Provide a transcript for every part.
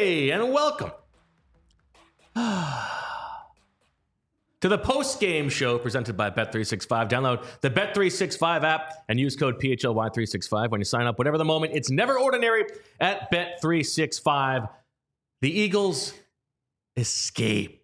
Hey, and welcome to the post-game show presented by Bet365. Download the Bet365 app and use code PHLY365 when you sign up. Whatever the moment, it's never ordinary at Bet365. The Eagles escape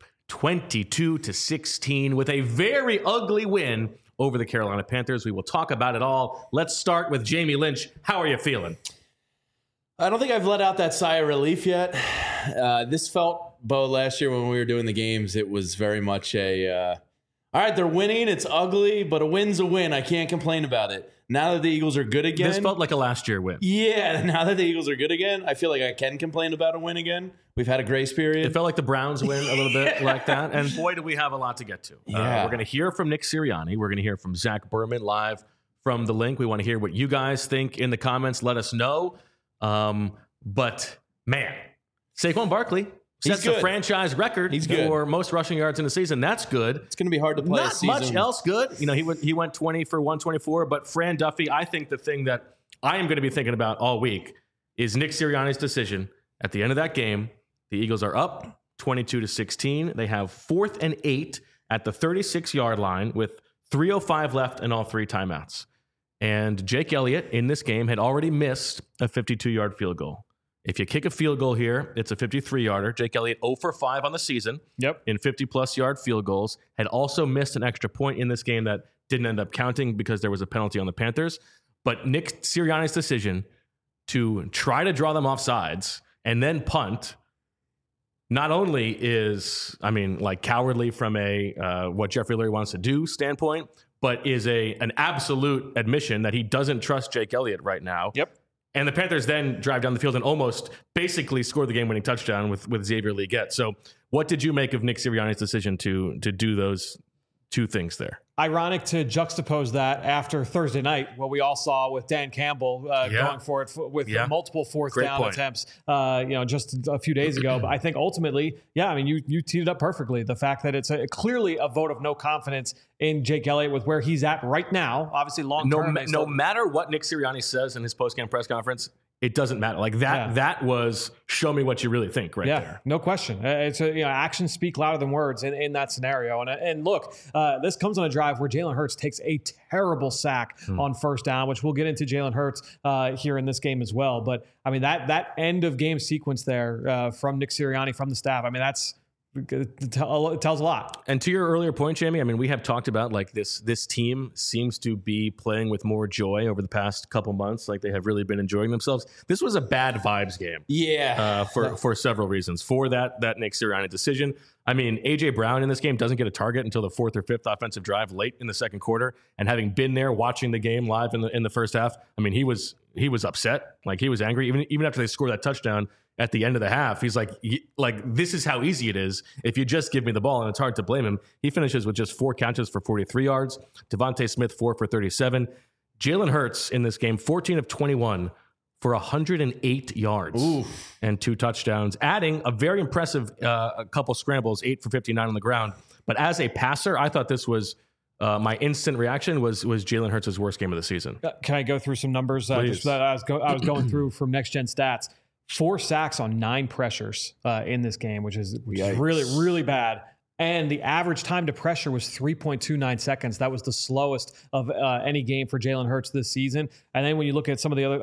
22-16 with a very ugly win over the Carolina Panthers. We will talk about it all. Let's start with Jamie Lynch. How are you feeling? I don't think I've let out that sigh of relief yet. This felt, Bo, last year when we were doing the games, it was very much all right, they're winning, it's ugly, but a win's a win. I can't complain about it. Now that the Eagles are good again. This felt like a last year win. Yeah, now that the Eagles are good again, I feel like I can complain about a win again. We've had a grace period. It felt like the Browns win a little bit like that. And boy, do we have a lot to get to. Yeah. We're going to hear from Nick Sirianni. We're going to hear from Zach Berman live from the link. We want to hear what you guys think in the comments. Let us know. But, man, Saquon Barkley sets a franchise record for most rushing yards in the season. That's good. It's going to be hard to play Not a season. much else good. You know, he went 20 for 124. But Fran Duffy, I think the thing that I am going to be thinking about all week is Nick Sirianni's decision at the end of that game. The Eagles are up 22-16. They have 4th and 8 at the 36-yard line with 3:05 left and all 3 timeouts. And Jake Elliott in this game had already missed a 52-yard field goal. If you kick a field goal here, it's a 53-yarder. Jake Elliott 0 for 5 on the season in 50-plus yard field goals. Had also missed an extra point in this game that didn't end up counting because there was a penalty on the Panthers. But Nick Sirianni's decision to try to draw them off sides and then punt not only is, cowardly from a what Jeffrey Lurie wants to do standpoint, but is an absolute admission that he doesn't trust Jake Elliott right now. Yep. And the Panthers then drive down the field and almost basically score the game-winning touchdown with Xavier Legette. So what did you make of Nick Sirianni's decision to do those two things there? Ironic to juxtapose that after Thursday night, what we all saw with Dan Campbell going for it with multiple fourth down attempts, just a few days ago. But I think ultimately, you teed it up perfectly. The fact that it's clearly a vote of no confidence in Jake Elliott with where he's at right now. Obviously, long term. No matter what Nick Sirianni says in his post-game press conference, it doesn't matter. Like that. Yeah. That was show me what you really think there. Yeah, no question. It's actions speak louder than words in that scenario. And look, this comes on a drive where Jalen Hurts takes a terrible sack on first down, which we'll get into Jalen Hurts here in this game as well. But that end of game sequence there from Nick Sirianni, from the staff. It tells a lot. And to your earlier point, Jamie, we have talked about like this team seems to be playing with more joy over the past couple months. Like they have really been enjoying themselves. This was a bad vibes game. Yeah. For several reasons. For that Nick Sirianni decision. A.J. Brown in this game doesn't get a target until the 4th or 5th offensive drive late in the second quarter. And having been there watching the game live in the first half, he was upset. Like he was angry. Even after they scored that touchdown at the end of the half, he's like, this is how easy it is if you just give me the ball, and it's hard to blame him. He finishes with just 4 catches for 43 yards. Devontae Smith, 4 for 37. Jalen Hurts in this game, 14 of 21 for 108 yards and 2 touchdowns, adding a very impressive a couple scrambles, 8 for 59 on the ground. But as a passer, I thought this was my instant reaction was Jalen Hurts' worst game of the season. Can I go through some numbers just that I was going through from Next Gen Stats? 4 sacks on 9 pressures in this game, which is really, really bad. And the average time to pressure was 3.29 seconds. That was the slowest of any game for Jalen Hurts this season. And then when you look at some of the other,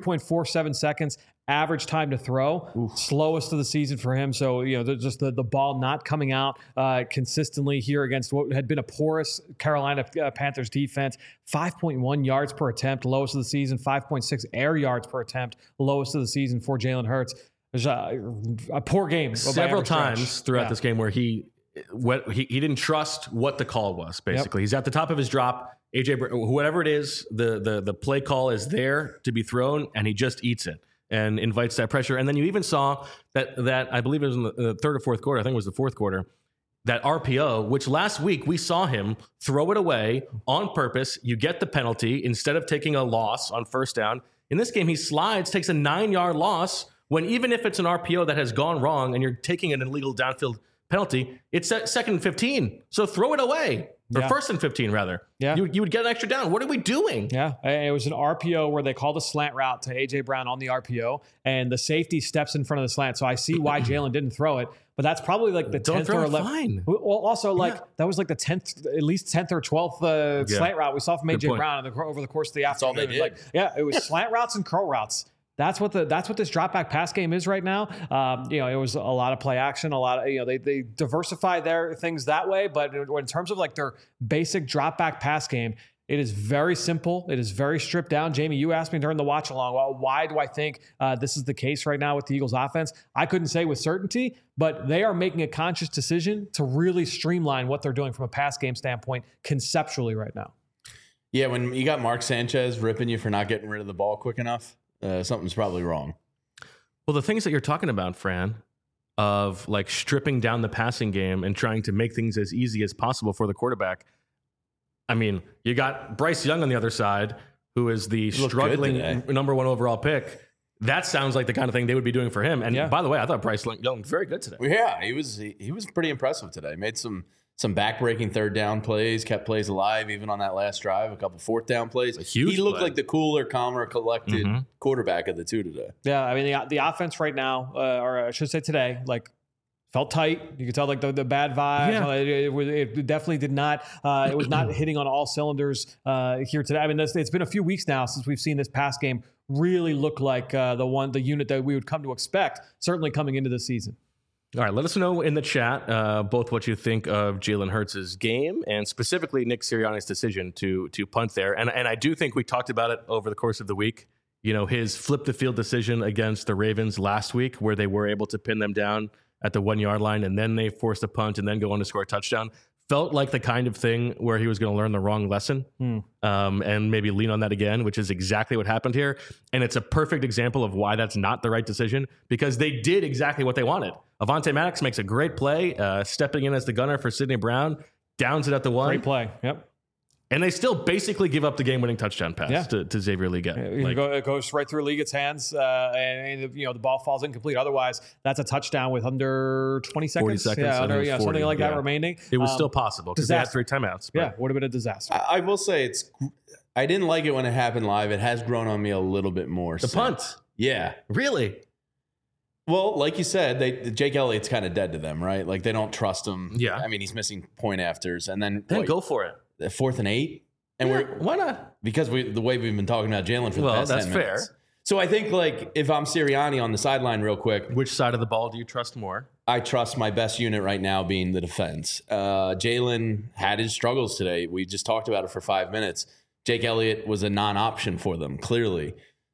3.47 seconds, average time to throw, slowest of the season for him. So, just the ball not coming out consistently here against what had been a porous Carolina Panthers defense. 5.1 yards per attempt, lowest of the season. 5.6 air yards per attempt, lowest of the season for Jalen Hurts. There's a poor game. Several times throughout this game where he didn't trust what the call was, basically. Yep. He's at the top of his drop. Whatever it is, the play call is there to be thrown, and he just eats it and invites that pressure. And then you even saw that I believe it was in the 3rd or 4th quarter, I think it was the 4th quarter, that RPO, which last week we saw him throw it away on purpose. You get the penalty instead of taking a loss on first down. In this game, he slides, takes a 9-yard loss, when even if it's an RPO that has gone wrong and you're taking an illegal downfield penalty, it's at 2nd and 15. So throw it away. or 1st and 15 rather. Yeah. You would get an extra down. What are we doing? Yeah. It was an RPO where they called a slant route to A.J. Brown on the RPO, and the safety steps in front of the slant. So I see why Jalen didn't throw it, but that's probably like the 10th or 11th. Fine. Well, also, that was like the 10th, at least 10th or 12th slant route we saw from A.J. Brown over the course of the afternoon. That's all they did. It was slant routes and curl routes. That's what this drop back pass game is right now. It was a lot of play action, a lot of, they diversify their things that way. But in terms of like their basic drop back pass game, it is very simple. It is very stripped down. Jamie, you asked me during the watch along, well, why do I think this is the case right now with the Eagles offense? I couldn't say with certainty, but they are making a conscious decision to really streamline what they're doing from a pass game standpoint conceptually right now. Yeah, when you got Mark Sanchez ripping you for not getting rid of the ball quick enough, something's probably wrong. Well, the things that you're talking about, Fran, of like stripping down the passing game and trying to make things as easy as possible for the quarterback. I mean, you got Bryce Young on the other side, who is the struggling number 1 overall pick. That sounds like the kind of thing they would be doing for him. And by the way, I thought Bryce Young was very good today. Yeah, he was pretty impressive today. Made some back-breaking 3rd down plays, kept plays alive even on that last drive, a couple 4th down plays. He looked like the cooler, calmer, collected quarterback of the two today. Yeah, I mean, the offense right now, or I should say today, like, felt tight. You could tell like the bad vibe. Yeah. It definitely did not. It was not hitting on all cylinders here today. I mean, it's been a few weeks now since we've seen this pass game really look like the unit that we would come to expect, certainly coming into the season. All right, let us know in the chat both what you think of Jalen Hurts' game and specifically Nick Sirianni's decision to punt there. And I do think we talked about it over the course of the week. His flip the field decision against the Ravens last week, where they were able to pin them down at the 1 yard line, and then they forced a punt and then go on to score a touchdown. Felt like the kind of thing where he was going to learn the wrong lesson and maybe lean on that again, which is exactly what happened here. And it's a perfect example of why that's not the right decision, because they did exactly what they wanted. Avonte Maddox makes a great play, stepping in as the gunner for Sidney Brown, downs it at the 1. Great play. Yep. And they still basically give up the game-winning touchdown pass to Xavier Legette. It goes right through Legate's hands, and the ball falls incomplete. Otherwise, that's a touchdown with under 20 seconds. 40 seconds. Yeah, 40, something like that remaining. It was still possible because they had 3 timeouts. Yeah, would have been a disaster. I will say I didn't like it when it happened live. It has grown on me a little bit more. The punt? Yeah. Really? Well, like you said, Jake Elliott's kind of dead to them, right? Like they don't trust him. Yeah. I mean, he's missing point afters, and then go for it. 4th and 8. And why not? Because the way we've been talking about Jalen for the past 10 minutes. Well, that's fair. So I think like if I'm Sirianni on the sideline real quick. Which side of the ball do you trust more? I trust my best unit right now being the defense. Jalen had his struggles today. We just talked about it for 5 minutes. Jake Elliott was a non-option for them, clearly.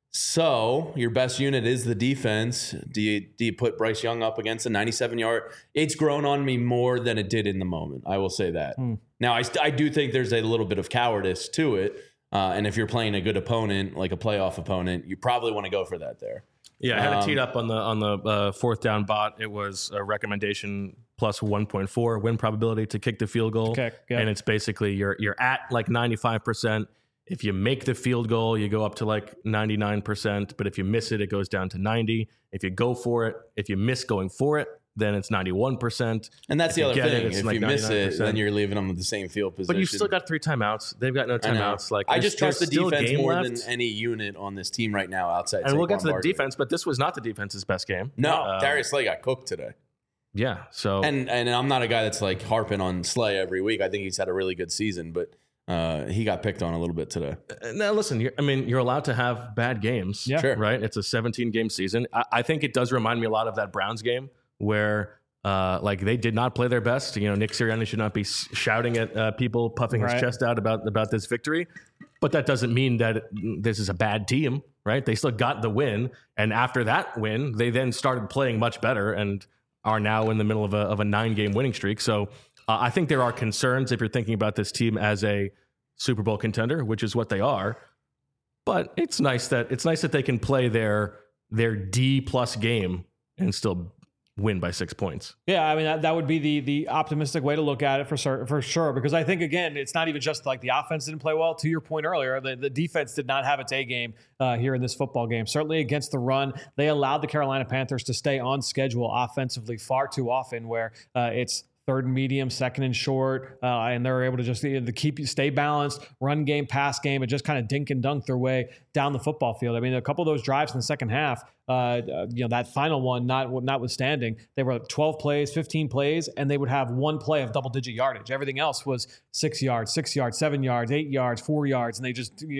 So your best unit is the defense. Do you put Bryce Young up against a 97-yard? It's grown on me more than it did in the moment. I will say that. Now, I do think there's a little bit of cowardice to it. And if you're playing a good opponent, like a playoff opponent, you probably want to go for that there. Yeah, I had it teed up on the 4th down bot. It was a recommendation plus 1.4 win probability to kick the field goal. And it's basically you're at like 95%. If you make the field goal, you go up to like 99%. But if you miss it, it goes down to 90. If you go for it, if you miss going for it, then it's 91%. And that's the other thing. If like you miss it, then you're leaving them with the same field position. But you've still got 3 timeouts. They've got no timeouts. Like I just trust the defense more than any unit on this team right now outside. And we'll get to the defense, but this was not the defense's best game. No, Darius Slay got cooked today. Yeah. So and I'm not a guy that's like harping on Slay every week. I think he's had a really good season, but he got picked on a little bit today. Now, listen, you're allowed to have bad games. Yeah. Sure. Right? It's a 17-game season. I think it does remind me a lot of that Browns game where like they did not play their best. Nick Sirianni should not be shouting at people, puffing his chest out about this victory. But that doesn't mean that this is a bad team, right? They still got the win. And after that win, they then started playing much better and are now in the middle of a 9-game winning streak. So I think there are concerns if you're thinking about this team as a Super Bowl contender, which is what they are. But it's nice that they can play their D+ game and still win by 6 points. Yeah, I mean that would be the optimistic way to look at it for sure. Because I think again, it's not even just like the offense didn't play well. To your point earlier, the defense did not have its A game here in this football game. Certainly against the run, they allowed the Carolina Panthers to stay on schedule offensively far too often, where it's third and medium, second and short, and they're able to just stay balanced, run game, pass game, and just kind of dink and dunk their way down the football field. I mean, a couple of those drives in the second half, that final one, notwithstanding, they were 12 plays, 15 plays, and they would have one play of double-digit yardage. Everything else was 6 yards, 7 yards, 8 yards, 4 yards, and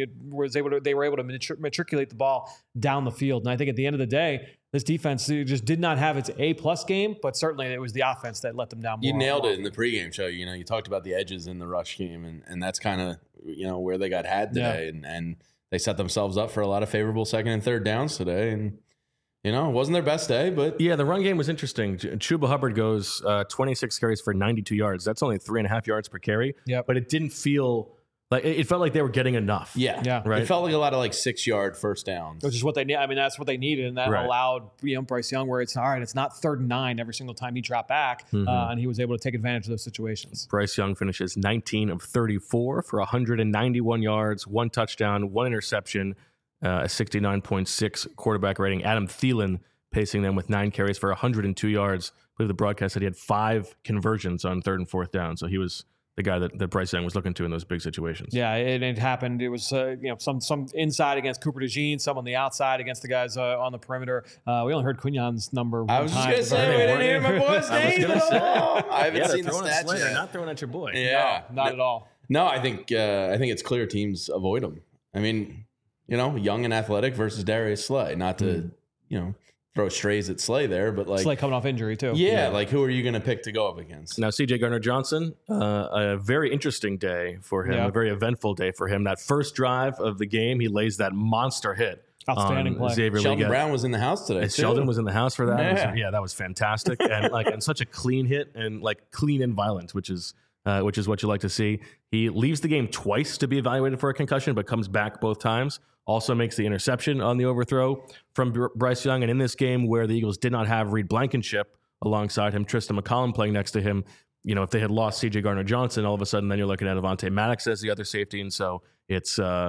they were able to matriculate the ball down the field. And I think at the end of the day, this defense just did not have its A-plus game, but certainly it was the offense that let them down more. You nailed it in the pregame show. You talked about the edges in the rush game, and that's kind of where they got had today, and they set themselves up for a lot of favorable second and third downs today, and it wasn't their best day, but yeah, the run game was interesting. Chuba Hubbard goes 26 carries for 92 yards. That's only 3.5 yards per carry. Yep. But it didn't feel like it felt like they were getting enough. Yeah. Right. It felt like a lot of 6 yard first downs, which is what they need. I mean, that's what they needed, and that allowed Bryce Young, where it's all right. It's not 3rd and 9 every single time he dropped back, and he was able to take advantage of those situations. Bryce Young finishes 19 of 34 for 191 yards, 1 touchdown, 1 interception, a 69.6 quarterback rating. Adam Thielen pacing them with 9 carries for 102 yards. I believe the broadcast said he had 5 conversions on 3rd and 4th down, so he was the guy that Bryce Young was looking to in those big situations. Yeah, it happened. It was some inside against Cooper DeJean, some on the outside against the guys on the perimeter. We only heard Quinion's number. I was just going to say, we didn't hear my boy's name. I haven't seen the stats yet. They're not throwing at your boy. Yeah, no, not at all. No, I think it's clear teams avoid him. I mean, young and athletic versus Darius Slay. Not to throw strays at Slay there, but Slay coming off injury too. Yeah, who are you going to pick to go up against? Now, C.J. Gardner-Johnson, a very interesting day for him, a very eventful day for him. That first drive of the game, he lays that monster hit. Outstanding play. Xavier Sheldon Brown was in the house today. Sheldon was in the house for that. That was fantastic, and such a clean hit and clean and violent, which is what you like to see. He leaves the game twice to be evaluated for a concussion, but comes back both times. Also makes the interception on the overthrow from Bryce Young. And in this game where the Eagles did not have Reed Blankenship alongside him, Tristan McCollum playing next to him, if they had lost C.J. Gardner-Johnson, all of a sudden then you're looking at Avonte Maddox as the other safety. And so it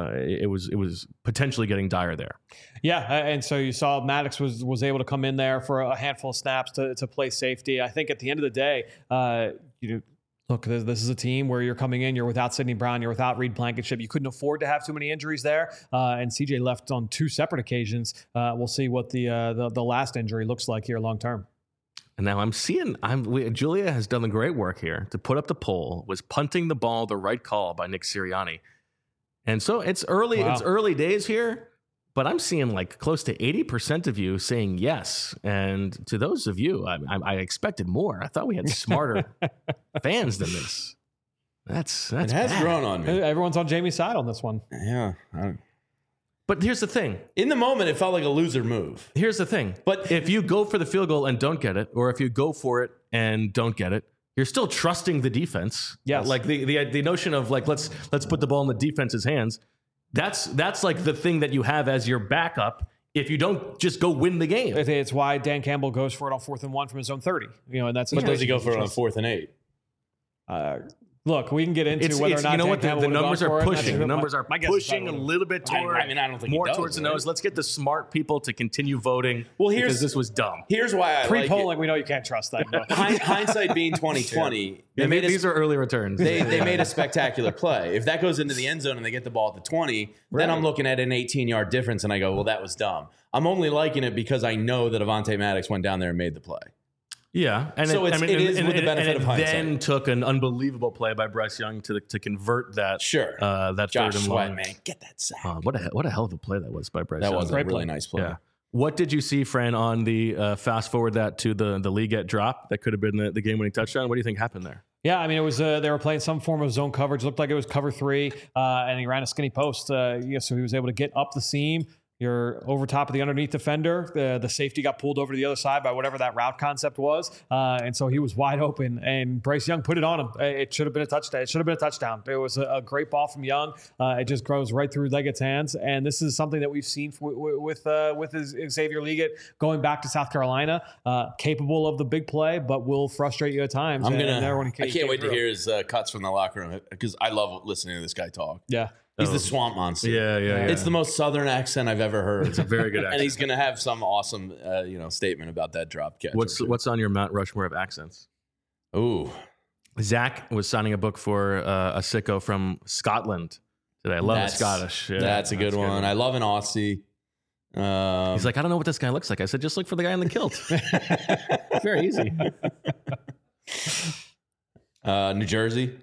was potentially getting dire there. Yeah, and so you saw Maddox was able to come in there for a handful of snaps to play safety. I think at the end of the day, look, this is a team where you're coming in, you're without Sidney Brown, you're without Reed Blankenship. You couldn't afford to have too many injuries there. And CJ left on 2 separate occasions. We'll see what the last injury looks like here long term. And now Julia has done the great work here to put up the poll. Was punting the ball the right call by Nick Sirianni? And so it's early. Wow. It's early days here. But I'm seeing close to 80% of you saying yes. And to those of you, I expected more. I thought we had smarter fans than this. That's it has bad. Grown on me. Everyone's on Jamie's side on this one. Yeah. But here's the thing. In the moment, it felt like a loser move. Here's the thing. But if you go for the field goal and don't get it, or if you go for it and don't get it, you're still trusting the defense. Yes. The notion of let's put the ball in the defense's hands. That's the thing that you have as your backup if you don't just go win the game. It's why Dan Campbell goes for it on 4th and 1 from his own 30. And that's. But does he go for it on 4th and 8? Look, we can get into whether or not the numbers are pushing. The numbers are pushing a little bit toward. I don't think more towards the nose. Let's get the smart people to continue voting. Well, because this was dumb. Here's why I pre-polling. We know you can't trust that. Hindsight being 2020. These are early returns. They made a spectacular play. If that goes into the end zone and they get the ball at the 20, then I'm looking at an 18-yard difference and I go, well, that was dumb. I'm only liking it because I know that Avonte Maddox went down there and made the play. Yeah, and so it is with the benefit of hindsight. Then took an unbelievable play by Bryce Young to convert that. Sure, that Josh third and Sweat, long. Man, get that sack. What a hell of a play that was by Bryce. That was a really nice play. Yeah. What did you see, Fran, on the fast forward that to the Leggett drop that could have been the game winning touchdown? What do you think happened there? Yeah, I mean, it was they were playing some form of zone coverage. It looked like it was cover 3, and he ran a skinny post. So he was able to get up the seam. You're over top of the underneath defender. The safety got pulled over to the other side by whatever that route concept was. And so he was wide open, and Bryce Young put it on him. It should have been a touchdown. It was a great ball from Young. It just goes right through Leggett's hands. And this is something that we've seen with Xavier Leggett going back to South Carolina, capable of the big play, but will frustrate you at times. I can't wait to hear his cuts from the locker room because I love listening to this guy talk. Yeah. He's the swamp monster. Yeah. It's the most southern accent I've ever heard. It's a very good accent. And he's going to have some awesome, statement about that drop catch. What's on your Mount Rushmore of accents? Ooh. Zach was signing a book for a sicko from Scotland today. I love the Scottish. Yeah, that's a good one. I love an Aussie. He's like, I don't know what this guy looks like. I said, just look for the guy in the kilt. Very easy. New Jersey.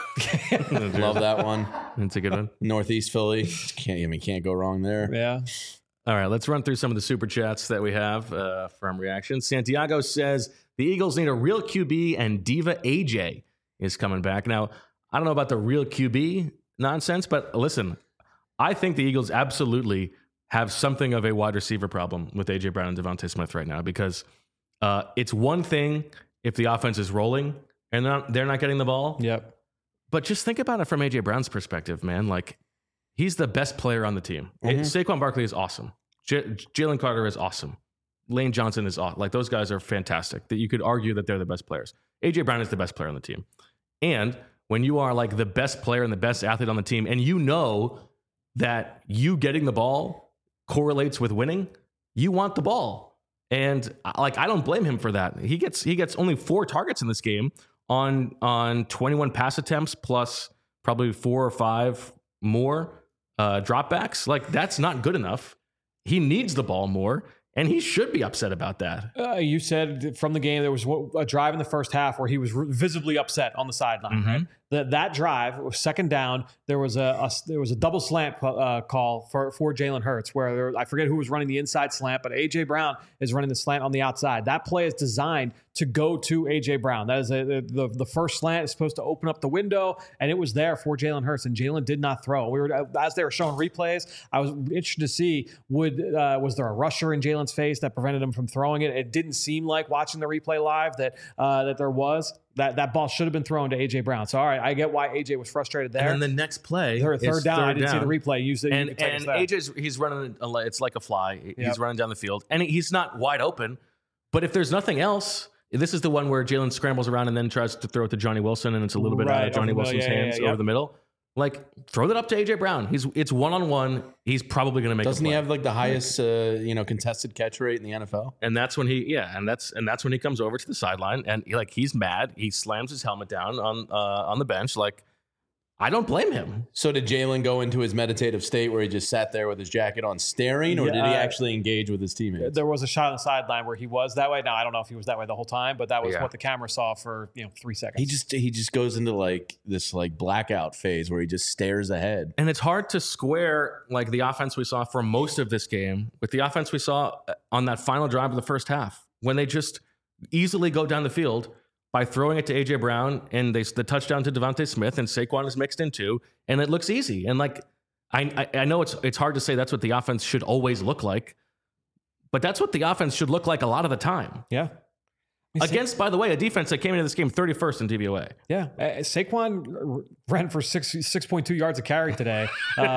Love that one. That's a good one. Northeast Philly. Can't go wrong there. Yeah. All right, let's run through some of the super chats that we have from reactions. Santiago says the Eagles need a real QB, and Diva AJ is coming back. Now, I don't know about the real QB nonsense, but listen, I think the Eagles absolutely have something of a wide receiver problem with AJ Brown and Devontae Smith right now, because it's one thing if the offense is rolling and they're not getting the ball. Yep. But just think about it from AJ Brown's perspective, man. Like, he's the best player on the team. Mm-hmm. Saquon Barkley is awesome. Jalen Carter is awesome. Lane Johnson is awesome. Like, those guys are fantastic. That you could argue that they're the best players. AJ Brown is the best player on the team. And when you are like the best player and the best athlete on the team, and you know that you getting the ball correlates with winning, you want the ball. And like, I don't blame him for that. He gets only 4 targets in this game on 21 pass attempts plus probably 4 or 5 more dropbacks. Like, that's not good enough. He needs the ball more, and he should be upset about that. You said from the game there was a drive in the first half where he was visibly upset on the sideline. Mm-hmm. Right? That drive was second down. There was a double slant call for Jalen Hurts where I forget who was running the inside slant, but AJ Brown is running the slant on the outside. That play is designed to go to AJ Brown. That is the first slant is supposed to open up the window, and it was there for Jalen Hurts, and Jalen did not throw. As they were showing replays, I was interested to see was there a rusher in Jalen's face that prevented him from throwing it. It didn't seem like watching the replay live that there was. That ball should have been thrown to AJ Brown. So all right, I get why AJ was frustrated there. And then the next play, third down. I didn't see the replay. And AJ's running. It's like a fly. He's running down the field, and he's not wide open. But if there's nothing else, this is the one where Jalen scrambles around and then tries to throw it to Johnny Wilson, and it's a little bit out of Johnny Wilson's hands over the middle. Like, throw that up to AJ Brown. It's one-on-one. He's probably going to make. Doesn't he have like the highest contested catch rate in the NFL? And that's when that's when he comes over to the sideline and he's mad. He slams his helmet down on the bench. Like, I don't blame him. So did Jalen go into his meditative state where he just sat there with his jacket on staring, or did he actually engage with his teammates? There was a shot on the sideline where he was that way. Now, I don't know if he was that way the whole time, but that was what the camera saw for 3 seconds. He just goes into like this like blackout phase where he just stares ahead. And it's hard to square like the offense we saw for most of this game with the offense we saw on that final drive of the first half, when they just easily go down the field by throwing it to AJ Brown, and the touchdown to Devontae Smith, and Saquon is mixed in too, and it looks easy. And like, I know it's hard to say that's what the offense should always look like, but that's what the offense should look like a lot of the time. Yeah. Against, by the way, a defense that came into this game 31st in DVOA. Yeah. Saquon ran for 6.2 yards a carry today.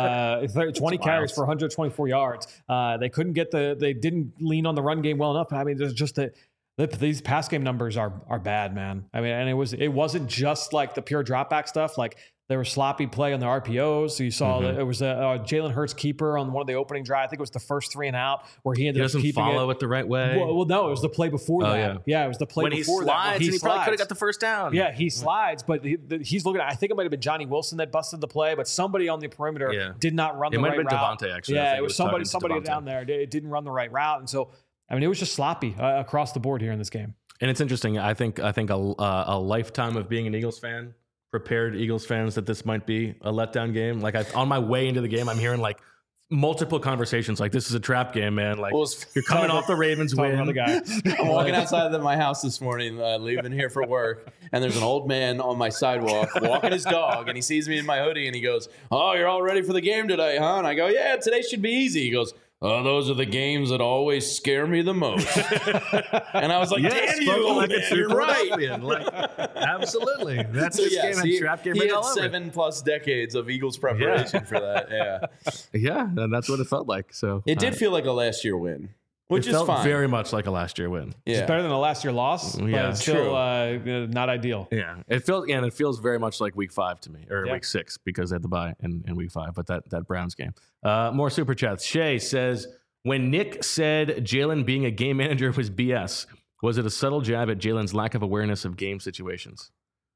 20 carries for 124 yards. They didn't lean on the run game well enough. I mean, there's just these pass game numbers are bad, man. I mean, and it wasn't just like the pure dropback stuff. Like, there was sloppy play on the RPOs. So you saw that it was a Jalen Hurts keeper on one of the opening drive. I think it was the first 3 and out where he ended up keeping it. He doesn't follow it the right way. Well, no, it was the play before that. Yeah, it was the play before that. When he probably could have got the first down. Yeah, he slides, but he's looking at, I think it might have been Johnny Wilson that busted the play, but somebody on the perimeter did not run the right route. It might have been Devontae, actually. Yeah, it was somebody down there. It didn't run the right route. And so, I mean, it was just sloppy across the board here in this game. And it's interesting. I think a lifetime of being an Eagles fan prepared Eagles fans that this might be a letdown game. Like, on my way into the game, I'm hearing like multiple conversations like, this is a trap game, man. Like, you're coming off the Ravens win. I'm walking outside of my house this morning, leaving here for work, and there's an old man on my sidewalk walking his dog, and he sees me in my hoodie, and he goes, "Oh, you're all ready for the game today, huh?" And I go, "Yeah, today should be easy." He goes, "Oh, those are the games that always scare me the most." And I was like, "Damn you, like you're right." Like, absolutely. That's this game and trap game. He had 7+ decades of Eagles preparation for that. Yeah. Yeah, and that's what it felt like. So it did feel like a last year win, which is fine. Very much like a last year win. Yeah. It's better than a last year loss, but it's still not ideal. Yeah, it feels very much like week 5 to me, or week 6, because they had the bye in week 5. But that Browns game. More super chats. Shay says, when Nick said Jalen being a game manager was BS, Was it a subtle jab at Jalen's lack of awareness of game situations?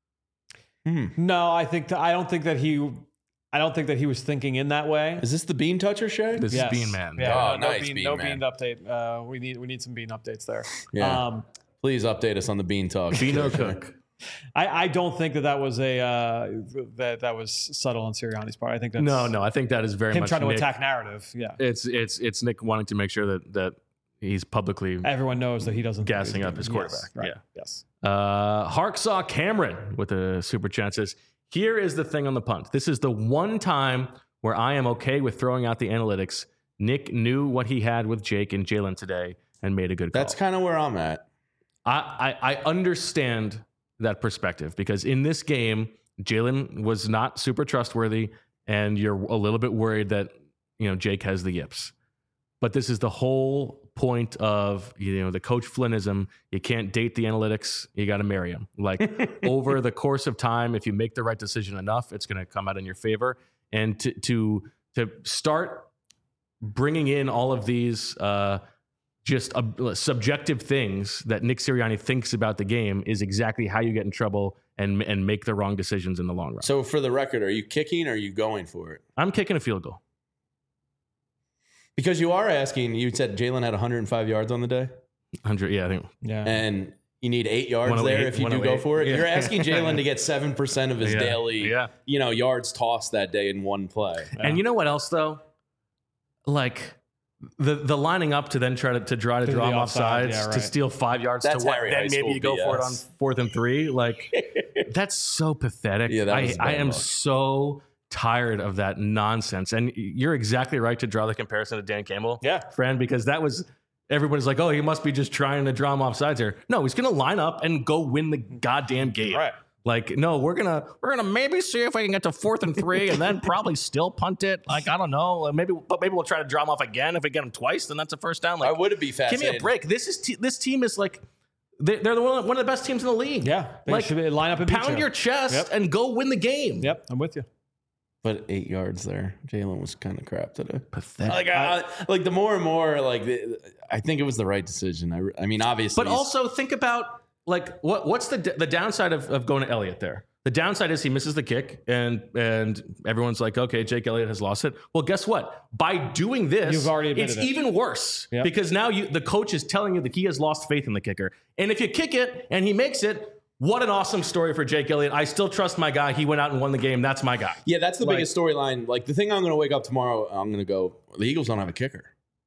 No, I don't think that he was thinking in that way. Is this the bean toucher, Shay? This is Bean Man. Yeah, nice, Bean Man. update. We need some Bean updates there. Yeah. Please update us on the Bean talk. Beano Cook. I don't think that was that was subtle on Sirianni's part. I think that's No. I think that is very him much trying to Nick. attack narrative. Yeah, It's Nick wanting to make sure that he's publicly everyone knows that he doesn't gassing up his quarterback. Yes, right. Yeah. Yes. Harksaw Cameron with a super chat says, here is the thing on the punt. This is the one time where I am okay with throwing out the analytics. Nick knew what he had with Jake and Jalen today and made a good call. That's kind of where I'm at. I understand that perspective because in this game, Jalen was not super trustworthy and you're a little bit worried that, Jake has the yips. But this is the whole point of, the Coach Flynnism. You can't date the analytics. You got to marry them. Like over the course of time, if you make the right decision enough, it's going to come out in your favor. And to start bringing in all of these just subjective things that Nick Sirianni thinks about the game is exactly how you get in trouble and make the wrong decisions in the long run. So for the record, are you kicking or are you going for it? I'm kicking a field goal. Because you are asking, you said Jalen had 105 yards on the day? 100, yeah, I think. Yeah. And you need 8 yards there if you do go for it. Yeah. You're asking Jalen to get 7% of his daily, yards tossed that day in one play. Yeah. And you know what else, though? Like the lining up to then try to draw him off sides to steal 5 yards that's to what? Harry Then High maybe School you go BS. for it on 4th and 3. Like, that's so pathetic. Yeah, that was I am luck. so tired of that nonsense. And you're exactly right to draw the comparison to Dan Campbell, friend, because that was everybody's like, oh, he must be just trying to draw him off sides here. No, he's going to line up and go win the goddamn game. Right. Like, no, we're gonna maybe see if we can get to 4th and 3 and then probably still punt it. Like, I don't know. Maybe we'll try to draw him off again. If we get him twice, then that's a first down. Like, I would be fascinated. Give me a break. This team is like they're one of the best teams in the league. Yeah. They like should line up and pound your chest and go win the game. Yep, I'm with you. But 8 yards there. Jalen was kind of crap today. Pathetic. Like the more and more, I think it was the right decision. I mean, obviously. But also think about like what's the downside of going to Elliott there? The downside is he misses the kick, and everyone's like, okay, Jake Elliott has lost it. Well, guess what? By doing this, You've already admitted it's even worse because now the coach is telling you that he has lost faith in the kicker. And if you kick it and he makes it, what an awesome story for Jake Elliott. I still trust my guy. He went out and won the game. That's my guy. Yeah, that's the biggest storyline. Like the thing I'm going to wake up tomorrow, I'm going to go, the Eagles don't have a kicker.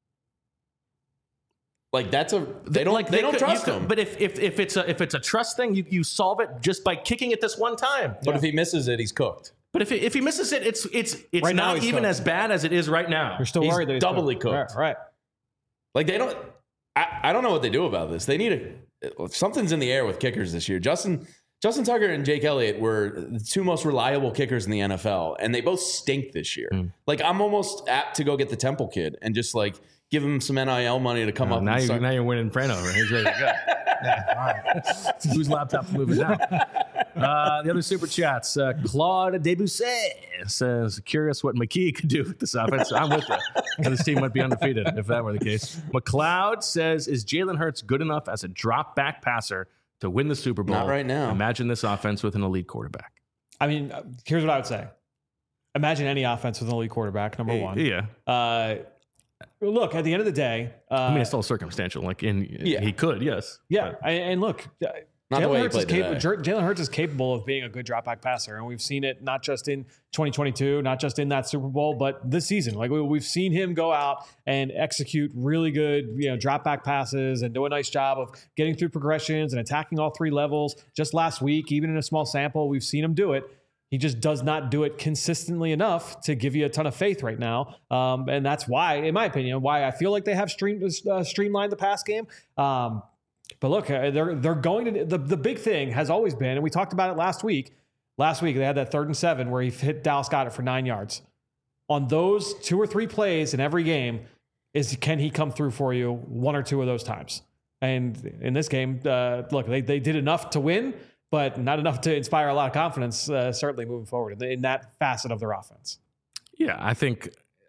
Like they don't trust him. But if it's a trust thing, you solve it just by kicking it this one time. But if he misses it, he's cooked. But if he misses it, it's right not even cooked. as bad as it is right now. You're still He's worried that he's doubly cooked. Right. Like they don't. I don't know what they do about this. They need something's in the air with kickers this year. Justin Tucker and Jake Elliott were the two most reliable kickers in the NFL, and they both stink this year. Like I'm almost apt to go get the Temple kid and just like give him some NIL money to come up. Now you're winning Prano. He's ready to go. All right. Whose laptop's moving now? The other super chats. Claude Debussy says, curious what McKee could do with this offense. I'm with you. This team might be undefeated if that were the case. McLeod says, is Jalen Hurts good enough as a drop back passer to win the Super Bowl? Not right now. Imagine this offense with an elite quarterback. I mean, here's what I would say. Imagine any offense with an elite quarterback, number one. Yeah. Look, at the end of the day, I mean, it's all circumstantial. Like, he could, yes. Yeah, and look, Not the way he played today. Jalen Hurts is capable of being a good drop back passer, and we've seen it not just in 2022, not just in that Super Bowl, but this season. Like we've seen him go out and execute really good, drop back passes and do a nice job of getting through progressions and attacking all three levels. Just last week, even in a small sample, we've seen him do it. He just does not do it consistently enough to give you a ton of faith right now. And that's why, in my opinion, why I feel like they have streamlined the pass game. But look, they're going to the big thing has always been, and we talked about it last week. Last week, they had that 3rd and 7 where he hit Dallas Goedert for 9 yards. On those 2 or 3 plays in every game, can he come through for you 1 or 2 of those times? And in this game, look, they did enough to win, but not enough to inspire a lot of confidence, certainly moving forward in that facet of their offense. Yeah, I think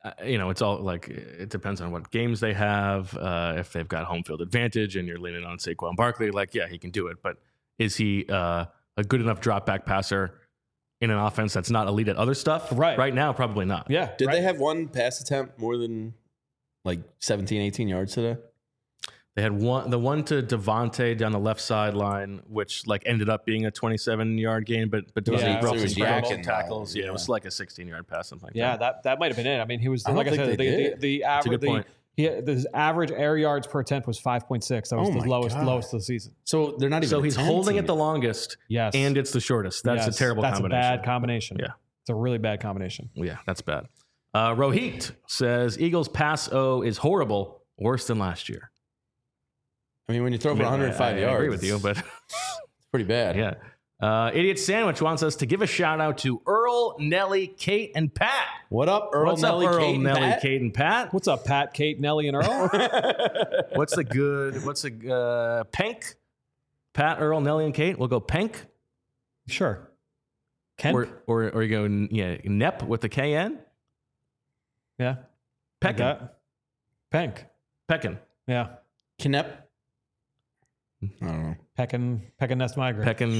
it's all like it depends on what games they have. If they've got home field advantage and you're leaning on Saquon Barkley, like, yeah, he can do it. But is he a good enough drop back passer in an offense that's not elite at other stuff? Right now, probably not. Yeah. Did they have one pass attempt more than like 17, 18 yards today? They had the one to Devontae down the left sideline, which like ended up being a 27-yard gain, but Devontae broke some scramble tackles. Yeah, it was like a 16-yard pass, something like that. That might have been it. I mean, he was like I said, the average. The average air yards per attempt was 5.6. That was the lowest of the season. So they're not even. So he's holding it the longest. Yes, and it's the shortest. That's a terrible combination. That's a bad combination. Yeah, it's a really bad combination. Yeah, that's bad. Rohit says Eagles pass O is horrible, worse than last year. I mean, when you throw for 105 yards, I agree with you, but it's pretty bad. Yeah. Idiot Sandwich wants us to give a shout out to Earl, Nelly, Kate, and Pat. What up, Earl, What's Nelly, up, Earl, Kate, Nelly, Pat? Kate, and Pat? What's up, Pat, Kate, Nelly, and Earl? Penk? Pat, Earl, Nelly, and Kate. We'll go Penk. Sure. Kemp? Or you go Nep with the KN. Yeah. Peckin. Penk. Peckin. Yeah. Knep. I don't know. Peckin Nest Migrant. Peckin,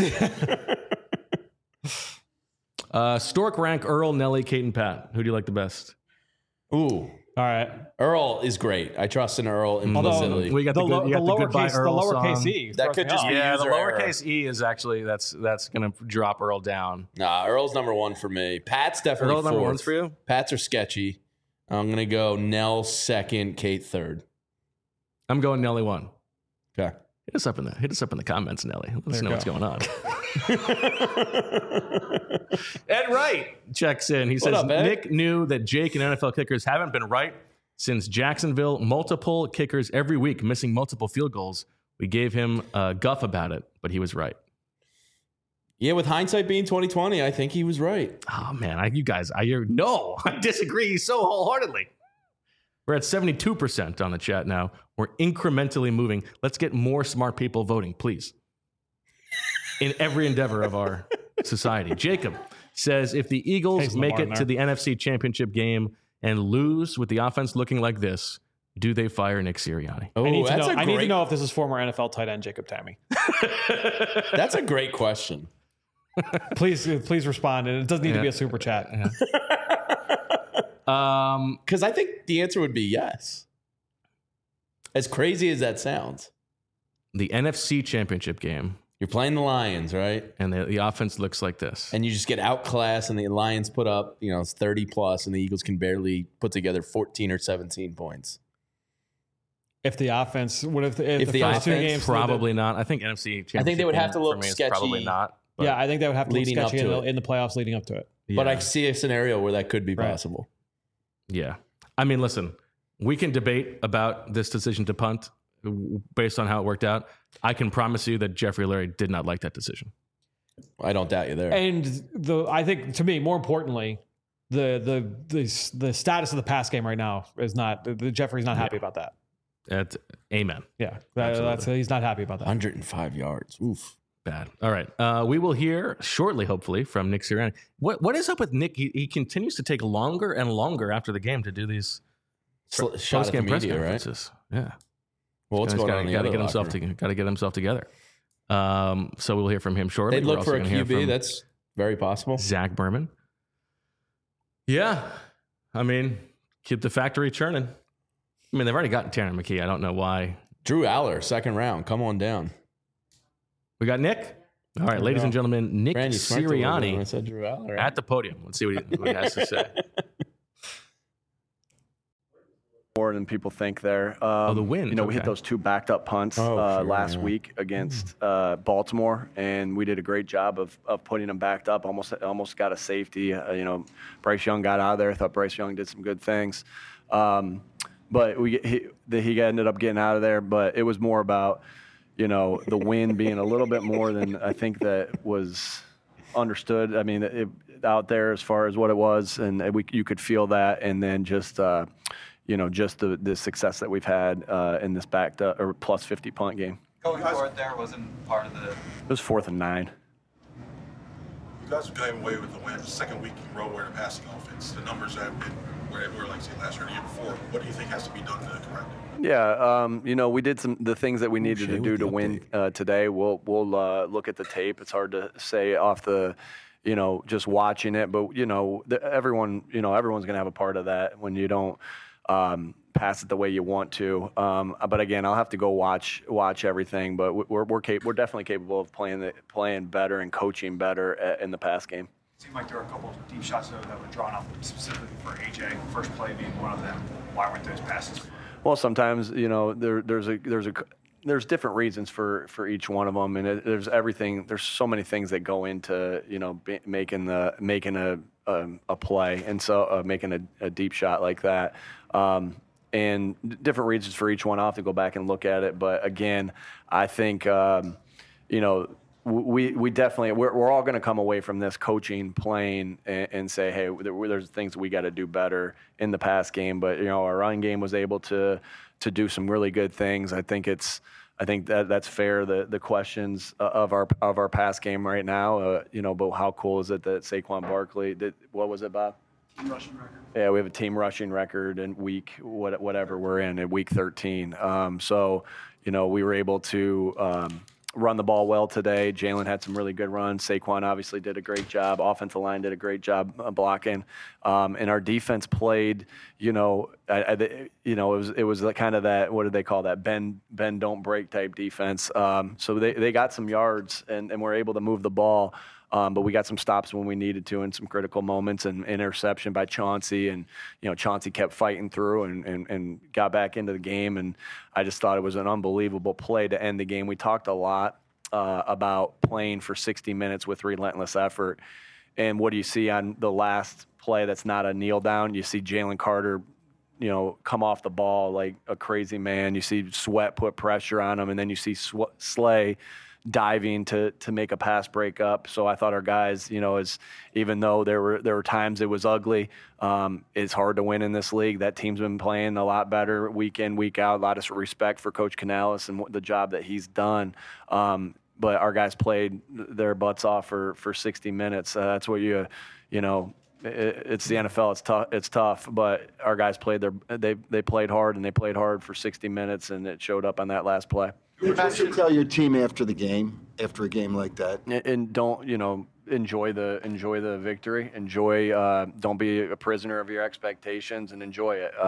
yeah. Stork rank Earl, Nelly, Kate, and Pat. Who do you like the best? Ooh. All right. Earl is great. I trust in Earl implicitly. We got the lowercase E. That could just be the user lowercase error. E is actually that's going to drop Earl down. Nah, Earl's number one for me. Pat's definitely Earl number one's for you? Pats are sketchy. I'm going to go Nell second, Kate third. I'm going Nelly one. Okay. Hit us up in the comments, Nelly. Let us know what's going on. Ed Wright checks in. He says up, Nick knew that Jake and NFL kickers haven't been right since Jacksonville. Multiple kickers every week, missing multiple field goals. We gave him a guff about it, but he was right. Yeah, with hindsight being 2020, I think he was right. Oh man, I disagree so wholeheartedly. We're at 72% on the chat now. We're incrementally moving. Let's get more smart people voting, please. In every endeavor of our society. Jacob says if the Eagles make it to the NFC Championship game and lose with the offense looking like this, do they fire Nick Sirianni? I need to know if this is former NFL tight end Jacob Tammy. That's a great question. Please respond. And it doesn't need to be a super chat. Because I think the answer would be yes. As crazy as that sounds. The NFC Championship game. You're playing the Lions, right? And the offense looks like this. And you just get outclassed, and the Lions put up, it's 30 plus, and the Eagles can barely put together 14 or 17 points. If the offense, if the first offense, 2 games, probably not. I think NFC Championship. I think they would have to look sketchy. Probably not. Yeah, I think they would have to look leading up sketchy to in the playoffs leading up to it. Yeah. But I see a scenario where that could be possible. Yeah. I mean, listen, we can debate about this decision to punt based on how it worked out. I can promise you that Jeffrey Lurie did not like that decision. I don't doubt you there. And I think, to me, more importantly, the status of the pass game right now is not. Jeffrey's not happy about that. Amen. Yeah, he's not happy about that. 105 yards. Oof. Bad. All right. We will hear shortly, hopefully, from Nick Sirianni. What is up with Nick? He continues to take longer and longer after the game to do these post-game press conferences. Right? Yeah. Well, what's going on? Got to get himself together. So we'll hear from him shortly. They'd look for a QB. That's very possible. Zach Berman. Yeah. I mean, keep the factory churning. I mean, they've already gotten Tanner McKee. I don't know why. Drew Aller, second round. Come on down. We got Nick. All right, ladies and gentlemen, Nick Sirianni I said Drew Aller, right? at the podium. Let's see what he has to say. More than people think there. The win. We hit those 2 backed up punts last week against Baltimore, and we did a great job of putting them backed up. Almost got a safety. Bryce Young got out of there. I thought Bryce Young did some good things. But he ended up getting out of there. But it was more about, the win being a little bit more than I think that was understood. I mean, out there as far as what it was, and you could feel that, and then just just the success that we've had in this backed up or plus 50 punt game. Going forward there wasn't part of the... It was 4th and 9. You guys have gotten away with the win. Second week in a row where the passing offense. The numbers have been where like say last year or the year before? What do you think has to be done to correct it? Yeah, we did the things that we needed to do to win today. We'll look at the tape. It's hard to say off the, just watching it, but everyone's gonna have a part of that when you don't pass it the way you want to. But again, I'll have to go watch everything. But we're definitely capable of playing better and coaching better in the pass game. It seemed like there were a couple of deep shots that were drawn up specifically for AJ. First play being one of them. Why weren't those passes? Well, sometimes there's different reasons for each one of them, and there's everything. There's so many things that go into making a play, and so making a deep shot like that. And different reasons for each one. I'll have to go back and look at it, but again, I think we definitely we're all going to come away from this coaching, playing, and say, hey, there's things we got to do better in the pass game. But our run game was able to do some really good things. I think that's fair. The questions of our pass game right now, but how cool is it that Saquon Barkley did? What was it, Bob? Team rushing record. Yeah, we have a team rushing record in whatever we're in at week 13. So we were able to run the ball well today. Jalen had some really good runs. Saquon obviously did a great job. Offensive line did a great job blocking. And our defense played, it was kind of that, what did they call that? Bend, don't break type defense. So they got some yards and were able to move the ball. But we got some stops when we needed to in some critical moments, and interception by Chauncey. And, Chauncey kept fighting through and got back into the game. And I just thought it was an unbelievable play to end the game. We talked a lot about playing for 60 minutes with relentless effort. And what do you see on the last play that's not a kneel down? You see Jalen Carter, come off the ball like a crazy man. You see Sweat put pressure on him, and then you see Slay diving to make a pass break up. So I thought our guys, even though there were times it was ugly, it's hard to win in this league. That team's been playing a lot better week in, week out. A lot of respect for Coach Canales and the job that he's done. But our guys played their butts off for 60 minutes. That's what it's the NFL. It's tough, but our guys they played hard, and they played hard for 60 minutes, and it showed up on that last play. What should tell your team after a game like that? And don't, enjoy the victory. Don't be a prisoner of your expectations, and enjoy it.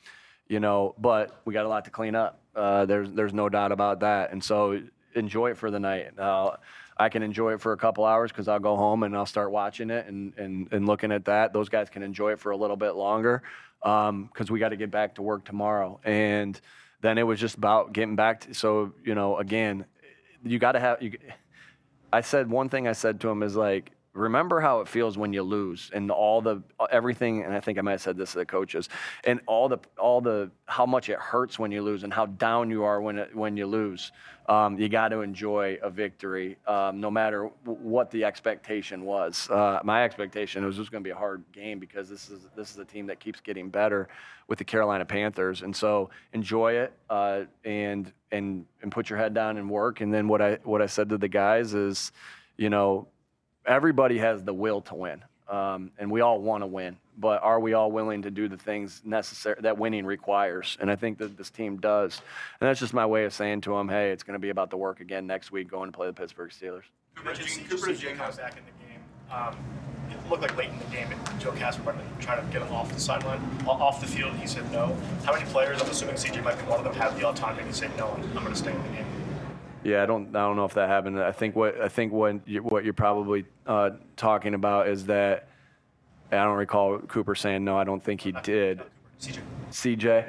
But we got a lot to clean up. There's no doubt about that. And so enjoy it for the night. I can enjoy it for a couple hours because I'll go home and I'll start watching it and looking at that. Those guys can enjoy it for a little bit longer because we got to get back to work tomorrow. And then it was just about getting back to, so, again, you got to have, one thing I said to him is like, remember how it feels when you lose and everything. And I think I might have said this to the coaches, and all the, how much it hurts when you lose and how down you are when you lose. You got to enjoy a victory, no matter what the expectation was. My expectation was this was going to be a hard game because this is a team that keeps getting better with the Carolina Panthers, and so enjoy it and put your head down and work. And then what I said to the guys is, everybody has the will to win, and we all want to win. But are we all willing to do the things necessary that winning requires? And I think that this team does. And that's just my way of saying to them, hey, it's going to be about the work again next week going to play the Pittsburgh Steelers. Cooper Jay comes back in the game. It looked like late in the game, Joe Casper wanted to try to get him off the sideline, off the field. He said no. How many players, I'm assuming CJ might be one of them, have the autonomy to say no, I'm going to stay in the game? Yeah, I don't know if that happened. I think what you're probably talking about is that I don't recall Cooper saying no. I don't think he did. CJ.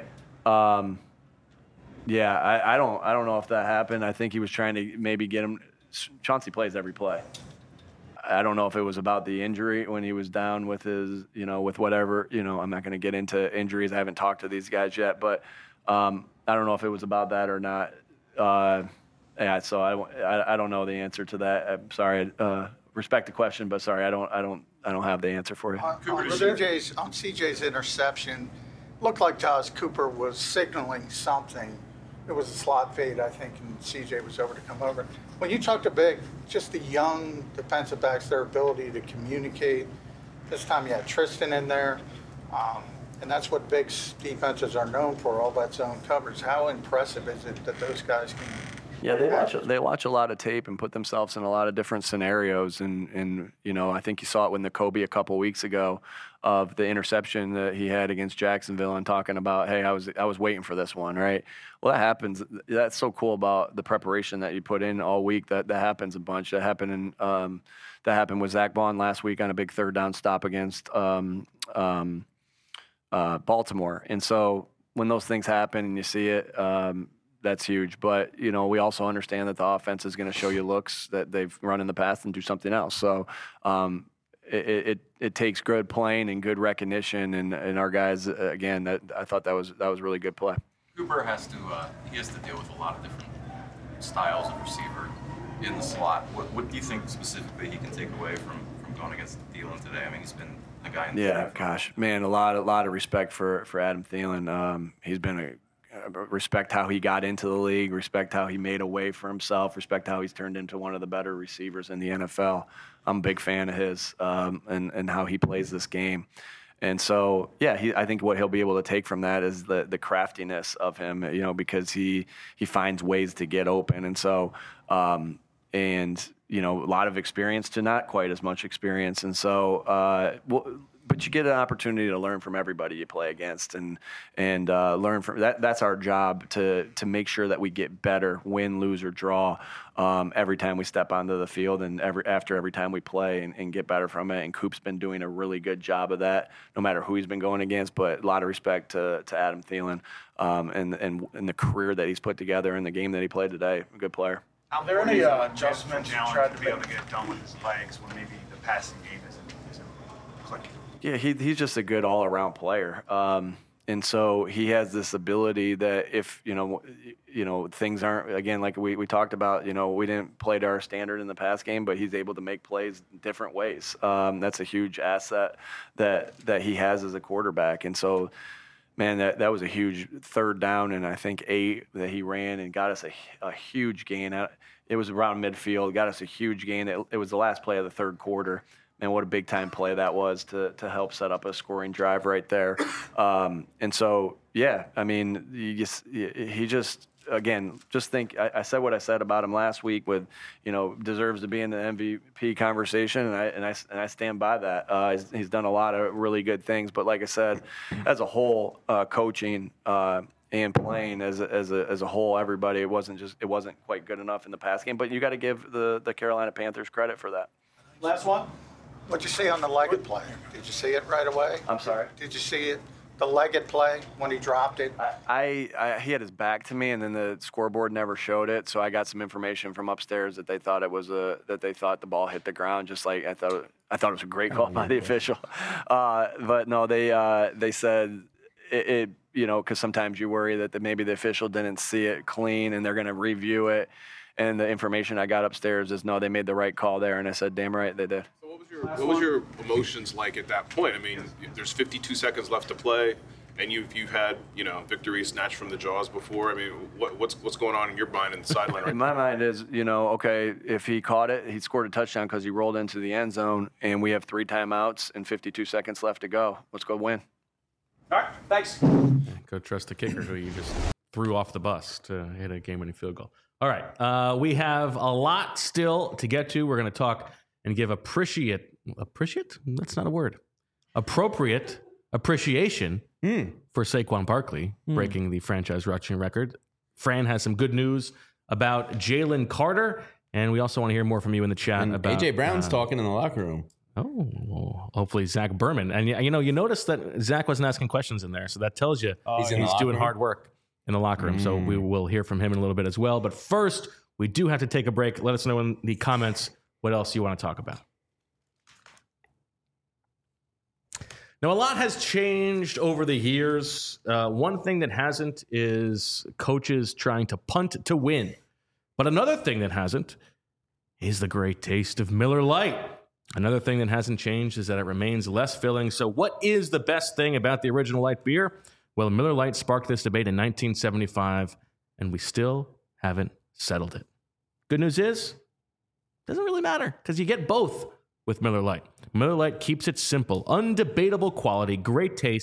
Yeah, I don't know if that happened. I think he was trying to maybe get him. Chauncey plays every play. I don't know if it was about the injury when he was down with his, with whatever. I'm not going to get into injuries. I haven't talked to these guys yet, but I don't know if it was about that or not. Yeah, so I don't know the answer to that. I'm sorry. Respect the question, but sorry, I don't have the answer for you. On CJ's interception, looked like Josh Cooper was signaling something. It was a slot fade, I think, and CJ was over to come over. When you talk to just the young defensive backs, their ability to communicate. This time you had Tristan in there. And that's what big defenses are known for, all that zone coverage. How impressive is it that those guys can? Yeah, they watch a lot of tape and put themselves in a lot of different scenarios. And you know, I think you saw it with Nakobe a couple weeks ago of the interception that he had against Jacksonville and talking about, hey, I was waiting for this one, right? Well, that happens. That's so cool about the preparation that you put in all week. That happens a bunch. That happened with Zach Bond last week on a big third down stop against Baltimore. And so when those things happen and you see it, that's huge. But, you know, we also understand that the offense is going to show you looks that they've run in the past and do something else. So it takes good playing and good recognition. And our guys, again, I thought that was really good play. Cooper has to deal with a lot of different styles of receiver in the slot. What do you think specifically he can take away from going against Thielen today? I mean, he's been a guy in the Yeah, gosh, man, a lot of respect for Adam Thielen. He's been respect how he got into the league, respect how he made a way for himself, respect how he's turned into one of the better receivers in the NFL. I'm a big fan of his and how he plays this game. And so, yeah, I think what he'll be able to take from that is the craftiness of him, you know, because he finds ways to get open. And so, and, you know, a lot of experience to not quite as much experience. And so, but you get an opportunity to learn from everybody you play against and learn from that. That's our job to make sure that we get better, win, lose, or draw every time we step onto the field and after every time we play and get better from it. And Coop's been doing a really good job of that, no matter who he's been going against. But a lot of respect to Adam Thielen and the career that he's put together and the game that he played today. A good player. Are there any adjustments you tried to be able to get done with his legs when maybe the passing game isn't clicking? Yeah, he's just a good all-around player. And so he has this ability that if, you know, things aren't, again, like we talked about, you know, we didn't play to our standard in the pass game, but he's able to make plays different ways. That's a huge asset that he has as a quarterback. And so, man, that was a huge third down and I think 8 that he ran and got us a huge gain. It was around midfield, got us a huge gain. It was the last play of the third quarter. And what a big time play that was to help set up a scoring drive right there. And so, yeah, I mean, he just again, just think, I said what I said about him last week with, you know, deserves to be in the MVP conversation. And I stand by that. He's done a lot of really good things, but like I said, as a whole, coaching, and playing as a whole, everybody, it wasn't quite good enough in the pass game, but you got to give the Carolina Panthers credit for that. Last one. What'd you see on the legged play? Did you see it right away? I'm sorry? Did you see it, the legged play when he dropped it? He had his back to me, and then the scoreboard never showed it. So I got some information from upstairs that they thought the ball hit the ground. Just like I thought it was a great call by the official. But no, they said it you know, because sometimes you worry that maybe the official didn't see it clean and they're going to review it. And the information I got upstairs is no, they made the right call there, and I said, damn right they did. What was your emotions like at that point? I mean, there's 52 seconds left to play, and you've had, you know, victory snatched from the jaws before. I mean, what's going on in your mind in the sideline right In my mind is, you know, okay, if he caught it, he scored a touchdown because he rolled into the end zone, and we have 3 timeouts and 52 seconds left to go. Let's go win. All right, thanks. Go trust the kicker who you just threw off the bus to hit a game-winning field goal. All right, we have a lot still to get to. We're going to talk and give appropriate? That's not a word. Appropriate appreciation for Saquon Barkley, breaking the franchise rushing record. Fran has some good news about Jalen Carter, and we also want to hear more from you in the chat and about AJ Brown's talking in the locker room. Oh, well, hopefully Zach Berman. And you know, you noticed that Zach wasn't asking questions in there, so that tells you he's doing hard work in the locker room. So we will hear from him in a little bit as well. But first, we do have to take a break. Let us know in the comments what else you want to talk about. Now, a lot has changed over the years. One thing that hasn't is coaches trying to punt to win. But another thing that hasn't is the great taste of Miller Lite. Another thing that hasn't changed is that it remains less filling. So what is the best thing about the original light beer? Well, Miller Lite sparked this debate in 1975, and we still haven't settled it. Good news is, doesn't really matter because you get both with Miller Lite. Miller Lite keeps it simple, undebatable quality, great taste,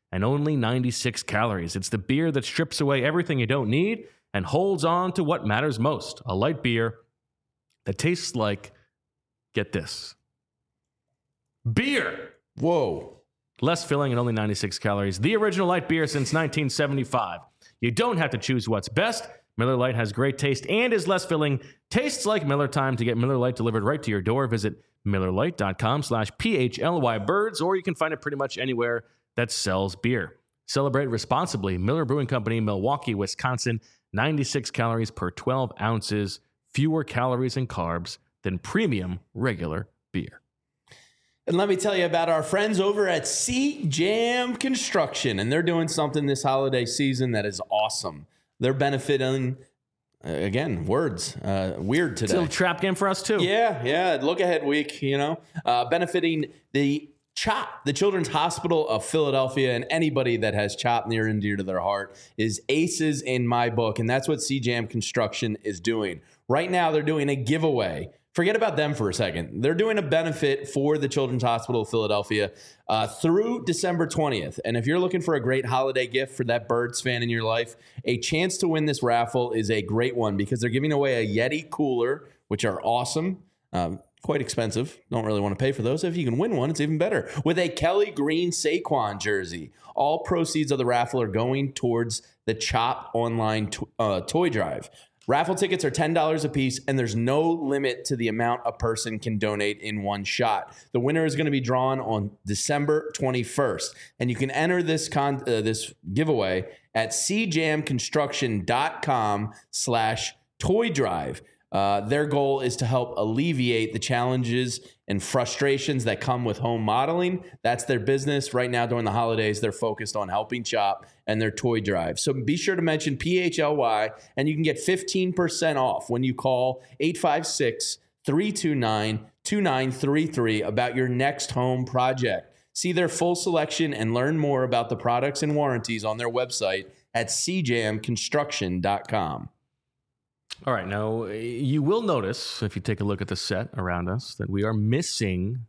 and only 96 calories. It's the beer that strips away everything you don't need and holds on to what matters most. A light beer that tastes like, get this, beer. Whoa. Less filling and only 96 calories. The original light beer since 1975. You don't have to choose what's best. Miller Lite has great taste and is less filling. Tastes like Miller time. To get Miller Lite delivered right to your door, visit MillerLite.com/PHLYBirds, or you can find it pretty much anywhere that sells beer. Celebrate responsibly. Miller Brewing Company, Milwaukee, Wisconsin. 96 calories per 12 ounces. Fewer calories and carbs than premium regular beer. And let me tell you about our friends over at C-Jam Construction. And they're doing something this holiday season that is awesome. They're benefiting, again, words, weird today. It's a little trap game for us, too. Yeah. Look ahead week, benefiting the CHOP, the Children's Hospital of Philadelphia, and anybody that has CHOP near and dear to their heart is aces in my book. And that's what C-Jam Construction is doing. Right now, they're doing a giveaway. Forget about them for a second. They're doing a benefit for the Children's Hospital of Philadelphia through December 20th. And if you're looking for a great holiday gift for that Birds fan in your life, a chance to win this raffle is a great one because they're giving away a Yeti cooler, which are awesome, quite expensive. Don't really want to pay for those. If you can win one, it's even better. With a Kelly Green Saquon jersey. All proceeds of the raffle are going towards the CHOP online toy drive. Raffle tickets are $10 a piece, and there's no limit to the amount a person can donate in one shot. The winner is going to be drawn on December 21st, and you can enter this giveaway at cjamconstruction.com/toy drive. Their goal is to help alleviate the challenges and frustrations that come with home modeling. That's their business. Right now, during the holidays, they're focused on helping CHOP and their toy drive. So be sure to mention PHLY, and you can get 15% off when you call 856-329-2933 about your next home project. See their full selection and learn more about the products and warranties on their website at cjamconstruction.com. All right, now you will notice, if you take a look at the set around us, that we are missing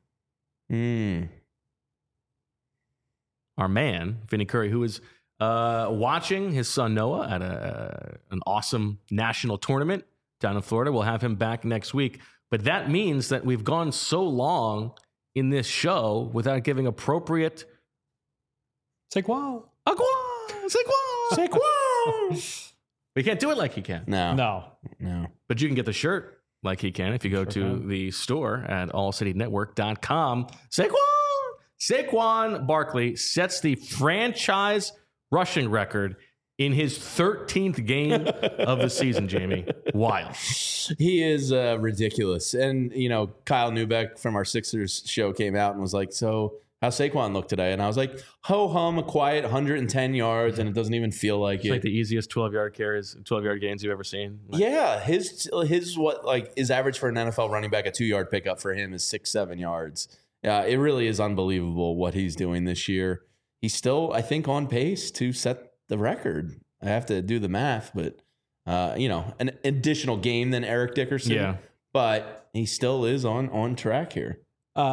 our man, Vinny Curry, who is watching his son Noah at an awesome national tournament down in Florida. We'll have him back next week. But that means that we've gone so long in this show without giving appropriate Saquon. We can't do it like he can. No. But you can get the shirt like he can if you go to the store at allcitynetwork.com. Saquon Barkley sets the franchise rushing record in his 13th game of the season, Jamie. Wild. He is ridiculous. And, Kyle Neubeck from our Sixers show came out and was like, so how's Saquon look today? And I was like, ho-hum, a quiet 110 yards, and it doesn't even feel like it's like the easiest 12-yard gains you've ever seen. His average for an NFL running back, a 2-yard pickup for him is 6-7 yards. It really is unbelievable what he's doing this year. He's still, I think, on pace to set the record. I have to do the math, but, an additional game than Eric Dickerson. Yeah. But he still is on track here.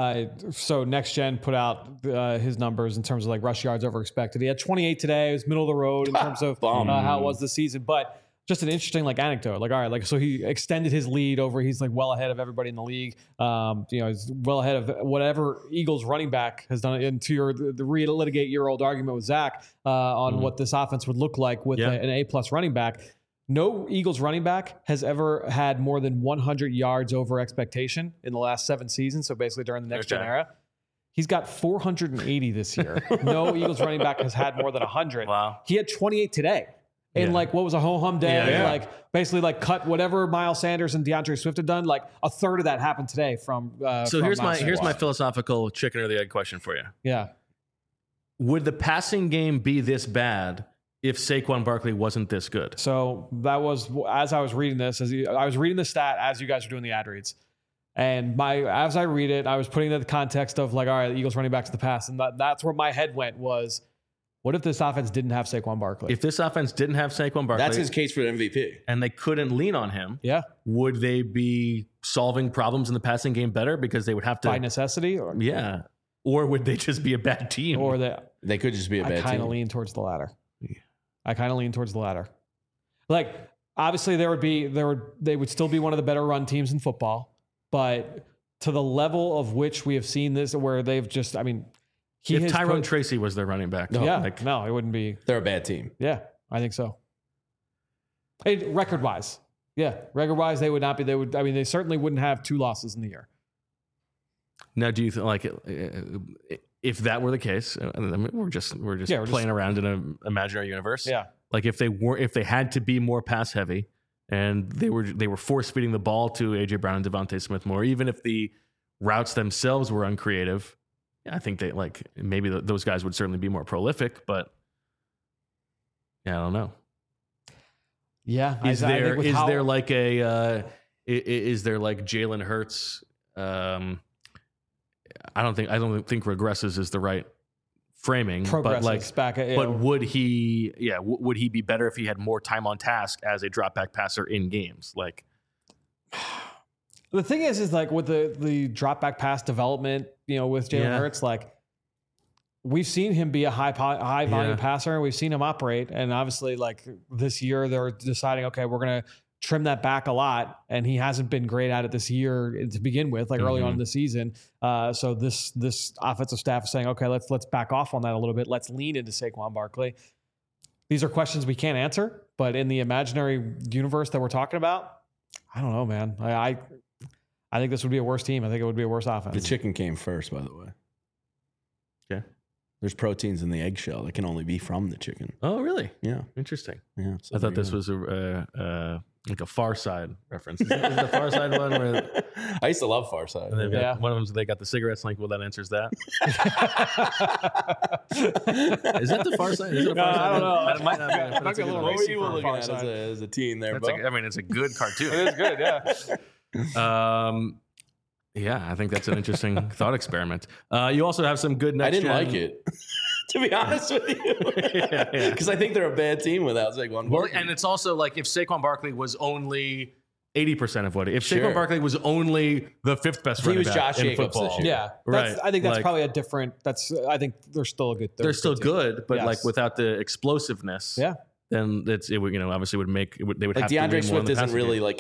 So Next Gen put out his numbers in terms of like rush yards over expected. He had 28 today. It was middle of the road in terms of how it was this season. But just an interesting anecdote. So he extended his lead over. He's well ahead of everybody in the league. He's well ahead of whatever Eagles running back has done. And to the relitigate your old argument with Zach on what this offense would look like with an A+ running back. No Eagles running back has ever had more than 100 yards over expectation in the last 7 seasons. So basically during the Next Gen era, he's got 480 this year. No Eagles running back has had more than 100. Wow. He had 28 today. And what was a ho-hum day? Basically cut whatever Miles Sanders and DeAndre Swift had done. A third of that happened today from. So here's my philosophical chicken or the egg question for you. Yeah. Would the passing game be this bad if Saquon Barkley wasn't this good? So that was, as I was reading this, I was reading the stat as you guys were doing the ad reads. And as I read it, I was putting it in the context of all right, the Eagles running back to the pass. And that's where my head went was, what if this offense didn't have Saquon Barkley? If this offense didn't have Saquon Barkley. That's his case for the MVP. And they couldn't lean on him. Yeah. Would they be solving problems in the passing game better because they would have to. By necessity? Yeah. Or would they just be a bad team? Or They could just be a bad team. I kind of lean towards the latter. Like, obviously, they would still be one of the better run teams in football, but to the level of which we have seen this, where they've just, I mean, if Tyrone Tracy was their running back, no, it wouldn't be. They're a bad team. Yeah, I think so. Record-wise, they would not be. They certainly wouldn't have 2 losses in the year. Now, do you think if that were the case? I mean, we're just playing around in an imaginary universe. Yeah, like if they had to be more pass heavy, and they were force feeding the ball to AJ Brown and Devontae Smith more, even if the routes themselves were uncreative. I think they maybe those guys would certainly be more prolific, but I don't know. Yeah, is there like Jalen Hurts? I don't think regresses is the right framing, but would he be better if he had more time on task as a drop back passer in games? Like, the thing is like with the drop back pass development, with Jalen Hurts, like we've seen him be a high volume passer, and we've seen him operate. And obviously, like this year, they're deciding, okay, we're going to trim that back a lot, and he hasn't been great at it this year to begin with, like early on in the season. So this offensive staff is saying, okay, let's back off on that a little bit. Let's lean into Saquon Barkley. These are questions we can't answer, but in the imaginary universe that we're talking about, I don't know, man. I think this would be a worse team. I think it would be a worse offense. The chicken came first, by the way. Yeah. There's proteins in the eggshell that can only be from the chicken. Oh, really? Yeah. Interesting. Yeah. I thought this was like a Far Side reference. Is it the Far Side one? Where I used to love Far Side. And one of them, they got the cigarettes. Like, well, that answers that. Is that the Far Side? Is it a Far Side? I don't know. It might not be. It might be a little racy for looking Far at Side. as a teen there, it's a good cartoon. It is good, yeah. Yeah, I think that's an interesting thought experiment. You also have some good next I didn't gen. like it, to be honest with you. Because I think they're a bad team without Saquon Barkley. And it's also like if Saquon Barkley was only 80% of what Saquon Barkley was only the 5th best running back Josh in Jacobs football. this year. Yeah, right. I think that's probably a different. I think they're still a good. They're still good, but yes. like without the explosiveness. Yeah. Then it would obviously would make they would like have DeAndre to Swift isn't really like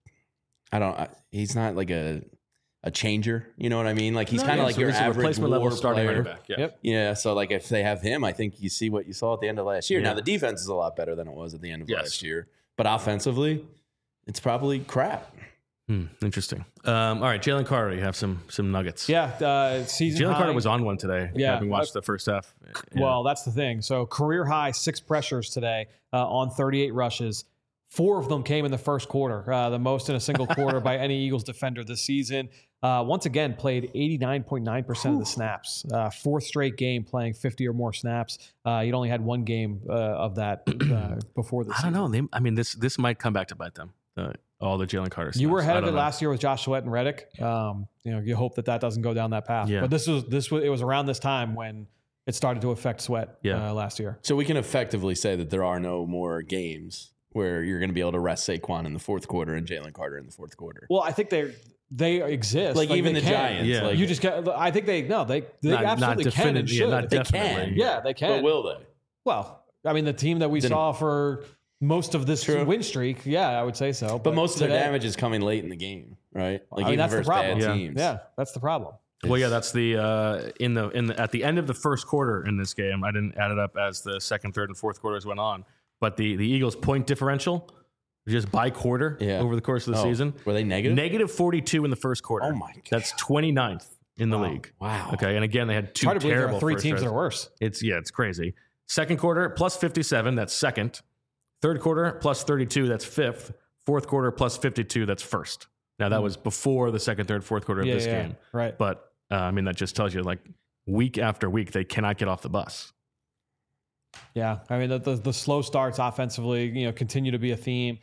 he's not like a changer, you know what I mean? Like he's kind of like your average replacement level starting player. running back. Yeah. Yep. Yeah, so like if they have him, I think you see what you saw at the end of last year. Yeah. Now the defense is a lot better than it was at the end of last year, but offensively, it's probably crap. Interesting. All right, Jalen Carter, you have some nuggets. Yeah, season Jalen high. Carter was on one today. Yeah, having watched the first half. Well, that's the thing. So career high 6 pressures today on 38 rushes. 4 of them came in the first quarter, the most in a single quarter by any Eagles defender this season. Once again, played 89.9% of the snaps. 4th straight game playing 50 or more snaps. He'd only had 1 game of that before this. I don't know. This might come back to bite them. All the Jalen Carter snaps. You were ahead of it last year with Josh Sweat and Reddick. You hope that doesn't go down that path. Yeah. But it was around this time when it started to affect Sweat last year. So we can effectively say that there are no more games where you're going to be able to rest Saquon in the 4th quarter and Jalen Carter in the 4th quarter. Well, I think they exist. Like even the can. Giants. Yeah. Like, You just get. I think they absolutely can and should. not definitely. Yeah, they can. but will they? Well, I mean, the team that we saw for most of this win streak, yeah, I would say so. But most of their damage is coming late in the game, right? Like even that's the versus problem. bad teams. Yeah, that's the problem. Well, yeah, that's the at the end of the first quarter in this game. I didn't add it up as the second, third, and fourth quarters went on, but the Eagles' point differential just by quarter over the course of the season. Were they negative? Negative 42 in the first quarter. Oh my God. That's 29th in the league. Wow. Okay, and again they had 2 Hard to believe there terrible are 3 first teams that drives. are worse. It's crazy. Second quarter plus 57. That's second. Third quarter plus 32. That's 5th. Fourth quarter plus 52. That's first. Now that was before the second, third, fourth quarter of this game. Right. But that just tells you like week after week they cannot get off the bus. Yeah, I mean the slow starts offensively, continue to be a theme.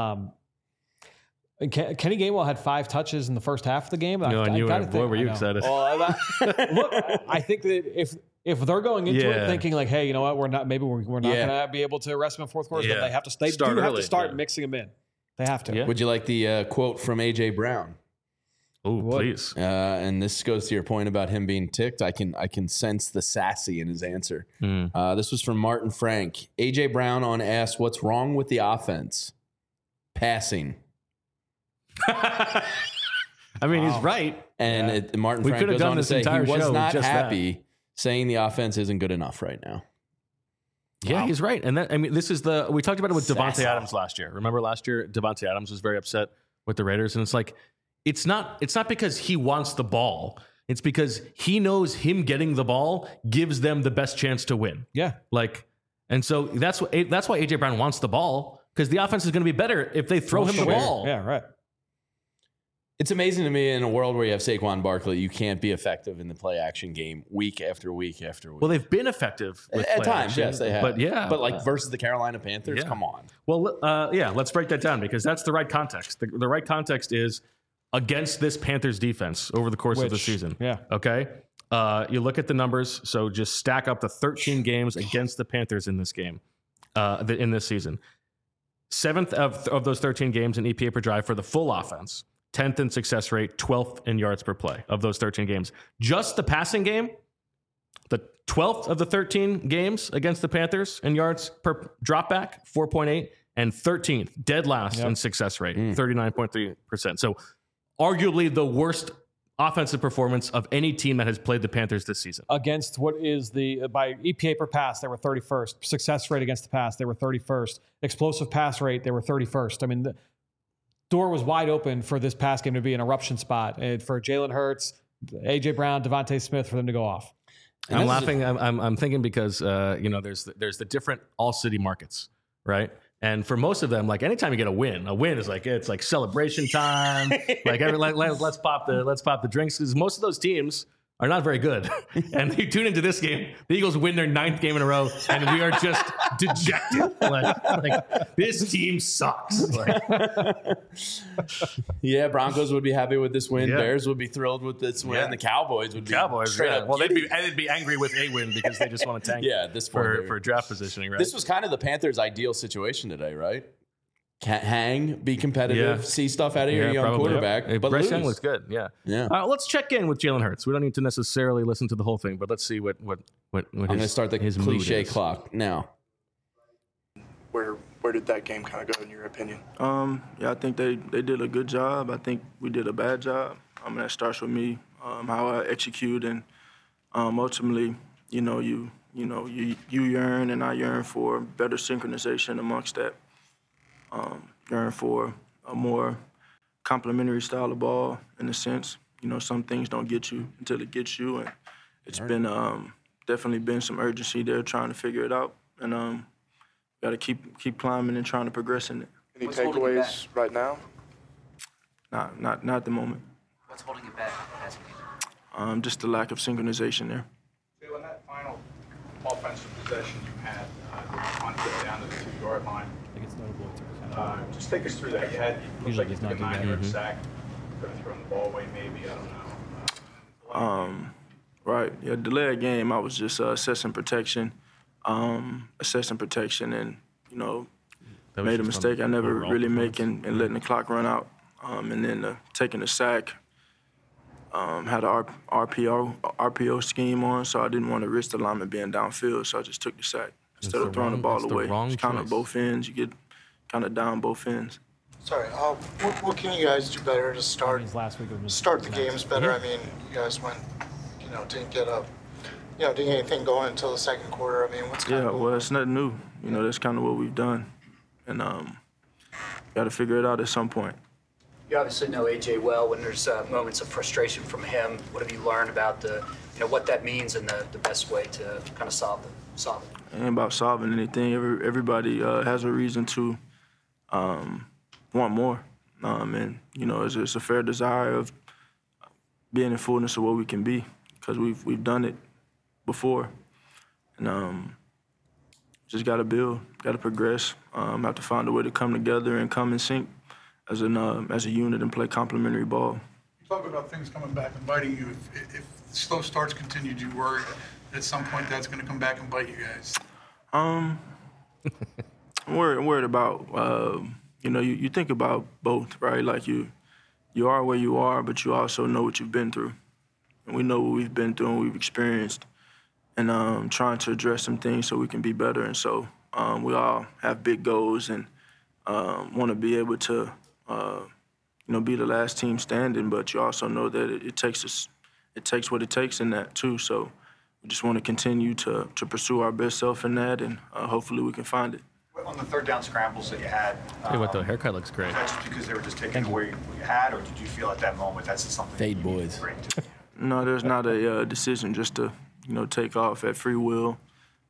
Kenny Gainwell had 5 touches in the first half of the game. No, boy, were you excited? Look, I think that if they're going into it thinking like, hey, you know what, we're not going to be able to rest him in fourth quarter, but they have to stay. They have to start mixing him in. They have to. Would you like the quote from AJ Brown? Oh, please. And this goes to your point about him being ticked. I can sense the sassy in his answer. This was from Martin Frank. AJ Brown on asked, what's wrong with the offense? Passing. I mean, he's right. And Martin Frank goes on to say he was not happy, saying the offense isn't good enough right now. Yeah, he's right. And this is we talked about it with Devontae Adams last year. Remember last year, Devontae Adams was very upset with the Raiders. And it's like, it's not because he wants the ball. It's because he knows him getting the ball gives them the best chance to win. Yeah. And so that's why AJ Brown wants the ball, because the offense is going to be better if they throw him the ball. Yeah, right. It's amazing to me in a world where you have Saquon Barkley, you can't be effective in the play action game week after week after week. Well, they've been effective with at play times, action, yes, they have. But versus the Carolina Panthers, come on. Well, let's break that down, because that's the right context. The right context is against this Panthers defense over the course of the season. Yeah. Okay. You look at the numbers. So just stack up the 13 games against the Panthers in this game, in this season. 7th of those 13 games in EPA per drive for the full offense. 10th in success rate, 12th in yards per play of those 13 games. Just the passing game, the 12th of the 13 games against the Panthers in yards per dropback, 4.8, and 13th, dead last in success rate, 39.3%. So arguably the worst offensive performance of any team that has played the Panthers this season. Against what is by EPA per pass, they were 31st. Success rate against the pass, they were 31st. Explosive pass rate, they were 31st. I mean, the door was wide open for this pass game to be an eruption spot, and for Jalen Hurts, AJ Brown, Devontae Smith, for them to go off. And I'm laughing. I'm thinking because there's the different all city markets, right? And for most of them, like anytime you get a win is it's like celebration time. Let's pop the drinks, because most of those teams are not very good. And you tune into this game, the Eagles win their 9th game in a row, and we are just dejected. Like this team sucks. Yeah, Broncos would be happy with this win. Yeah. Bears would be thrilled with this win. Yeah. The Cowboys would be straight up. Well, they'd be angry with a win because they just want to tank. This for draft positioning. Right. This was kind of the Panthers' ideal situation today, right? Hang, be competitive, see stuff out of your young quarterback. Hey, but Bryce Young looks good. Yeah. Let's check in with Jalen Hurts. We don't need to necessarily listen to the whole thing, but let's see what I'm going to start the cliche clock now. Where did that game kind of go in your opinion? I think they did a good job. I think we did a bad job. That starts with me, how I execute, and ultimately, you yearn and I yearn for better synchronization amongst that. Yearn for a more complementary style of ball, in a sense. Some things don't get you until it gets you, and it's been definitely been some urgency there trying to figure it out, and got to keep climbing and trying to progress in it. Any takeaways right now? Not at the moment. What's holding you back? Just the lack of synchronization there. So in that final offensive possession you had, on get down to the 2-yard line. I think it's notable. Just take us through that. You looked like you took a 9-yard sack. Could have thrown the ball away, maybe. I don't know. Right. Yeah, delay of game. I was just assessing protection, and made a mistake I never really make in letting the clock run out, and then taking the sack. Had an RPO scheme on, so I didn't want to risk the lineman being downfield, so I just took the sack instead of throwing the ball away. It's kind of both ends. You get kind of down both ends. Sorry, what can you guys do better to start the games better? I mean, you guys didn't get anything going until the second quarter. I mean, what's kind of well, it's nothing new. That's kind of what we've done, and got to figure it out at some point. You obviously know AJ well. When there's moments of frustration from him, what have you learned about what that means and the best way to kind of solve it? It ain't about solving anything. Everybody has a reason to want more, and it's a fair desire of being in fullness of what we can be, because we've done it before, and just got to build, got to progress, have to find a way to come together and come in sync as a unit and play complementary ball. Talk about things coming back and biting you. If slow starts continue, do you worry at some point that's going to come back and bite you guys? I'm worried about, you think about both, right? Like you you are where you are, but you also know what you've been through. And we know what we've been through and we've experienced, and trying to address some things so we can be better. And so we all have big goals and want to be able to, be the last team standing, but you also know that it takes what it takes in that too. So we just want to continue to pursue our best self in that, and hopefully we can find it. On the third down scrambles that you had, Hey, what the haircut looks great. was that just because they were just taking away what you had, or did you feel at that moment that's just something Fade you needed boys. to bring to? No, there's not a decision just to, take off at free will.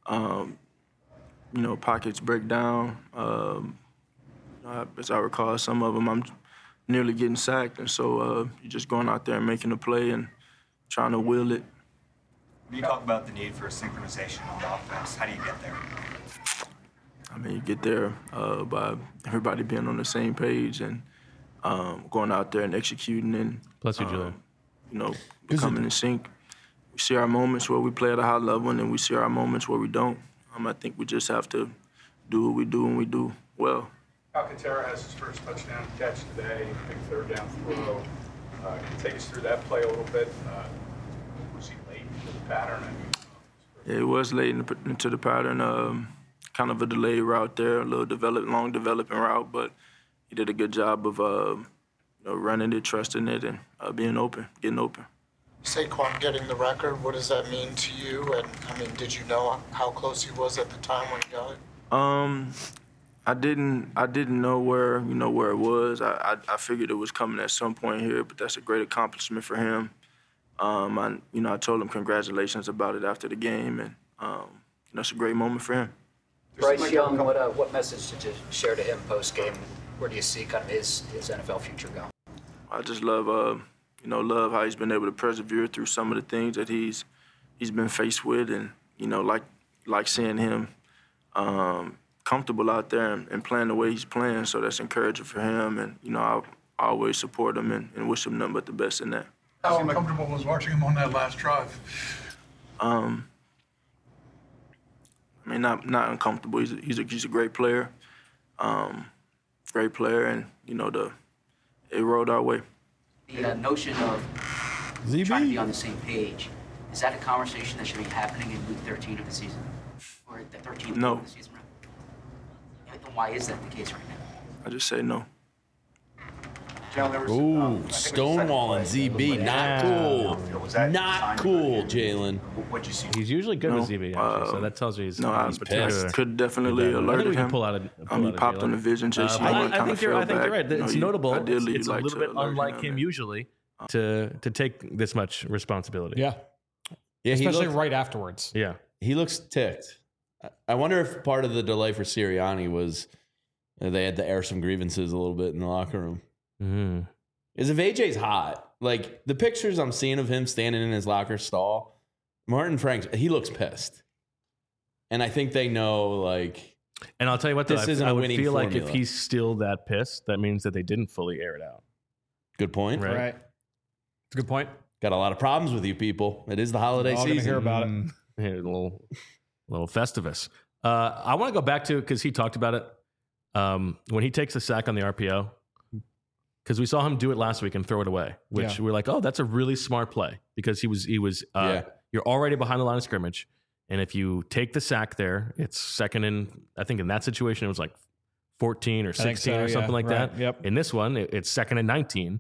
Pockets break down. As I recall, some of them I'm nearly getting sacked, and so you're just going out there and making a play and trying to will it. When you talk about the need for synchronization on the offense, how do you get there? I mean, you get there by everybody being on the same page and going out there and executing and Bless you, Julian. Becoming in sync. We see our moments where we play at a high level, and then we see our moments where we don't. I think we just have to do what we do and we do well. Alcantara has his first touchdown catch today, big third down throw. Can you take us through that play a little bit? Was he late into the pattern? Yeah, it was late into the pattern. Kind of a delayed route there, a little long developing route, but he did a good job of running it, trusting it, and being open, getting open. Saquon getting the record, what does that mean to you? And I mean, did you know how close he was at the time when he got it? I didn't know where it was. I figured it was coming at some point here, but that's a great accomplishment for him. I told him congratulations about it after the game, and that's a great moment for him. Bryce Young, what message did you share to him post game? Where do you see kind of his NFL future going? I just love love how he's been able to persevere through some of the things that he's been faced with, and like seeing him comfortable out there and playing the way he's playing. So that's encouraging for him, and I always support him and wish him nothing but the best in that. How uncomfortable was watching him on that last drive? Not uncomfortable. He's a great player, and it rolled our way. The notion of trying to be on the same page, is that a conversation that should be happening in week 13 of the season, or the 13th No. of the season? Right? Then why is that the case right now? I just say no. Ooh, stonewalling ZB. Not cool. Not cool, Jalen. What'd you see? He's usually good with ZB, actually, so that tells you he's I particular. could definitely I alert think we can him. pull out He popped on the vision. JC I think you're right. It's notable. Ideally, It's a you'd like little to bit alert unlike him and- usually to take this much responsibility. Yeah. Yeah, Especially right afterwards. Yeah. He looks ticked. I wonder if part of the delay for Sirianni was they had to air some grievances a little bit in the locker room. Mm-hmm. Is if AJ's hot, like the pictures I'm seeing of him standing in his locker stall, Martin Franks, he looks pissed. And I think they know, like, and I'll tell you what, this isn't I a would winning feel like formula. if he's still that pissed, that means that they didn't fully air it out. Good point. Right. It's a good point. Got a lot of problems with you people. It is the holiday We're all season. gonna hear about it. Yeah, a little Festivus. I want to go back to, because he talked about it, when he takes a sack on the RPO, because we saw him do it last week and throw it away, which we're like, oh, that's a really smart play, because he was you're already behind the line of scrimmage, and if you take the sack there, it's second and, I think in that situation it was like 14 or 16 or something like that. Yep. In this one, it's second and 19,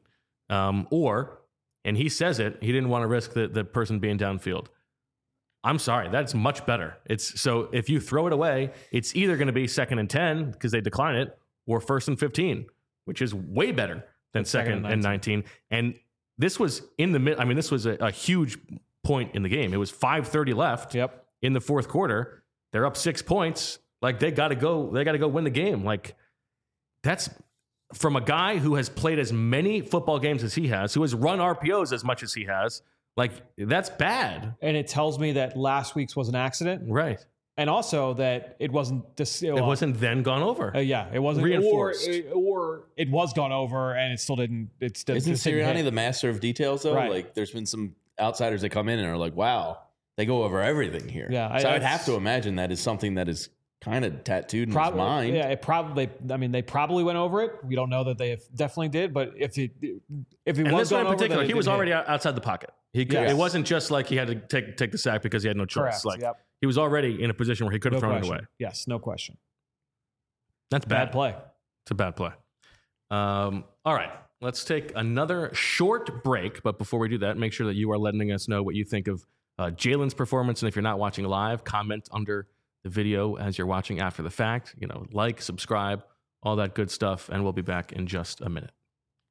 and he says it, he didn't want to risk the person being downfield. I'm sorry, that's much better. So if you throw it away, it's either going to be second and 10 because they decline it, or first and 15, which is way better than second and 19. And this was in the mid. I mean, this was a huge point in the game. It was 5:30 left. Yep. In the fourth quarter, they're up 6 points. Like they got to go. They got to go win the game. Like that's from a guy who has played as many football games as he has, who has run RPOs as much as he has. Like that's bad. And it tells me that last week's was an accident, right? And also that it wasn't. It wasn't then gone over. Yeah, it wasn't reinforced, or it was gone over, and it still didn't. It still Isn't Sirianni the master of details though? Right. Like, there's been some outsiders that come in and are like, "Wow, they go over everything here." Yeah, so I'd have to imagine that is something that is kind of tattooed in his mind. Yeah, it probably. I mean, they probably went over it. We don't know that they definitely did, but if he and was this one going in particular, over, he was already outside the pocket. It wasn't just like he had to take the sack because he had no choice. Correct, Like yep. he was already in a position where he could have thrown it away. Yes, no question. That's bad play. It's a bad play. All right, let's take another short break. But before we do that, make sure that you are letting us know what you think of Jalen's performance. And if you're not watching live, comment under the video as you're watching after the fact. Like, subscribe, all that good stuff. And we'll be back in just a minute.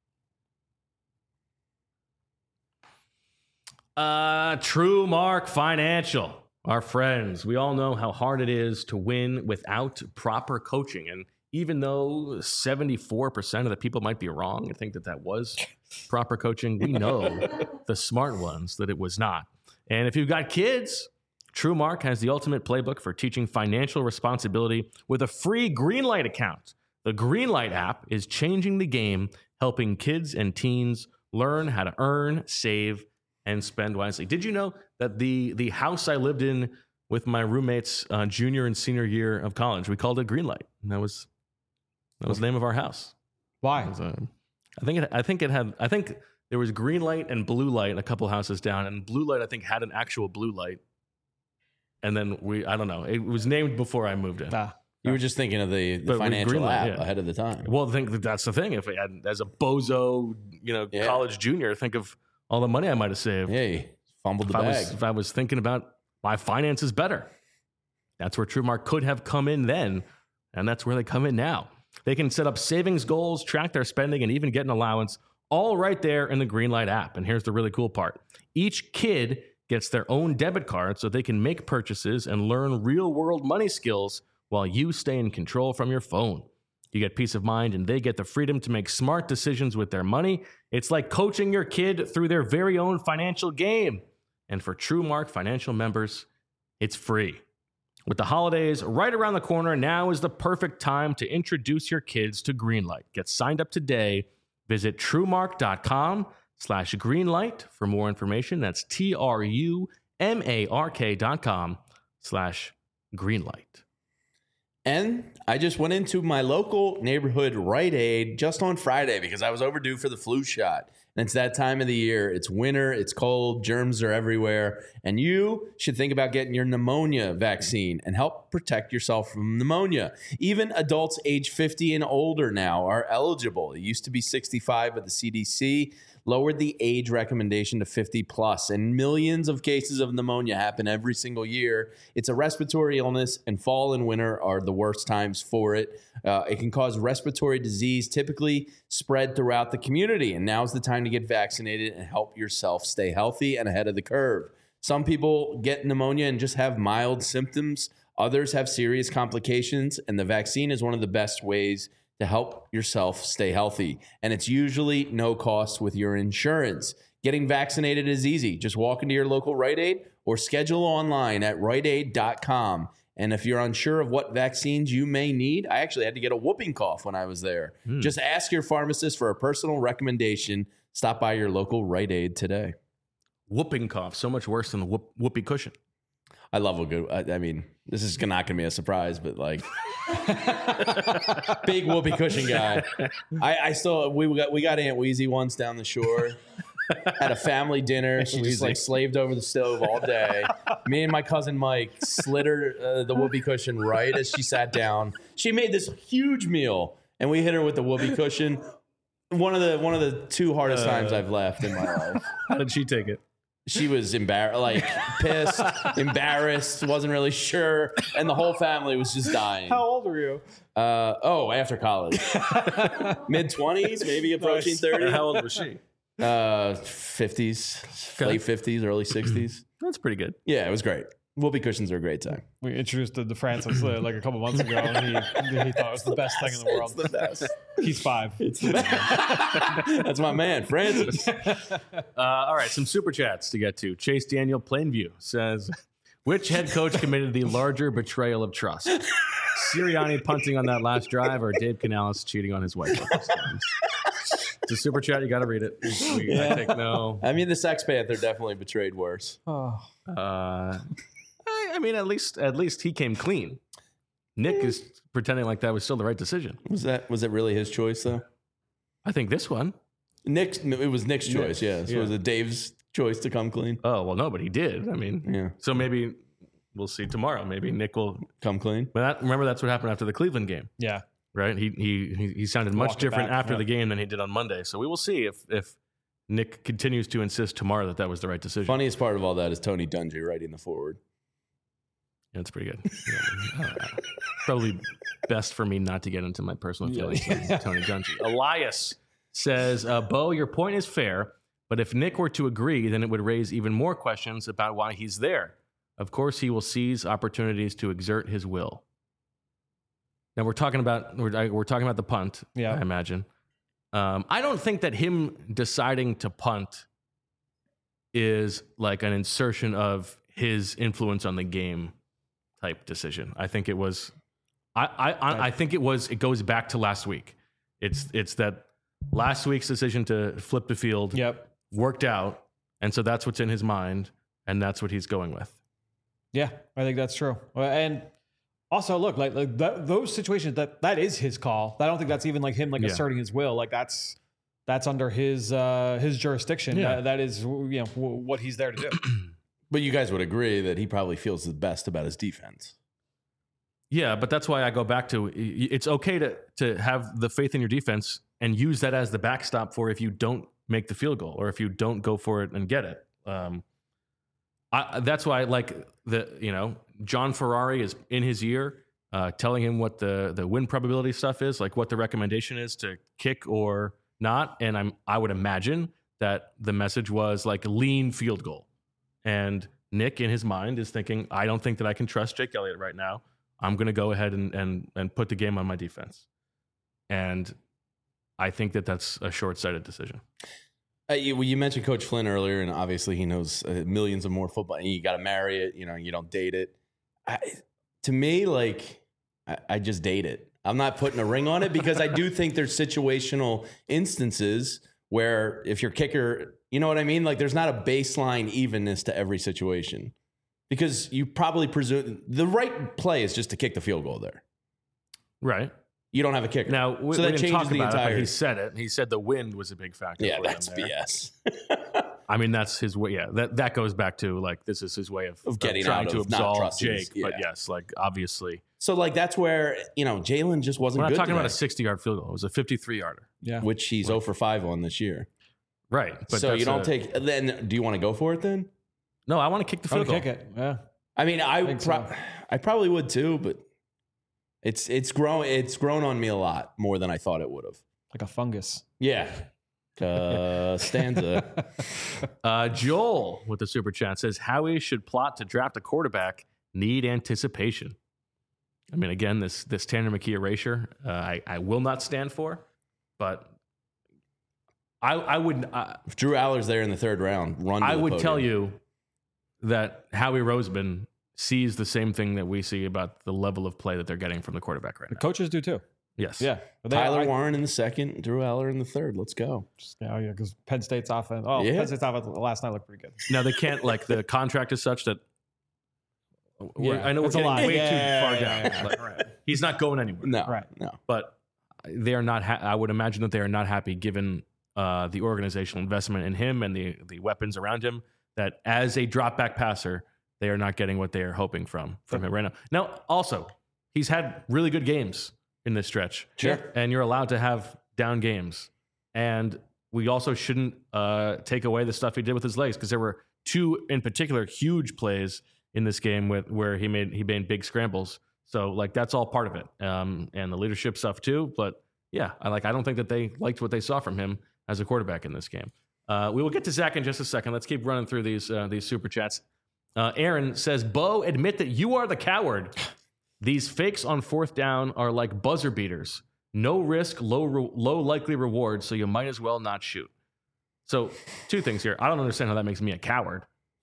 TrueMark Financial, our friends. We all know how hard it is to win without proper coaching. And even though 74% of the people might be wrong and think that was proper coaching, we know the smart ones that it was not. And if you've got kids, TrueMark has the ultimate playbook for teaching financial responsibility with a free Greenlight account. The Greenlight app is changing the game, helping kids and teens learn how to earn, save, and spend wisely. Did you know that the house I lived in with my roommates junior and senior year of college, we called it Greenlight, and that was the name of our house. Why? I think there was green light and blue light a couple houses down, and blue light I think had an actual blue light, and then I don't know. It was named before I moved in. You were just thinking of the financial app ahead of the time. Well, I think that's the thing. If I had, as a bozo, college junior, think of all the money I might have saved. Hey, fumbled the bag. If I was thinking about my finances better, that's where TrueMark could have come in then, and that's where they come in now. They can set up savings goals, track their spending, and even get an allowance, all right there in the Greenlight app. And here's the really cool part. Each kid gets their own debit card so they can make purchases and learn real-world money skills while you stay in control from your phone. You get peace of mind, and they get the freedom to make smart decisions with their money. It's like coaching your kid through their very own financial game. And for TrueMark Financial members, it's free. With the holidays right around the corner, now is the perfect time to introduce your kids to Greenlight. Get signed up today. Visit TrueMark.com/Greenlight for more information. That's TrueMark.com/Greenlight. And I just went into my local neighborhood Rite Aid just on Friday because I was overdue for the flu shot. And it's that time of the year. It's winter, it's cold, germs are everywhere. And you should think about getting your pneumonia vaccine and help protect yourself from pneumonia. Even adults age 50 and older now are eligible. It used to be 65, but the CDC lowered the age recommendation to 50 plus. And millions of cases of pneumonia happen every single year. It's a respiratory illness, and fall and winter are the worst times for it. It can cause respiratory disease, typically spread throughout the community. And now's the time to get vaccinated and help yourself stay healthy and ahead of the curve. Some people get pneumonia and just have mild symptoms. Others have serious complications, and the vaccine is one of the best ways to help yourself stay healthy. And it's usually no cost with your insurance. Getting vaccinated is easy. Just walk into your local Rite Aid or schedule online at riteaid.com. And if you're unsure of what vaccines you may need, I actually had to get a whooping cough when I was there. Just ask your pharmacist for a personal recommendation. Stop by your local Rite Aid today. Whooping cough, so much worse than the whoopee cushion. I love a good, I mean, this is not going to be a surprise, but like, big whoopee cushion guy. We got Aunt Wheezy once down the shore. At a family dinner, she just like slaved over the stove all day. Me and my cousin Mike slid her the whoopee cushion right as she sat down. She made this huge meal, and we hit her with the whoopee cushion. One of the two hardest times I've laughed in my life. How did she take it? She was pissed, embarrassed, wasn't really sure, and the whole family was just dying. How old were you? After college, mid-20s, maybe approaching 30. How old was she? 50s, late 50s, early 60s. That's pretty good. Yeah, it was great. Whoopee cushions are a great time. We introduced the Francis like a couple months ago, and he thought it was the best thing in the world. It's the best. He's 5. It's the best. That's my man, Francis. All right, some super chats to get to. Chase Daniel Plainview says, which head coach committed the larger betrayal of trust? Sirianni punting on that last drive or Dave Canales cheating on his wife? It's a super chat. You got to read it. I think no. I mean, the Sex Panther definitely betrayed worse. Oh. I mean, at least he came clean. Nick is pretending like that was still the right decision. Was it really his choice though? I think this one. It was Nick's choice, yeah. So was it Dave's choice to come clean? Oh, well, no, but he did. I mean, so maybe we'll see tomorrow. Maybe Nick will come clean. But remember, that's what happened after the Cleveland game. Yeah. Right? He sounded much different after the game than he did on Monday. So we will see if Nick continues to insist tomorrow that was the right decision. Funniest part of all that is Tony Dungy writing the forward. Yeah, it's pretty good. Probably best for me not to get into my personal feelings on Tony Dungy. Elias says, Bo, your point is fair, but if Nick were to agree, then it would raise even more questions about why he's there. Of course, he will seize opportunities to exert his will. Now we're talking about the punt. Yeah, I imagine. I don't think that him deciding to punt is like an insertion of his influence on the game type decision. I think it was. I think it was. It goes back to last week. It's that last week's decision to flip the field. Worked out, and so that's what's in his mind, and that's what he's going with. Yeah, I think that's true. And also, look, like those situations that is his call. I don't think that's even like him asserting his will. Like that's under his jurisdiction. Yeah. That is what he's there to do. But you guys would agree that he probably feels the best about his defense. Yeah, but that's why I go back to it's okay to have the faith in your defense and use that as the backstop for if you don't make the field goal or if you don't go for it and get it. That's why I like John Ferrari is in his ear telling him what the win probability stuff is, like what the recommendation is to kick or not. And I would imagine that the message was like lean field goal. And Nick in his mind is thinking, I don't think that I can trust Jake Elliott right now. I'm going to go ahead and put the game on my defense. And I think that that's a short-sighted decision. You mentioned Coach Flynn earlier, and obviously he knows millions of more football. You got to marry it. You don't date it. To me, I just date it. I'm not putting a ring on it because I do think there's situational instances where if your kicker, you know what I mean? Like there's not a baseline evenness to every situation because you probably presume the right play is just to kick the field goal there. Right. You don't have a kicker. Now, so that changes the entire. He said it. He said the wind was a big factor. Yeah, for that's him there. BS. I mean, that's his way. Yeah, that goes back to like this is his way of getting trying out to of not absolve trusting Jake. his- yeah. But yes, like obviously, So that's where Jalen just wasn't. we're not good talking about a today. 60-yard field goal. It was a 53-yarder. Yeah, which he's 0 for 5 on this year. Right. But So that's you don't take. Then do you want to go for it then? No, I want to kick the I'm field gonna goal. kick it. Yeah, I mean, think so. I probably would too, but it's grown on me a lot more than I thought it would have. like a fungus. Yeah. Stanza. Joel with the super chat says Howie should plot to draft a quarterback. Need anticipation. I mean, again, this Tanner McKee erasure, I will not stand for, but I would. If Drew Aller's there in the third round, run. To I the would podium. tell you that Howie Roseman sees the same thing that we see about the level of play that they're getting from the quarterback right The now. coaches do too. Yes. Yeah, but Tyler Warren in the second, Drew Aller in the third. Let's go. Yeah, because Penn State's offense. Oh, Yeah. Penn State's offense last night looked pretty good. Now they can't the contract is such that. I know we're it's a getting lot. way Yeah, too far yeah, down. yeah, Like, right. He's not going anywhere. No. Right. No. But they are not. I would imagine that they are not happy given the organizational investment in him and the weapons around him. That as a drop back passer, they are not getting what they are hoping from him right now. Now, also, he's had really good games in this stretch. Sure. And you're allowed to have down games. And we also shouldn't take away the stuff he did with his legs because there were two in particular huge plays in this game where he made big scrambles. So like that's all part of it, and the leadership stuff too. But yeah, I don't think that they liked what they saw from him as a quarterback in this game. We will get to Zach in just a second. Let's keep running through these super chats. Aaron says, "Bo, admit that you are the coward. These fakes on fourth down are like buzzer beaters. No risk, low likely reward. So you might as well not shoot." So two things here. I don't understand how that makes me a coward.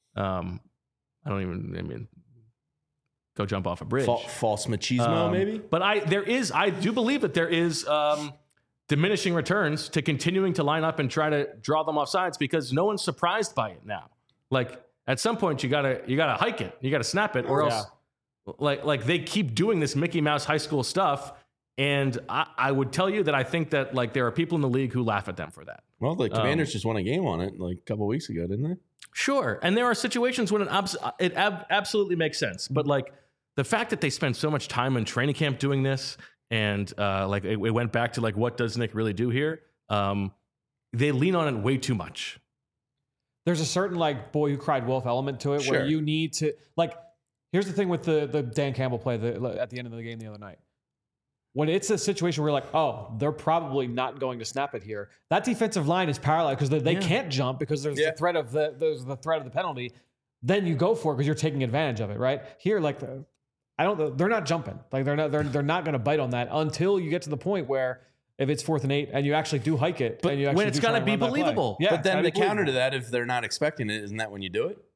Go jump off a bridge. False machismo, maybe. But I do believe that there is diminishing returns to continuing to line up and try to draw them off sides because no one's surprised by it now. Like at some point you gotta hike it, you gotta snap it, or else Like they keep doing this Mickey Mouse high school stuff. And I would tell you that I think that like there are people in the league who laugh at them for that. Well, the Commanders just won a game on it like a couple weeks ago, didn't they? Sure. And there are situations when it absolutely makes sense. But like the fact that they spend so much time in training camp doing this and like it went back to like, what does Nick really do here? They lean on it way too much. There's a certain like boy who cried wolf element to it where you need to like, here's the thing with the Dan Campbell play at the end of the game the other night. When it's a situation where you're like, oh, they're probably not going to snap it here. That defensive line is paralyzed because they can't jump because there's the threat of the threat of the penalty. Then you go for it because you're taking advantage of it, right? Here, like they're not jumping. Like they're not going to bite on that until you get to the point where if it's 4th and 8 and you actually do hike it, but when it's got to be believable. Yeah, but then the counter to that, if they're not expecting it, isn't that when you do it?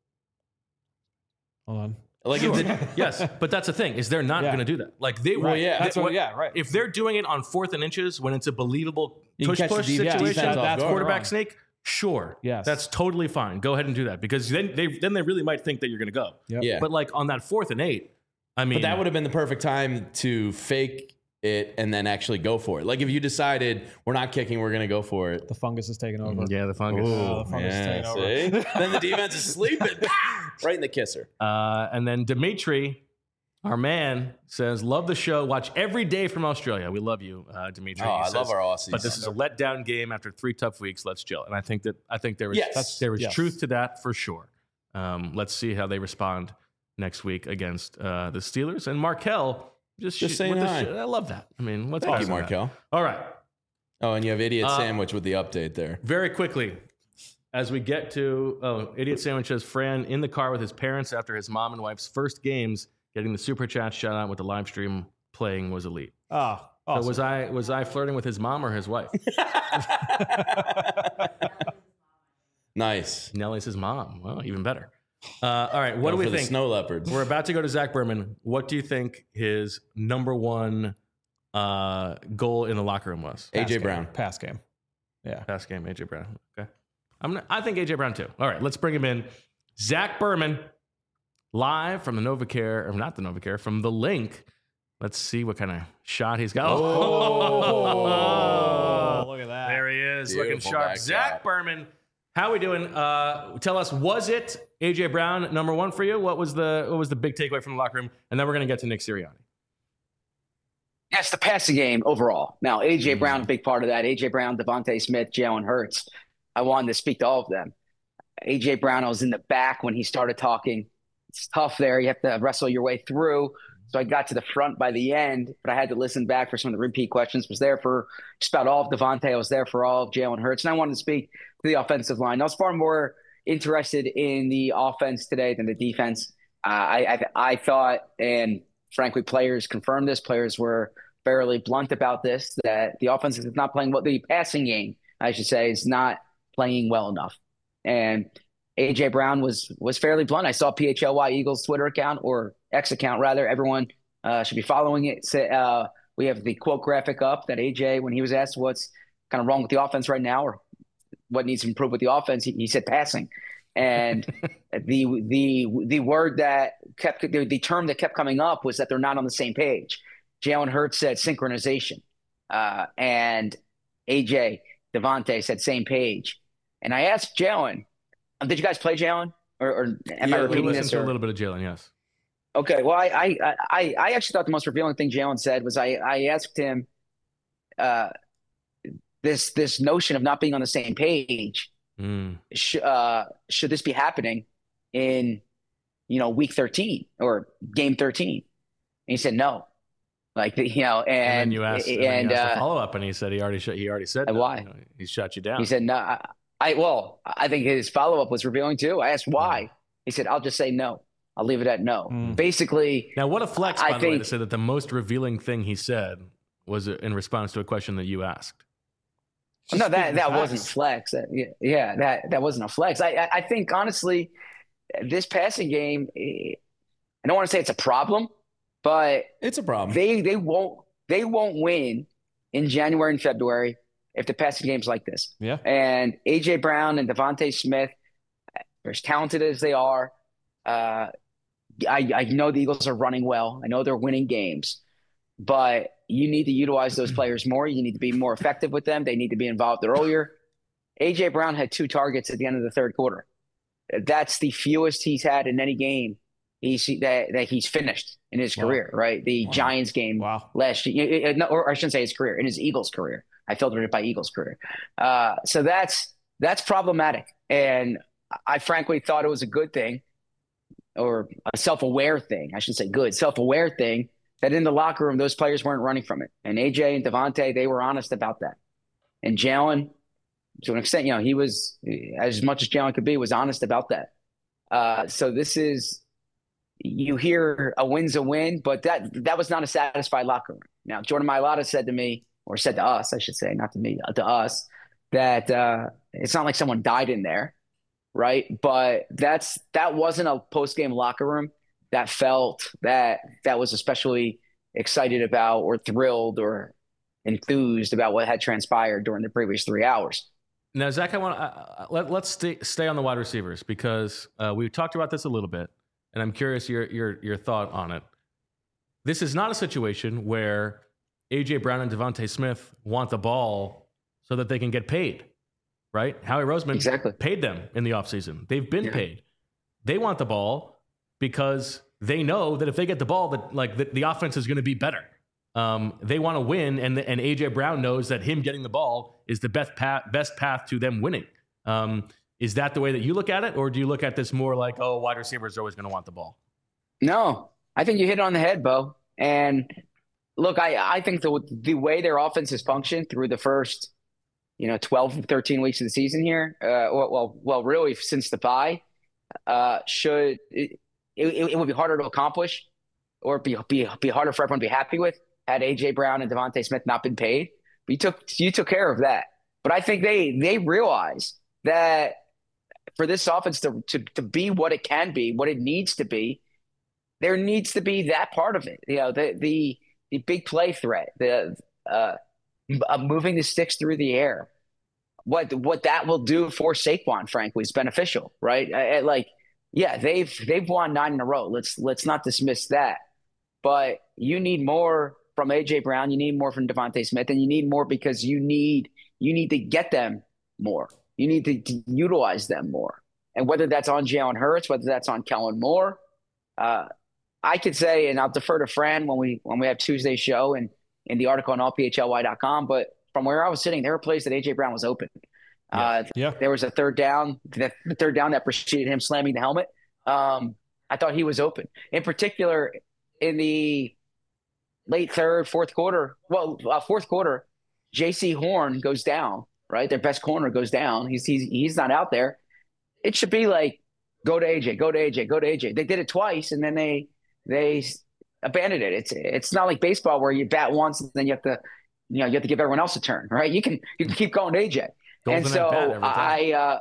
Hold on. Like yes, but that's the thing is they're not going to do that. Like they right. If they're doing it on 4th and inches when it's a believable push situation, that's quarterback sneak. Sure, yes, that's totally fine. Go ahead and do that because then they really might think that you're going to go. Yep. Yeah, but like on that 4th and 8, I mean, but that would have been the perfect time to fake it and then actually go for it. Like if you decided we're not kicking, we're going to go for it. The fungus is taking over. Yeah, the fungus. The fungus is taking over. Then the defense is sleeping right in the kisser. And then Dimitri, our man, says, love the show. Watch every day from Australia. We love you, Dimitri. Oh, I love our Aussies. But this is a letdown game after 3 tough weeks. Let's chill. And I think there is truth to that for sure. Let's see how they respond next week against the Steelers. And Markel, just saying hi. I love that. I mean, what's Thank you, Markel. All right. Oh, and you have Idiot Sandwich with the update there. Very quickly, as we get to Idiot Sandwich says Fran in the car with his parents after his mom and wife's first games, getting the super chat shout out with the live stream playing was elite. Oh, awesome. So was I flirting with his mom or his wife? Nice. Nellie's his mom. Well, even better. All right, what do we think? The snow leopards. We're about to go to Zach Berman. What do you think his number one goal in the locker room was? AJ Brown. Pass game. Yeah. Pass game, AJ Brown. Okay. I think AJ Brown too. All right, let's bring him in. Zach Berman, live from the NovaCare, or not the NovaCare, from the Link. Let's see what kind of shot he's got. Oh, look at that. There he is, Beautiful looking sharp. Zach Berman. How we doing? Tell us, was it AJ Brown number one for you? What was the big takeaway from the locker room? And then we're going to get to Nick Sirianni. Yes, the passing game overall. Now, AJ Brown, a big part of that. AJ Brown, Devontae Smith, Jalen Hurts. I wanted to speak to all of them. AJ Brown, I was in the back when he started talking. It's tough there. You have to wrestle your way through. So I got to the front by the end, but I had to listen back for some of the repeat questions. Was there for just about all of Devontae. I was there for all of Jalen Hurts. And I wanted to speak to the offensive line. I was far more interested in the offense today than the defense. I thought, and frankly, players confirmed this. Players were fairly blunt about this, that the offense is not playing well. The passing game, I should say, is not playing well enough. And AJ Brown was fairly blunt. I saw PHLY Eagles Twitter account, or X account rather. Everyone should be following it. We have the quote graphic up that AJ, when he was asked what's kind of wrong with the offense right now or what needs to improve with the offense, he said passing. And the word that kept, the term that kept coming up was that they're not on the same page. Jalen Hurts said synchronization, and AJ Devontae said same page. And I asked Jalen, did you guys play Jalen, or am I repeating this? To a little bit of Jalen, yes. Okay, well, I actually thought the most revealing thing Jalen said was I asked him this notion of not being on the same page. Should this be happening in week 13 or game 13? And he said no. And then you asked, the follow up, and he said he already said no. Why? He shut you down. He said no. I think his follow up was revealing too. I asked why. He said, I'll just say no. I'll leave it at no. Basically. Now, what a flex, by the way, to say that the most revealing thing he said was in response to a question that you asked. No, that wasn't flex. That wasn't a flex. I think, honestly, this passing game, I don't want to say it's a problem, but it's a problem. They won't win in January and February if the passing game's like this. Yeah. And AJ Brown and Devontae Smith, as talented as they are, I know the Eagles are running well. I know they're winning games, but you need to utilize those players more. You need to be more effective with them. They need to be involved earlier. A.J. Brown had 2 targets at the end of the third quarter. That's the fewest he's had in any game that he's finished in his career, right? The Giants game last year, or I shouldn't say his career, in his Eagles career. I filtered it by Eagles career. So that's problematic. And I frankly thought it was a good thing, or a self-aware thing. I should say good, self-aware thing, that in the locker room, those players weren't running from it. And AJ and Devontae, they were honest about that. And Jalen, to an extent, he was, as much as Jalen could be, was honest about that. So this is, you hear a win's a win, but that was not a satisfied locker room. Now, Jordan Mailata said to me, or said to us, I should say, not to me, to us, that it's not like someone died in there, right? But that wasn't a post-game locker room that felt that was especially excited about or thrilled or enthused about what had transpired during the previous 3 hours. Now, Zach, let's stay on the wide receivers, because we talked about this a little bit, and I'm curious your thought on it. This is not a situation where A.J. Brown and Devontae Smith want the ball so that they can get paid, right? Howie Roseman paid them in the offseason. They've been paid. They want the ball because they know that if they get the ball, that the offense is going to be better. They want to win, and A.J. Brown knows that him getting the ball is the best path to them winning. Is that the way that you look at it, or do you look at this more like, oh, wide receivers are always going to want the ball? No, I think you hit it on the head, Bo. And look, I think the way their offense has functioned through the first, 12, 13 weeks of the season here, well, really since the bye, it would be harder to accomplish, or be harder for everyone to be happy with, had A.J. Brown and Devontae Smith not been paid. But you took care of that. But I think they realize that for this offense to be what it can be, what it needs to be, there needs to be that part of it. The big play threat, the moving the sticks through the air. What that will do for Saquon, frankly, is beneficial, right? They've won 9 in a row. Let's not dismiss that. But you need more from A.J. Brown. You need more from Devontae Smith, and you need more because you need to get them more. You need to utilize them more. And whether that's on Jalen Hurts, whether that's on Kellen Moore, I could say, and I'll defer to Fran when we have Tuesday's show and in the article on allphly.com, but from where I was sitting, there were plays that A.J. Brown was open. There was a third down, the third down that preceded him slamming the helmet. I thought he was open. In particular, in the late fourth quarter, J.C. Horn goes down, right? Their best corner goes down. He's not out there. It should be like, go to A.J., go to A.J., go to A.J. They did it twice, and then they abandoned it. It's not like baseball where you bat once and then you have to give everyone else a turn, right? You can keep going to A.J. And so I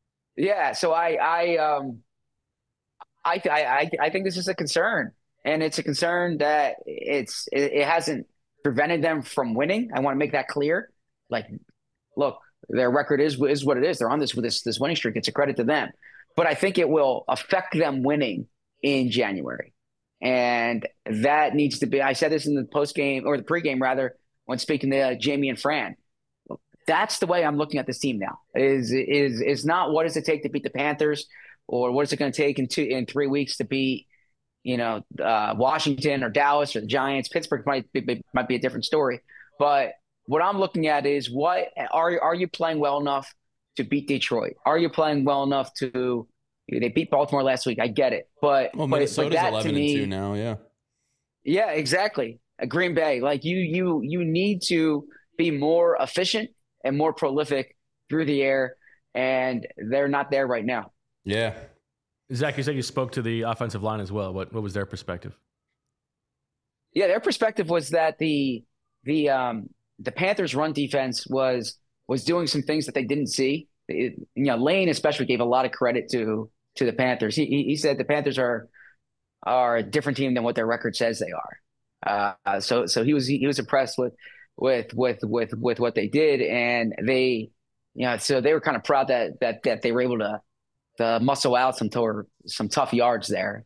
think this is a concern, and it's a concern that it hasn't prevented them from winning. I want to make that clear. Like, look, their record is what it is. They're on this winning streak. It's a credit to them, but I think it will affect them winning in January, and that needs to be. I said this in the post game or the pregame rather when speaking to Jamie and Fran. That's the way I'm looking at this team now. Is not what does it take to beat the Panthers, or what is it going to take in 3 weeks to beat, Washington or Dallas or the Giants. Pittsburgh might be a different story. But what I'm looking at is what are you playing well enough to beat Detroit? Are you playing well enough to? They beat Baltimore last week. I get it, but Minnesota's but 11-2 now. Yeah. Yeah, exactly. Green Bay, like you need to be more efficient and more prolific through the air, and they're not there right now. Yeah. Zach, you said you spoke to the offensive line as well. What was their perspective? Yeah, their perspective was that the Panthers' run defense was doing some things that they didn't see. Lane especially gave a lot of credit to the Panthers. He said the Panthers are a different team than what their record says they are. So he was impressed with what they did, and they, so they were kind of proud that they were able to muscle out some tough yards there.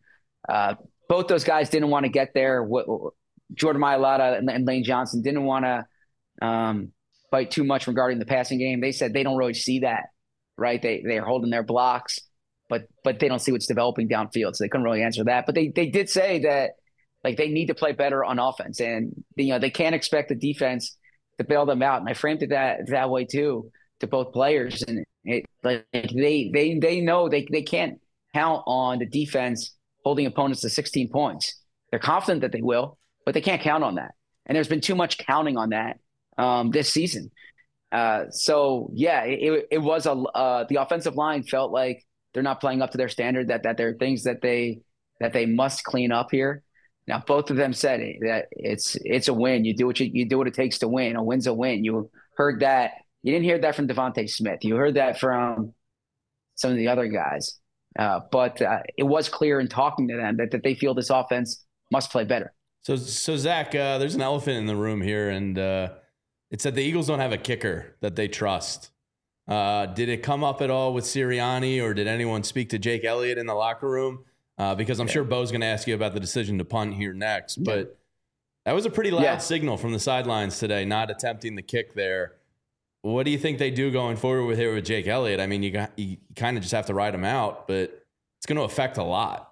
Both those guys didn't want to get there. Jordan Mailata and Lane Johnson didn't want to fight too much regarding the passing game. They said they don't really see that, right? They're holding their blocks, but they don't see what's developing downfield, so they couldn't really answer that. But they did say that they need to play better on offense, and they can't expect the defense to bail them out. And I framed it that way too to both players, and they know they can't count on the defense holding opponents to 16 points. They're confident that they will, but they can't count on that. And there's been too much counting on that this season. So yeah, it was the offensive line felt like they're not playing up to their standard, that there are things that they must clean up here. Now, both of them said that it's a win. You do what it takes to win. A win's a win. You heard that. You didn't hear that from Devontae Smith. You heard that from some of the other guys. But it was clear in talking to them that they feel this offense must play better. So Zach, there's an elephant in the room here, and it's that the Eagles don't have a kicker that they trust. Did it come up at all with Sirianni, or did anyone speak to Jake Elliott in the locker room? Because I'm sure Bo's going to ask you about the decision to punt here next. But that was a pretty loud signal from the sidelines today, not attempting the kick there. What do you think they do going forward with Jake Elliott? I mean, you kind of just have to ride him out, but it's going to affect a lot.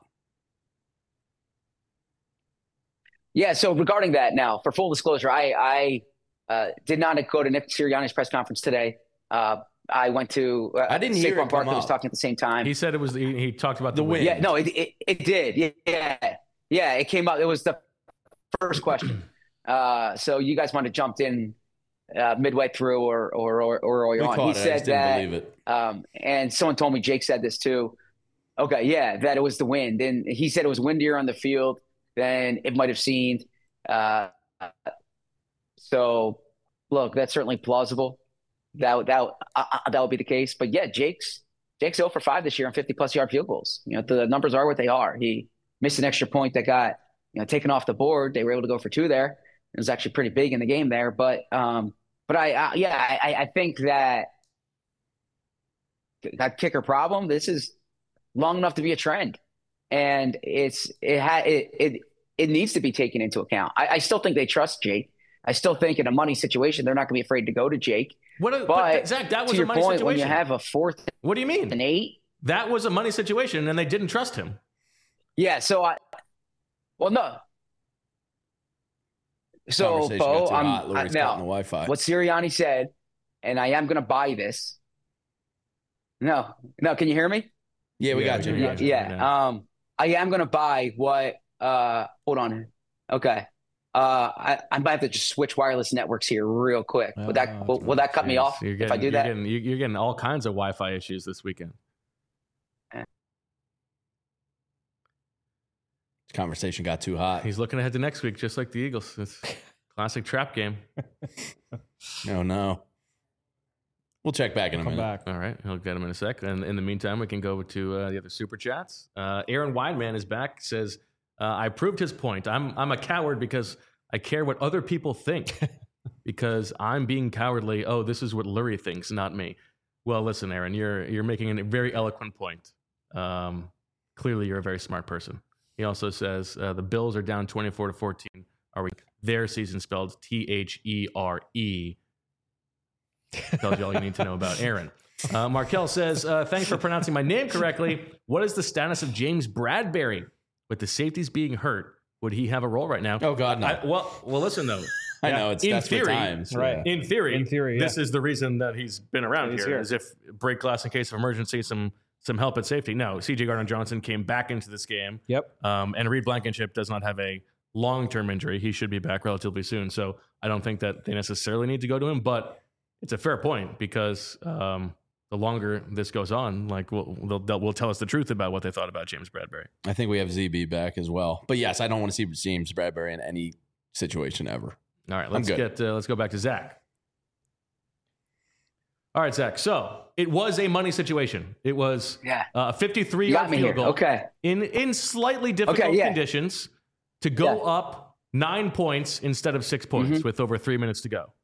Yeah, so regarding that now, for full disclosure, I did not go to Nick Sirianni's press conference today. I went to I didn't hear Saquon Barkley was talking at the same time. He said it was he talked about the win. Yeah, no, it did. Yeah, it came up. It was the first question. So you guys might have jumped in midway through or early on. He said that, didn't believe it. And someone told me Jake said this too. Okay, yeah, that it was the wind. And he said it was windier on the field than it might have seemed. So, look, that's certainly plausible. That would be the case. But yeah, Jake's 0 for 5 this year on 50+ yard field goals. The numbers are what they are. He missed an extra point that got taken off the board. They were able to go for 2 there. It was actually pretty big in the game there. But I think that kicker problem, this is long enough to be a trend, and it needs to be taken into account. I still think they trust Jake. I still think in a money situation they're not going to be afraid to go to Jake. But Zach, that was a money situation. When you have a 4th, what do you mean? And 8, that was a money situation, and they didn't trust him. Yeah. So no. So Bo, now what Sirianni said, and I am going to buy this. No, can you hear me? Yeah, we got you. Yeah. I am going to buy what. Hold on. Okay. I might have to just switch wireless networks here real quick. Will that cut me off if I do that? You're getting all kinds of Wi-Fi issues this weekend. This conversation got too hot. He's looking ahead to next week, just like the Eagles. It's classic trap game. Oh no. We'll check back in a minute. Back. All right, he'll get him in a sec. And in the meantime, we can go to the other super chats. Aaron Wideman is back. Says, I proved his point. I'm a coward because I care what other people think. Because I'm being cowardly. Oh, this is what Lurie thinks, not me. Well, listen, Aaron, you're making a very eloquent point. Clearly, you're a very smart person. He also says the Bills are down 24-14. Their season spelled THERE. Tells you all you need to know about Aaron. Markel says, thanks for pronouncing my name correctly. What is the status of James Bradbury? With the safeties being hurt, would he have a role right now? Oh, God, no. Well, listen, though. I know, it's desperate times. Right. In theory, yeah. This is the reason that he's been around here, as if break glass in case of emergency, some help at safety. No, C.J. Gardner-Johnson came back into this game. Yep. And Reed Blankenship does not have a long-term injury. He should be back relatively soon. So I don't think that they necessarily need to go to him, but it's a fair point because the longer this goes on, we'll tell us the truth about what they thought about James Bradbury. I think we have ZB back as well. But yes, I don't want to see James Bradbury in any situation ever. All right, let's go back to Zach. All right, Zach. So it was a money situation. It was a 53-yard field goal. Okay. In slightly difficult conditions to go up 9 points instead of 6 points with over 3 minutes to go.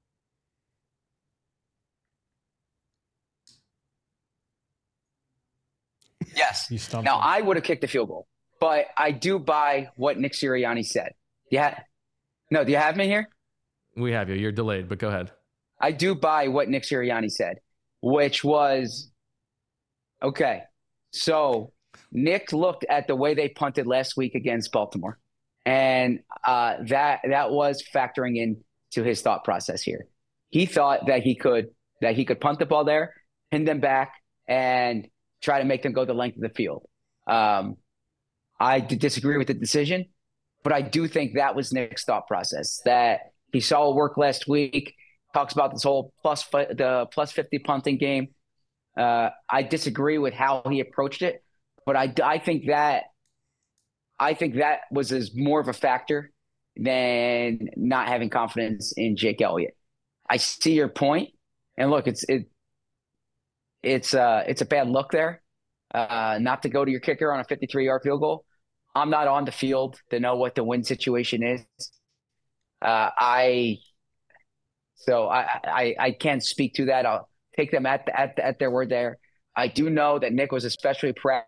Yes. Now, I would have kicked the field goal. but I do buy what Nick Sirianni said. Yeah. No, do you have me here? We have you. You're delayed, but go ahead. I do buy what Nick Sirianni said, which was, okay, so Nick looked at the way they punted last week against Baltimore, and that was factoring into his thought process here. He thought that he could punt the ball there, pin them back, and try to make them go the length of the field. I disagree with the decision, but I do think that was Nick's thought process, that he saw it work last week, talks about this whole the plus 50 punting game. I disagree with how he approached it, but I think that was more of a factor than not having confidence in Jake Elliott. I see your point, and look, it's a bad look there, not to go to your kicker on a 53-yard field goal. I'm not on the field to know what the win situation is. I can't speak to that. I'll take them at their word there. I do know that Nick was especially proud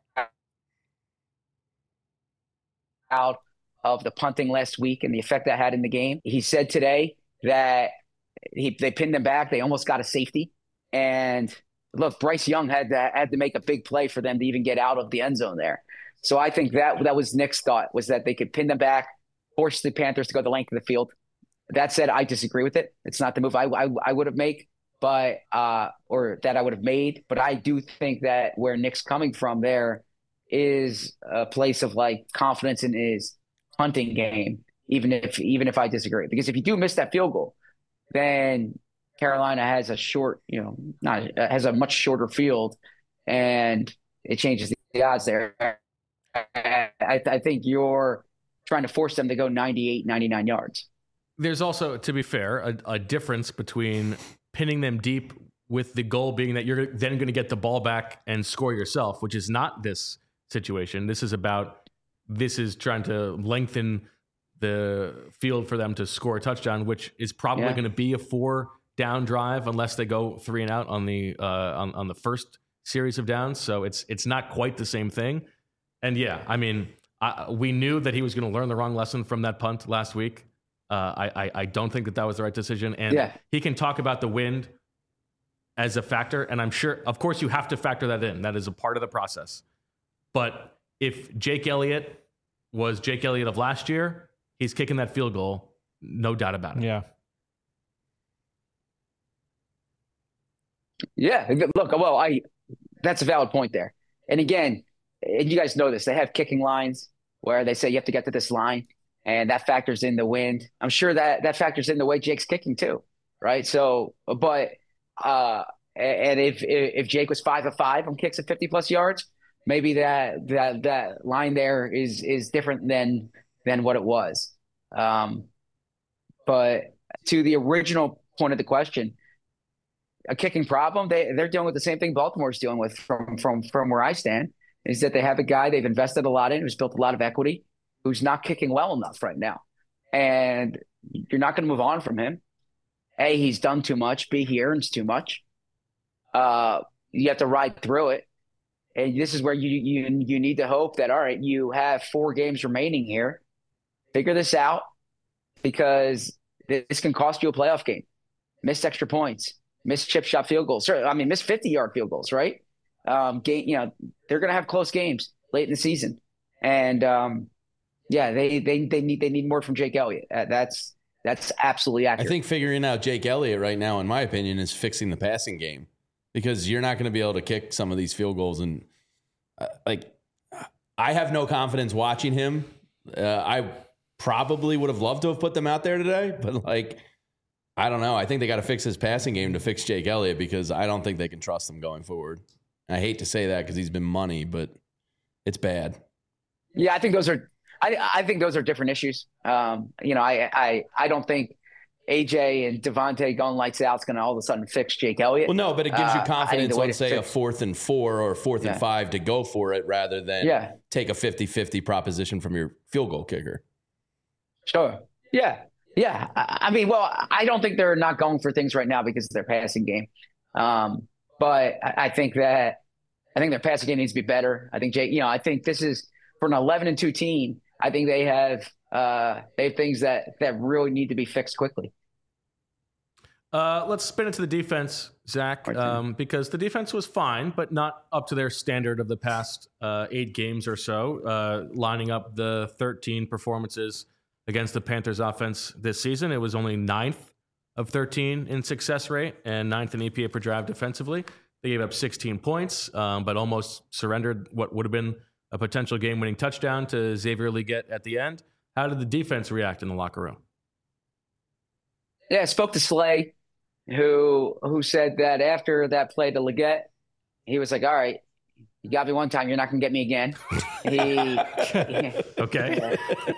of the punting last week and the effect that had in the game. He said today that they pinned them back. They almost got a safety. And look, Bryce Young had to make a big play for them to even get out of the end zone there. So I think that was Nick's thought, was that they could pin them back, force the Panthers to go the length of the field. That said, I disagree with it. It's not the move I would have made, but or that I would have made. But I do think that where Nick's coming from there is a place of like confidence in his punting game, even if I disagree. Because if you do miss that field goal, then Carolina has has a much shorter field, and it changes the odds there. I think you're trying to force them to go 98, 99 yards. There's also, to be fair, a difference between pinning them deep with the goal being that you're then going to get the ball back and score yourself, which is not this situation. This is trying to lengthen the field for them to score a touchdown, which is probably going to be a 4-down drive unless they go 3 and out on the on the first series of downs. So it's not quite the same thing. And we knew that he was going to learn the wrong lesson from that punt last week. I don't think that was the right decision. And he can talk about the wind as a factor. And I'm sure, of course, you have to factor that in. That is a part of the process. But if Jake Elliott was Jake Elliott of last year, he's kicking that field goal, no doubt about it. Yeah. Yeah. Look, that's a valid point there. And again, and you guys know this, they have kicking lines where they say you have to get to this line, and that factors in the wind. I'm sure that factors in the way Jake's kicking too, right? So, but and if Jake was 5 of 5 on kicks at 50+ yards, maybe that line there is different than what it was. But to the original point of the question, a kicking problem, they're dealing with the same thing Baltimore's dealing with from where I stand, is that they have a guy they've invested a lot in, who's built a lot of equity, who's not kicking well enough right now. And you're not going to move on from him. A, he's done too much. B, he earns too much. You have to ride through it. And this is where you need to hope that, all right, you have 4 games remaining here. Figure this out, because this can cost you a playoff game. Missed extra points, missed chip shot field goals. Missed 50-yard field goals, right? They're going to have close games late in the season. And they need more from Jake Elliott. That's absolutely accurate. I think figuring out Jake Elliott right now, in my opinion, is fixing the passing game, because you're not going to be able to kick some of these field goals. And I have no confidence watching him. I probably would have loved to have put them out there today, but I don't know. I think they got to fix his passing game to fix Jake Elliott, because I don't think they can trust him going forward. I hate to say that because he's been money, but it's bad. Yeah, I think those are different issues. I don't think AJ and Devontae going lights out is going to all of a sudden fix Jake Elliott. Well, no, but it gives you confidence on, say, a 4th and 4 or 4th and 5 to go for it, rather than take a 50-50 proposition from your field goal kicker. Sure. Yeah. Yeah. I don't think they're not going for things right now because of their passing game. But I think their passing game needs to be better. I think Jake, I think this is, for an 11-2 team, I think they have things that really need to be fixed quickly. Let's spin it to the defense, Zach, because the defense was fine, but not up to their standard of the past 8 games or so. Lining up the 13 performances against the Panthers offense this season, it was only 9th of 13 in success rate and 9th in EPA per drive defensively. They gave up 16 points, but almost surrendered what would have been a potential game-winning touchdown to Xavier Legette at the end. How did the defense react in the locker room? Yeah, I spoke to Slay, who said that after that play to Legette, he was like, all right, you got me one time, you're not going to get me again. Okay.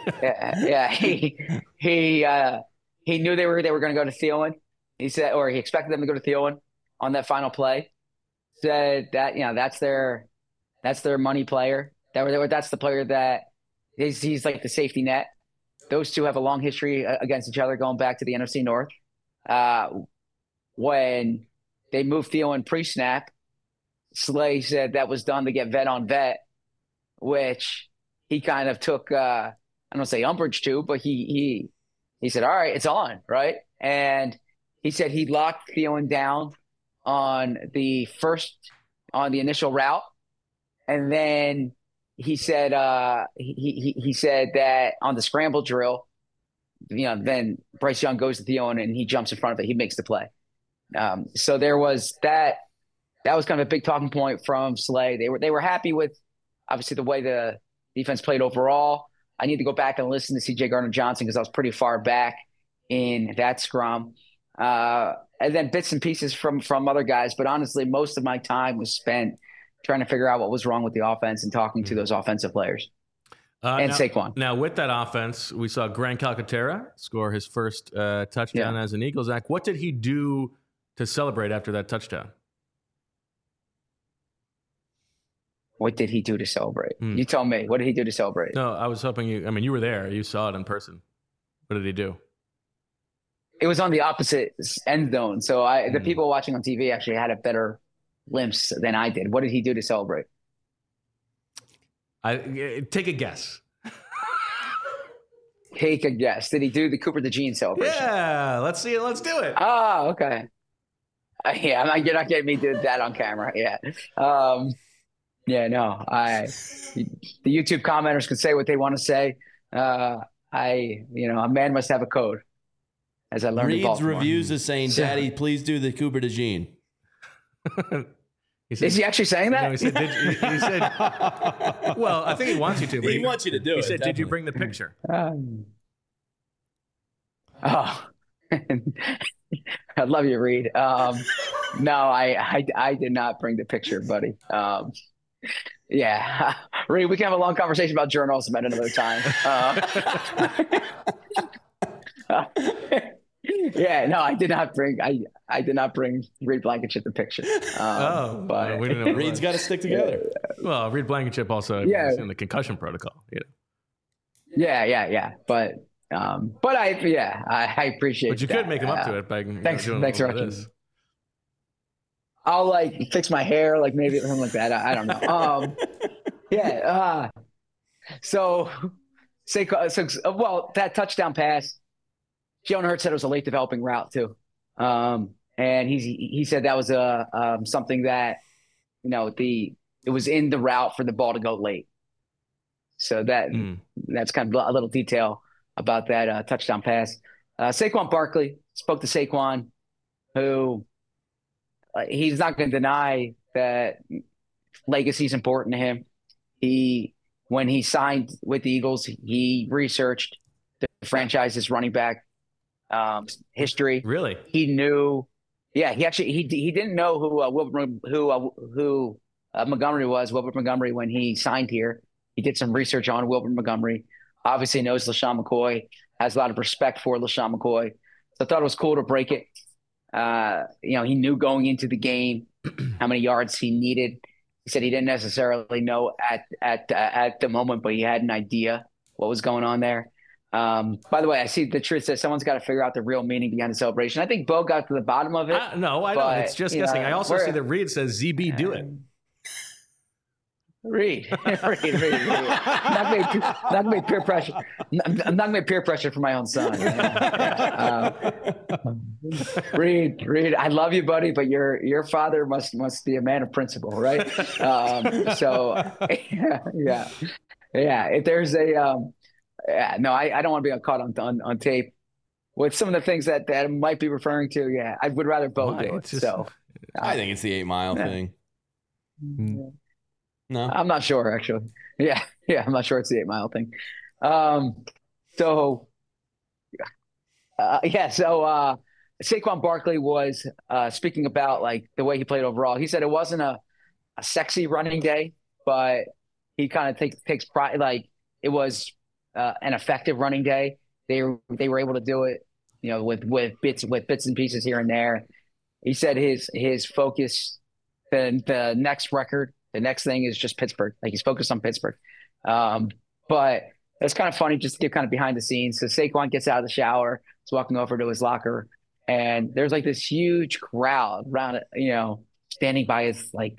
He knew they were going to go to Thielen. He said, or he expected them to go to Thielen on that final play. Said that, that's their money player. That's the player that he's like the safety net. Those two have a long history against each other going back to the NFC North. When they moved Thielen pre-snap, Slay said that was done to get vet on vet, which he kind of took, I don't say umbrage to, but he said, all right, it's on, right? And he said he locked Thielen down on the initial route. And then he said he said that on the scramble drill, then Bryce Young goes to Thielen and he jumps in front of it. He makes the play. So there was that was kind of a big talking point from Slay. They were happy with obviously the way the defense played overall. I need to go back and listen to C.J. Gardner-Johnson because I was pretty far back in that scrum. And then bits and pieces from other guys. But honestly, most of my time was spent trying to figure out what was wrong with the offense and talking to those offensive players. And Saquon. Now, with that offense, we saw Grant Calcaterra score his first touchdown as an Eagle. Zach, what did he do to celebrate after that touchdown? What did he do to celebrate? You tell me. What did he do to celebrate? No, I was hoping you were there. You saw it in person. What did he do? It was on the opposite end zone. So the people watching on TV actually had a better glimpse than I did. What did he do to celebrate? Take a guess. Take a guess. Did he do the Cooper DeJean celebration? Yeah, let's see it. Let's do it. Oh, okay. Yeah, you're not getting me to do that on camera. Yeah. Yeah, no. The YouTube commenters can say what they want to say. A man must have a code. As I learned in Baltimore. Reed's reviews is saying, "Daddy, please do the Cooper DeJean." Is he actually saying that? No, he said, well, I think he wants you to. But he wants you to do it. He said, definitely. "Did you bring the picture?" I love you, Reed. No, I did not bring the picture, buddy. Yeah, Reed, we can have a long conversation about journals at another time. Yeah, no, I did not bring Reed Blankenship the picture. But well, we didn't know Reed's got to stick together. Well, Reed Blankenship also is in the concussion protocol. Yeah. But I appreciate. But you could make him up to it by thanks doing for this. I'll fix my hair, maybe something like that. I don't know. So that touchdown pass, Jalen Hurts said it was a late developing route too. And he said that was something that, it was in the route for the ball to go late. So that's kind of a little detail about that touchdown pass. Saquon Barkley, spoke to Saquon, who he's not going to deny that legacy is important to him. When he signed with the Eagles, he researched the franchise's running back history. Really? He knew. Yeah, he didn't know who Montgomery was. Wilbert Montgomery when he signed here. He did some research on Wilbert Montgomery. Obviously knows LaShawn McCoy. Has a lot of respect for LaShawn McCoy. So I thought it was cool to break it. He knew going into the game how many yards he needed. He said he didn't necessarily know at the moment, but he had an idea what was going on there. By the way, I see the truth says someone's got to figure out the real meaning behind the celebration. I think Bo got to the bottom of it. No, I don't. It's just guessing. I also see that Reed says ZB do it. Reed. I'm not gonna make peer pressure. I'm not gonna make peer pressure for my own son. Reed, I love you, buddy, but your father must be a man of principle, right? So yeah. If there's a no, I don't want to be caught on tape with some of the things that I might be referring to. Yeah, I would rather Bo do it. So I think it's the 8 Mile thing. No, I'm not sure actually. Yeah, I'm not sure it's the 8 Mile thing. So Saquon Barkley was speaking about like the way he played overall. He said it wasn't a sexy running day, but he kind of takes pride. Like it was an effective running day. They were able to do it, with bits and pieces here and there. He said his focus, the next record. The next thing is just Pittsburgh. Like he's focused on Pittsburgh. But it's kind of funny just to get kind of behind the scenes. So Saquon gets out of the shower, he's walking over to his locker, and there's like this huge crowd around it, standing by his like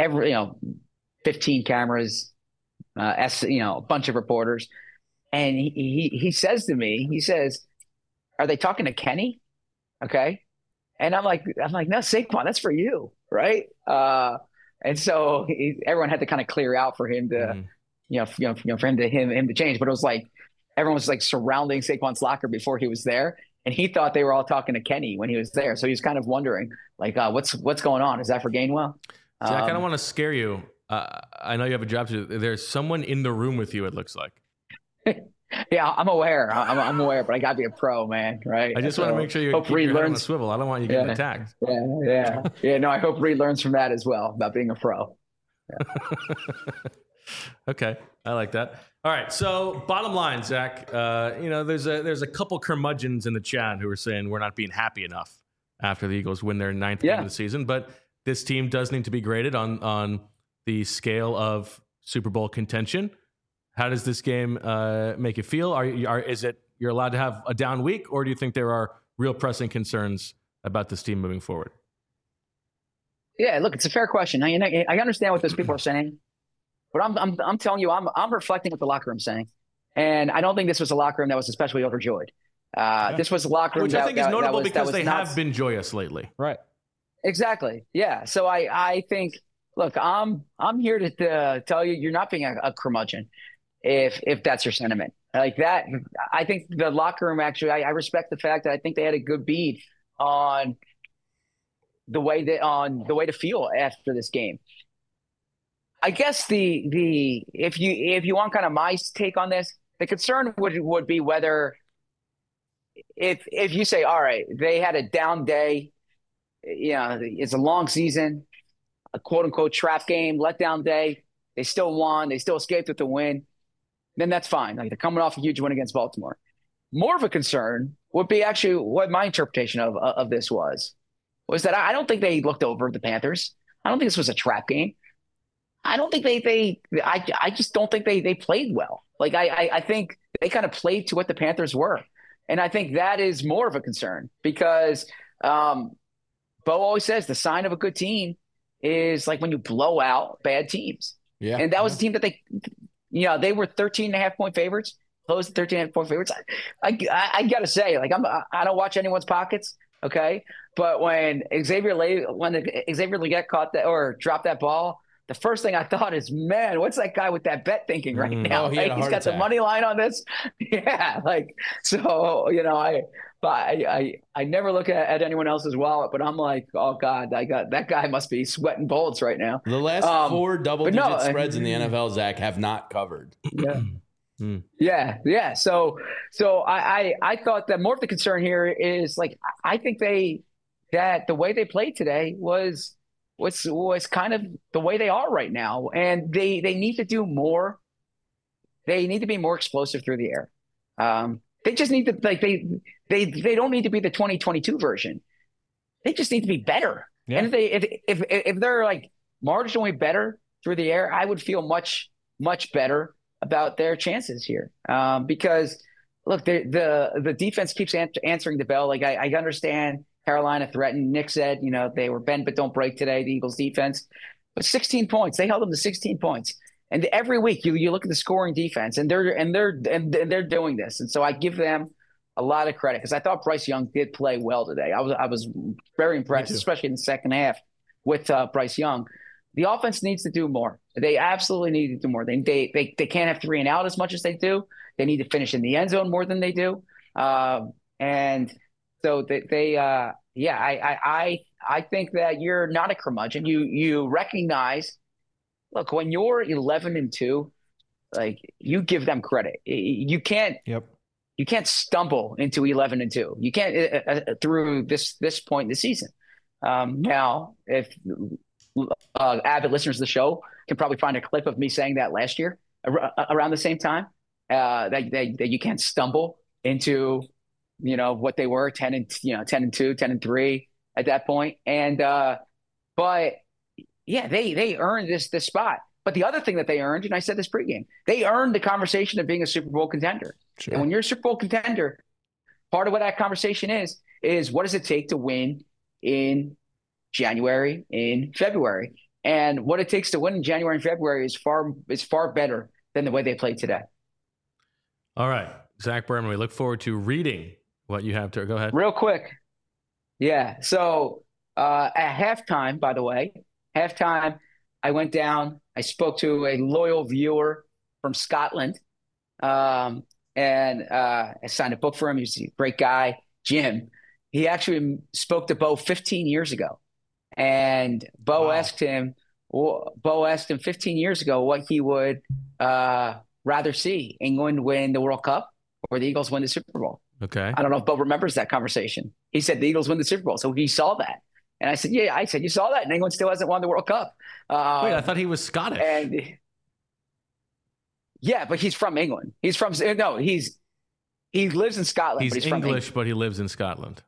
15 cameras, a bunch of reporters. And he says to me, are they talking to Kenny? Okay. And I'm like, no, Saquon, that's for you. Right. And so everyone had to kind of clear out for him to, for him to change. But it was like everyone was like surrounding Saquon's locker before he was there, and he thought they were all talking to Kenny when he was there. So he was kind of wondering, like, what's going on? Is that for Gainwell? Jack, I don't want to scare you. I know you have a job to do. There's someone in the room with you. It looks like. Yeah, I'm aware. I'm aware, but I got to be a pro, man. Right. I just want to make sure you keep your head on the swivel. I don't want you getting attacked. Yeah. No, I hope Reed learns from that as well about being a pro. Yeah. Okay, I like that. All right. So, bottom line, Zach. There's a couple curmudgeons in the chat who are saying we're not being happy enough after the Eagles win their 9th game of the season, but this team does need to be graded on the scale of Super Bowl contention. How does this game make you feel? Is it you're allowed to have a down week, or do you think there are real pressing concerns about this team moving forward? Yeah, look, it's a fair question. I understand what those people are saying, but I'm telling you, I'm reflecting what the locker room's saying, and I don't think this was a locker room that was especially overjoyed. This was a locker room which I think is notable because they have been joyous lately, right? Exactly. Yeah. So I think, look, I'm here to tell you, you're not being a curmudgeon. If that's your sentiment like that, I think the locker room actually, I respect the fact that I think they had a good beat on the way to feel after this game. I guess if you want kind of my take on this, the concern would be whether if you say, all right, they had a down day, it's a long season, a quote unquote trap game, letdown day, they still won, they still escaped with the win, then that's fine. Like they're coming off a huge win against Baltimore. More of a concern would be actually what my interpretation of this was that I don't think they looked over the Panthers. I don't think this was a trap game. I don't think I just don't think they played well. Like I think they kind of played to what the Panthers were. And I think that is more of a concern because Bo always says the sign of a good team is like when you blow out bad teams. Yeah. And that was a team that they were 13.5-point favorites, close to 13.5-point favorites. I got to say, like, I don't watch anyone's pockets. Okay. But when Xavier Legette caught that or dropped that ball, the first thing I thought is, man, what's that guy with that bet thinking right now? He's got the money line on this. Yeah. Like, so, I never look at anyone else's wallet, but I'm like, oh God, that guy must be sweating bullets right now. The last 4 double-digit spreads in the NFL, Zach, have not covered. Yeah. Yeah. So I thought that more of the concern here is like, I think that the way they played today was kind of the way they are right now. And they need to do more. They need to be more explosive through the air. They just need to they don't need to be the 2022 version. They just need to be better. Yeah. And if they're like marginally better through the air, I would feel much, much better about their chances here. Because look, the defense keeps answering the bell. Like I understand Carolina threatened. Nick said, they were bend but don't break today, the Eagles defense. But 16 points. They held them to 16 points. And every week you look at the scoring defense, and they're doing this. And so I give them a lot of credit because I thought Bryce Young did play well today. I was very impressed, especially in the second half with Bryce Young. The offense needs to do more. They absolutely need to do more. They can't have 3 and out as much as they do. They need to finish in the end zone more than they do. And so I think that you're not a curmudgeon. You recognize, look, when you're 11-2, like, you give them credit. You can't. Yep. You can't stumble into 11-2. You can't through this point in the season. Now, if avid listeners of the show can probably find a clip of me saying that last year around the same time, that you can't stumble into, what they were 10-2, 10-3 at that point. And but yeah, they earned this spot. But the other thing that they earned, and I said this pregame, they earned the conversation of being a Super Bowl contender. Sure. And when you're a Super Bowl contender, part of what that conversation is what does it take to win in January, in February? And what it takes to win in January and February is far better than the way they played today. All right, Zach Berman, we look forward to reading what you have to go ahead. Real quick. Yeah. So at halftime, by the way, I went down, I spoke to a loyal viewer from Scotland. And I signed a book for him. He's a great guy, Jim. He actually spoke to Bo 15 years ago. And Bo asked him 15 years ago what he would rather see, England win the World Cup or the Eagles win the Super Bowl. Okay. I don't know if Bo remembers that conversation. He said the Eagles win the Super Bowl. So he saw that. And I said, yeah, you saw that. And England still hasn't won the World Cup. Wait, I thought he was Scottish. Yeah, but he's from England. He lives in Scotland. He's but he's English, but he lives in Scotland.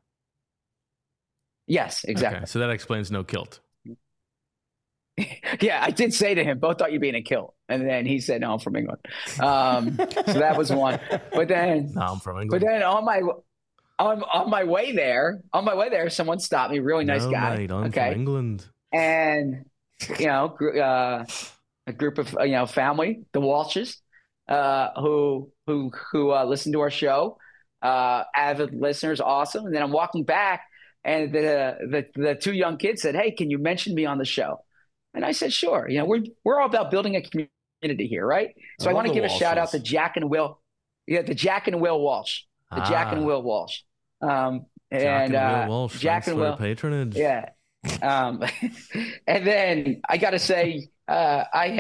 Yes, exactly. Okay, so that explains no kilt. Yeah, I did say to him, Bo thought you'd be in a kilt. And then he said, no, I'm from England. So that was one. But then no, I'm from England. But then on my way there, someone stopped me, really nice guy. Mate, I'm from England. And a group of family, the Walshes, who listen to our show, avid listeners, awesome. And then I'm walking back, and the 2 young kids said, "Hey, can you mention me on the show?" And I said, "Sure." We're all about building a community here, right? So I want to give a shout out to Jack and Will. Yeah, the Jack and Will Walsh. Jack and Will Walsh. Jack and Will Walsh. Jack and Will patronage. Yeah. And then I got to say, I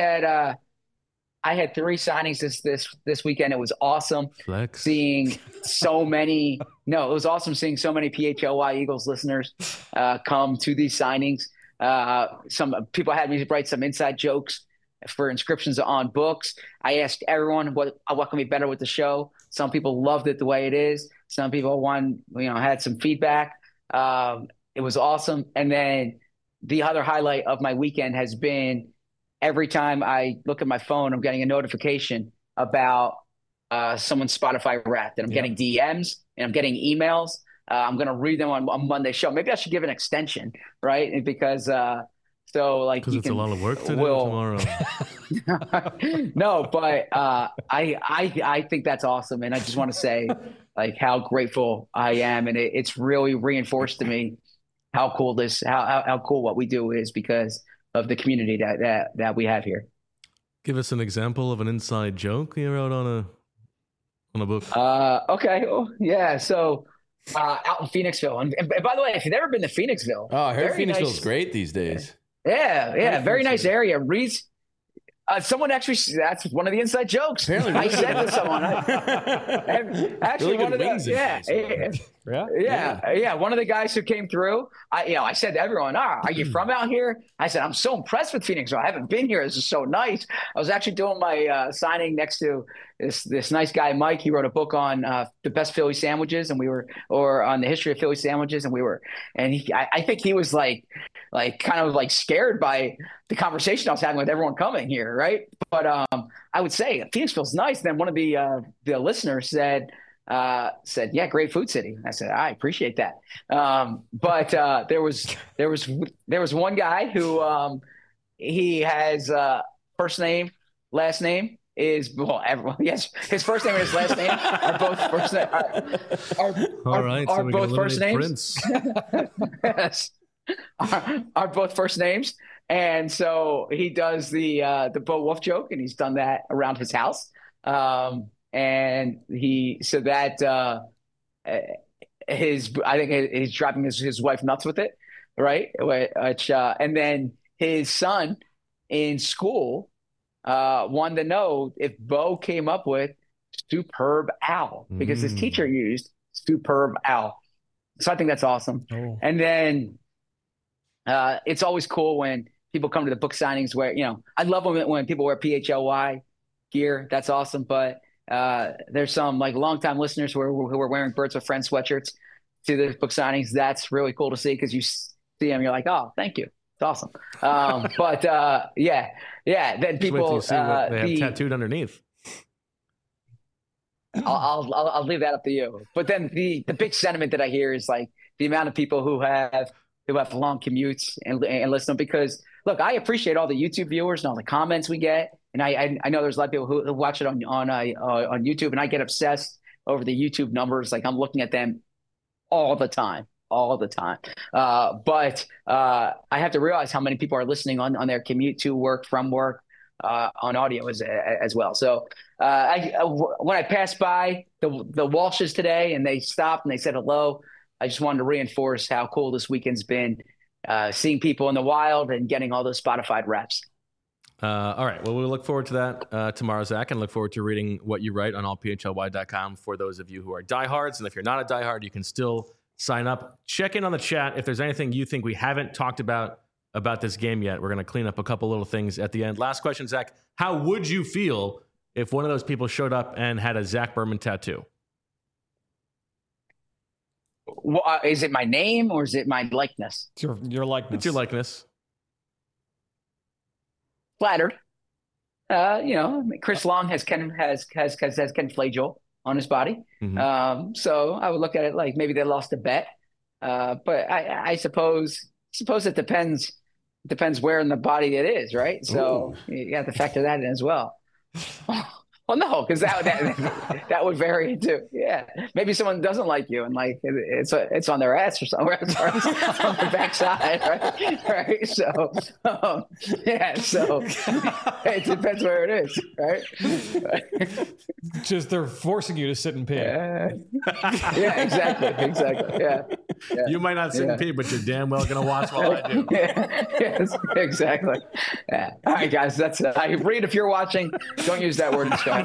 had 3 signings this weekend. It was awesome seeing so many. No, it was awesome seeing so many PHLY Eagles listeners come to these signings. Some people had me write some inside jokes for inscriptions on books. I asked everyone what can be better with the show. Some people loved it the way it is. Some people had some feedback. It was awesome. And then the other highlight of my weekend has been every time I look at my phone, I'm getting a notification about someone's Spotify Wrapped, and I'm getting DMs and I'm getting emails. I'm going to read them on Monday's show. Maybe I should give an extension, right? Because it's a lot of work to do tomorrow. No, but I think that's awesome, and I just want to say how grateful I am, and it's really reinforced to me how cool how cool what we do is because of the community that we have here. Give us an example of an inside joke you wrote on a book. Okay. Oh, yeah. So out in Phoenixville, and by the way, if you've ever been to Phoenixville, I heard Phoenixville's great these days. Yeah, very nice area. Someone actually, that's one of the inside jokes. Apparently, I said to someone, actually, really one of the, one of the guys who came through, I said to everyone, are you from out here? I said, I'm so impressed with Phoenixville. I haven't been here. This is so nice. I was actually doing my signing next to this nice guy, Mike. He wrote a book on the best Philly sandwiches, and or on the history of Philly sandwiches. And I think he was kind of scared by the conversation I was having with everyone coming here. Right. But I would say Phoenixville's nice. Then one of the listeners said, yeah, great food city. I said, I appreciate that. But there was one guy who he has first name last name is yes, his first name and his last name are both first name. Are both first names. Yes, are both first names, and so he does the Bo Wolf joke, and he's done that around his house. And he's driving his wife nuts with it, right? Which, and then his son in school wanted to know if Bo came up with Superb Al because his teacher used Superb Al. So I think that's awesome. Oh. And then it's always cool when people come to the book signings where, I love when people wear PHLY gear. That's awesome. But there's some like longtime listeners who are wearing Birds with Friends sweatshirts to the book signings. That's really cool to see because you see them, you're like, oh, thank you. It's awesome. But then people they have tattooed underneath. I'll leave that up to you. But then the big sentiment that I hear is like the amount of people who have long commutes and listen, because look, I appreciate all the YouTube viewers and all the comments we get. And I know there's a lot of people who watch it on YouTube, and I get obsessed over the YouTube numbers. Like I'm looking at them all the time. But I have to realize how many people are listening on their commute to work, from work, on audio as well. So when I passed by the Walshes today and they stopped and they said hello, I just wanted to reinforce how cool this weekend's been, seeing people in the wild and getting all those Spotify reps. All right. Well, we'll look forward to that tomorrow, Zach, and look forward to reading what you write on allphly.com for those of you who are diehards. And if you're not a diehard, you can still sign up. Check in on the chat if there's anything you think we haven't talked about this game yet. We're going to clean up a couple little things at the end. Last question, Zach. How would you feel if one of those people showed up and had a Zach Berman tattoo? Well, is it my name or is it my likeness? It's your likeness. It's your likeness. Flattered. Chris Long has Ken Flagel on his body. Mm-hmm. So I would look at it like maybe they lost a bet. But I suppose it depends where in the body it is, right? So you have to factor that in as well. Well, no, because that would vary too. Yeah, maybe someone doesn't like you and like it's on their ass or somewhere, on their backside, right? So so it depends where it is, right? Just they're forcing you to sit and pee. Yeah, exactly. Yeah. You might not sit and pee, but you're damn well gonna watch while I do. Yes, exactly. Yeah. All right, guys, that's it. I read if you're watching. Don't use that word in chat.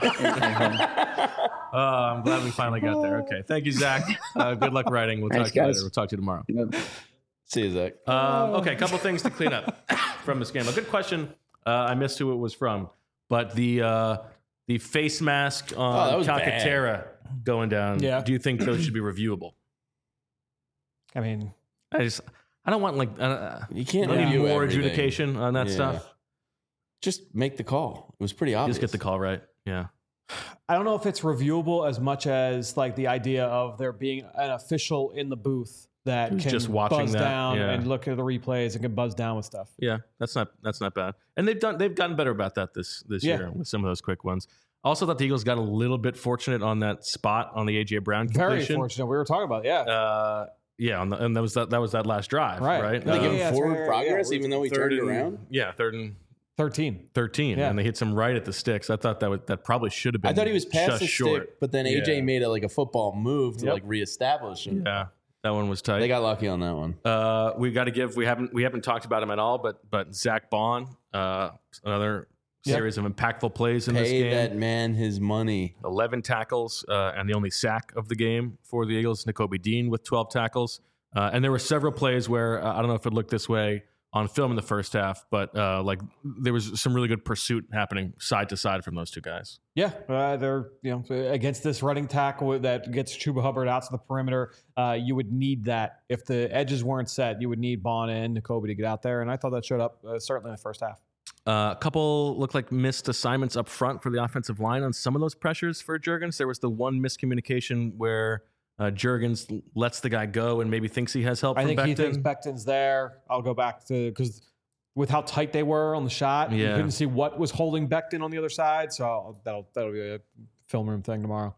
I'm glad we finally got there. Okay. Thank you, Zach. Good luck writing. We'll talk to you later. We'll talk to you tomorrow. See you, Zach. Okay. A couple things to clean up from this game. A good question. I missed who it was from, but the face mask on Calcaterra going down. Yeah. Do you think those should be reviewable? I mean, I don't want you can't need more adjudication on that stuff. Just make the call. It was pretty obvious. Just get the call right. Yeah. I don't know if it's reviewable as much as like the idea of there being an official in the booth that can just buzz down and look at the replays and can buzz down with stuff. Yeah, that's not bad. And they've gotten better about that this year with some of those quick ones. Also thought the Eagles got a little bit fortunate on that spot on the AJ Brown completion. Very fortunate. We were talking about and that was that last drive, right? They gave him forward progress even though he turned it around. Yeah, third and 13, and they hit some right at the sticks. I thought that probably should have been. I thought he was past the short. stick, but then AJ made a football move to reestablish him. Yeah, that one was tight. They got lucky on that one. We got to give. We haven't talked about him at all, but Zach Bond, another series of impactful plays in this game. Pay that man his money. 11 tackles and the only sack of the game for the Eagles. Nakobe Dean with 12 tackles, and there were several plays where I don't know if it looked this way on film in the first half, but there was some really good pursuit happening side to side from those two guys. Yeah, they're against this running tackle that gets Chuba Hubbard out to the perimeter. You would need that if the edges weren't set. You would need Bond and Nakobe to get out there, and I thought that showed up certainly in the first half. A couple looked like missed assignments up front for the offensive line on some of those pressures for Juergens. There was the one miscommunication where Juergens lets the guy go and maybe thinks he has help from Becton. I think he thinks Becton's there. I'll go back to because with how tight they were on the shot. Yeah. You couldn't see what was holding Becton on the other side. So that'll be a film room thing tomorrow.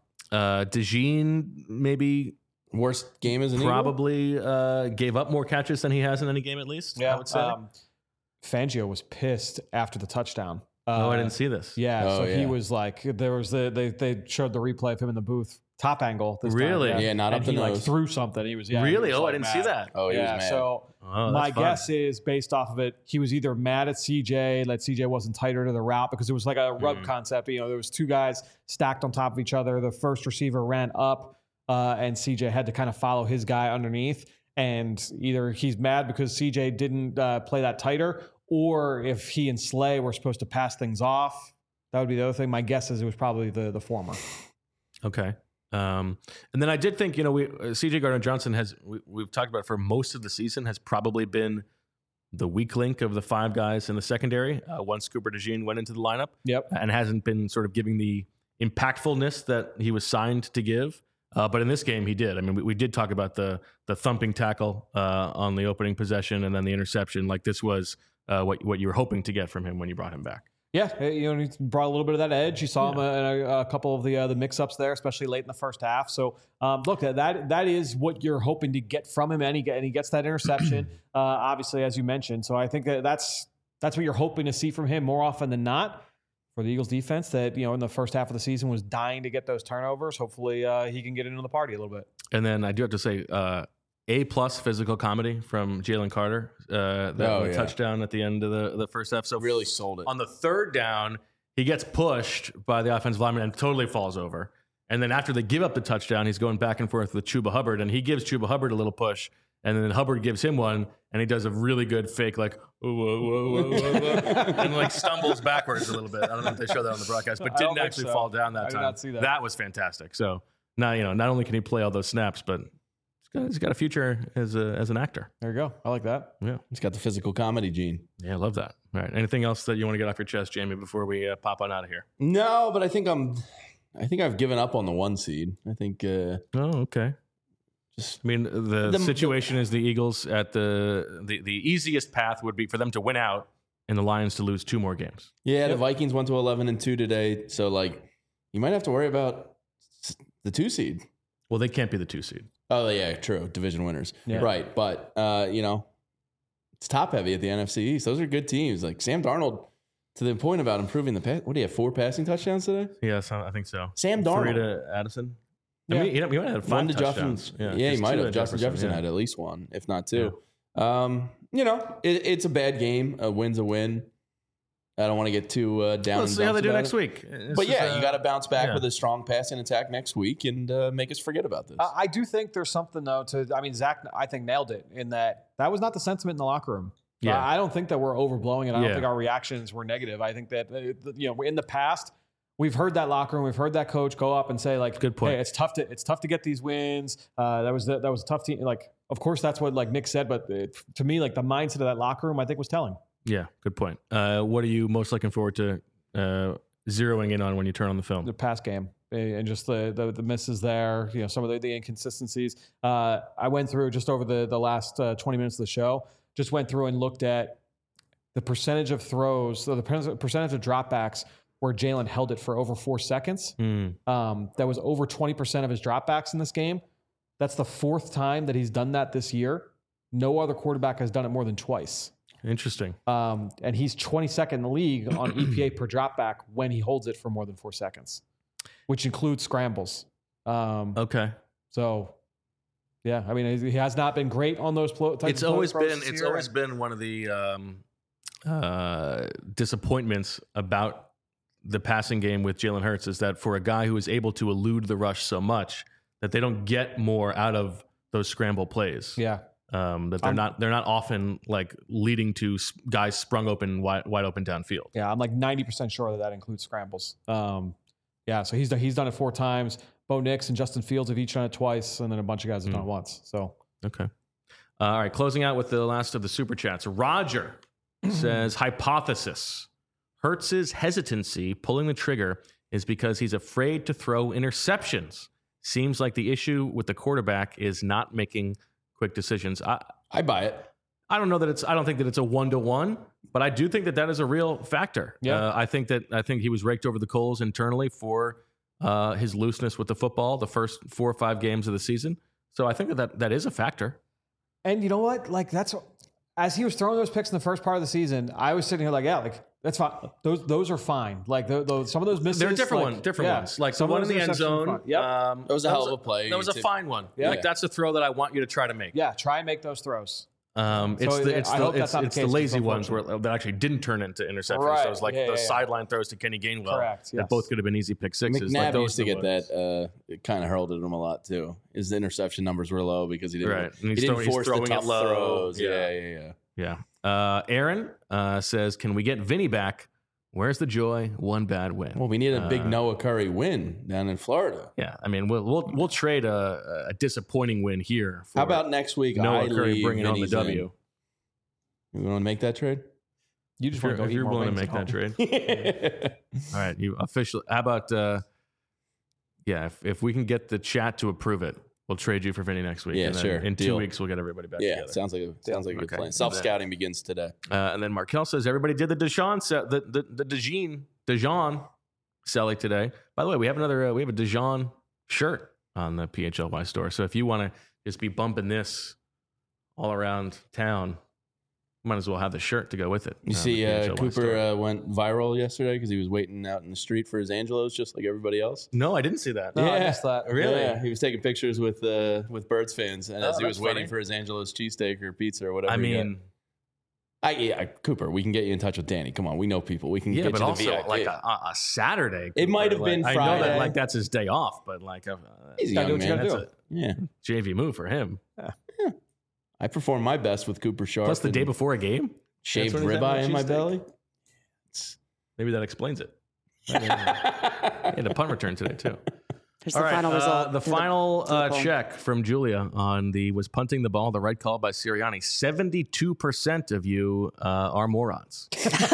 DeJean maybe worst game as an probably gave up more catches than he has in any game at least. Yeah, I would say. Fangio was pissed after the touchdown. I didn't see this. Yeah, he was like, there was they showed the replay of him in the booth, top angle. This Really? time, Yeah, not up and the he nose. like threw something. He was Really? he was, I like, didn't mad. see that. Oh, he was Yeah, mad. so Oh, my that's fun. guess is based off of it, he was either mad at CJ that CJ wasn't tighter to the route because it was like a rub concept. You know, there was two guys stacked on top of each other. The first receiver ran up, and CJ had to kind of follow his guy underneath. And either he's mad because CJ didn't play that tighter, or if he and Slay were supposed to pass things off, that would be the other thing. My guess is it was probably the former. Okay. And then I did think, CJ Gardner-Johnson we've talked about for most of the season, has probably been the weak link of the five guys in the secondary once Cooper DeJean went into the lineup. Yep. And hasn't been sort of giving the impactfulness that he was signed to give. But in this game, he did. I mean, we did talk about the thumping tackle on the opening possession and then the interception. Like this was what you were hoping to get from him when you brought him back. Yeah, he brought a little bit of that edge. You saw him in a couple of the mix-ups there, especially late in the first half. So, look, that is what you're hoping to get from him, and he gets that interception, obviously, as you mentioned. So I think that's what you're hoping to see from him more often than not for the Eagles defense that, in the first half of the season was dying to get those turnovers. Hopefully he can get into the party a little bit. And then I do have to say, A+ physical comedy from Jalen Carter. Touchdown at the end of the first half. So really sold it. On the third down, he gets pushed by the offensive lineman and totally falls over. And then after they give up the touchdown, he's going back and forth with Chuba Hubbard, and he gives Chuba Hubbard a little push, and then Hubbard gives him one, and he does a really good fake, like, whoa, whoa, whoa, whoa, whoa, and like stumbles backwards a little bit. I don't know if they show that on the broadcast, but didn't actually fall down that time. I did not see that. That was fantastic. So now, not only can he play all those snaps, but he's got a future as an actor. There you go. I like that. Yeah. He's got the physical comedy gene. Yeah, I love that. All right. Anything else that you want to get off your chest, Jamie, before we pop on out of here? No, but I think I've given up on the 1 seed. I think. Oh, okay. The situation is the Eagles at the easiest path would be for them to win out and the Lions to lose 2 more games. Yeah, the Vikings went to 11-2 today, so you might have to worry about the 2 seed. Well, they can't be the 2 seed. Oh yeah, true. Division winners, yeah. Right? But it's top heavy at the NFC East. Those are good teams. Like Sam Darnold, to the point about improving the pass. What do you have? 4 passing touchdowns today? Yes, I think so. Sam Darnold, 3 to Addison. Yeah. I mean, he might have 5 1 to touchdowns. Justin. Yeah, he might have. Justin Jefferson had at least 1, if not 2. Yeah. It's a bad game. A win's a win. I don't want to get too down. Let's see how they do next week. But you got to bounce back with a strong passing attack next week and make us forget about this. I do think there's something though Zach, I think nailed it in that was not the sentiment in the locker room. Yeah. I don't think that we're overblowing it. I don't think our reactions were negative. I think that in the past we've heard that locker room, we've heard that coach go up and say like, good point. Hey, it's tough to get these wins. That was a tough team. Like, of course that's what Nick said, but to me, the mindset of that locker room, I think was telling. Yeah, good point. What are you most looking forward to zeroing in on when you turn on the film? The pass game and just the misses there, some of the inconsistencies. I went through just over the last 20 minutes of the show, just went through and looked at the percentage of throws, so the percentage of dropbacks where Jalen held it for over 4 seconds. That was over 20% of his dropbacks in this game. That's the 4th time that he's done that this year. No other quarterback has done it more than twice. Interesting. And he's 22nd in the league on EPA per dropback when he holds it for more than 4 seconds, which includes scrambles. Okay. So, yeah, I mean, he has not been great on those types It's of always throws been been one of the disappointments about the passing game with Jalen Hurts is that for a guy who is able to elude the rush so much that they don't get more out of those scramble plays. Yeah. That they're not often leading to guys sprung open wide open downfield. Yeah, I'm 90% sure that includes scrambles. Yeah, so he's done it 4 times. Bo Nix and Justin Fields have each done it twice, and then a bunch of guys have done it once. So okay, all right. Closing out with the last of the super chats. Roger says hypothesis: Hurts's hesitancy pulling the trigger is because he's afraid to throw interceptions. Seems like the issue with the quarterback is not making quick decisions. I buy it. I don't think that it's a 1-to-1, but I do think that is a real factor. Yeah. I think he was raked over the coals internally for his looseness with the football the first 4 or 5 games of the season. So I think that is a factor. And you know what? Like as he was throwing those picks in the first part of the season, I was sitting here like, yeah, like that's fine. Those are fine. Like those some of those misses, they're different ones. Like the one in the end zone. Yep. That was a hell of a play. That was a fine one. Yeah. Like that's a throw that I want you to try to make. Yeah, try and make those throws. It's the lazy ones that actually didn't turn into interceptions. Right. So it was like the sideline throws to Kenny Gainwell. Correct. That both could have been easy pick sixes. McNabb like used to get that. It kind of hurled at him a lot too. His interception numbers were low because he didn't. Right. He didn't force the tough throws. Yeah. Aaron says, "Can we get Vinny back? Where's the joy? One bad win." Well, we need a big Noah Curry win down in Florida. Yeah, I mean, we'll trade a disappointing win here. How about next week? Noah Curry bringing home the W. You want to make that trade? You just want to go. If you're willing to make that trade. All right, you officially. How about? If we can get the chat to approve it, we'll trade you for Vinny next week. Yeah, and then sure. In 2 weeks, we'll get everybody back together. Sounds like a good plan. Self-scouting begins today. And then Markel says everybody did the Dijon selling today. By the way, we have a Dijon shirt on the PHLY store. So if you want to just be bumping this all around town, might as well have the shirt to go with it. You see, Cooper went viral yesterday because he was waiting out in the street for his Angelos, just like everybody else. No, I didn't see that. No, I missed that. Really? Yeah, he was taking pictures with Birds fans, and as he was waiting for his Angelos cheesesteak or pizza or whatever. I mean, Cooper, we can get you in touch with Danny. Come on, we know people. We can get but you also the VIP. like a Saturday. It might have been Friday. I know that that's his day off, but he's a young man. That's JV move for him. Yeah. I perform my best with Cooper Sharp. Plus the day before a game. Shaved ribeye in my belly. Maybe that explains it. He had a punt return today too. There's the final result. The final check from Julia on was punting the ball the right call by Sirianni. 72% of you are morons.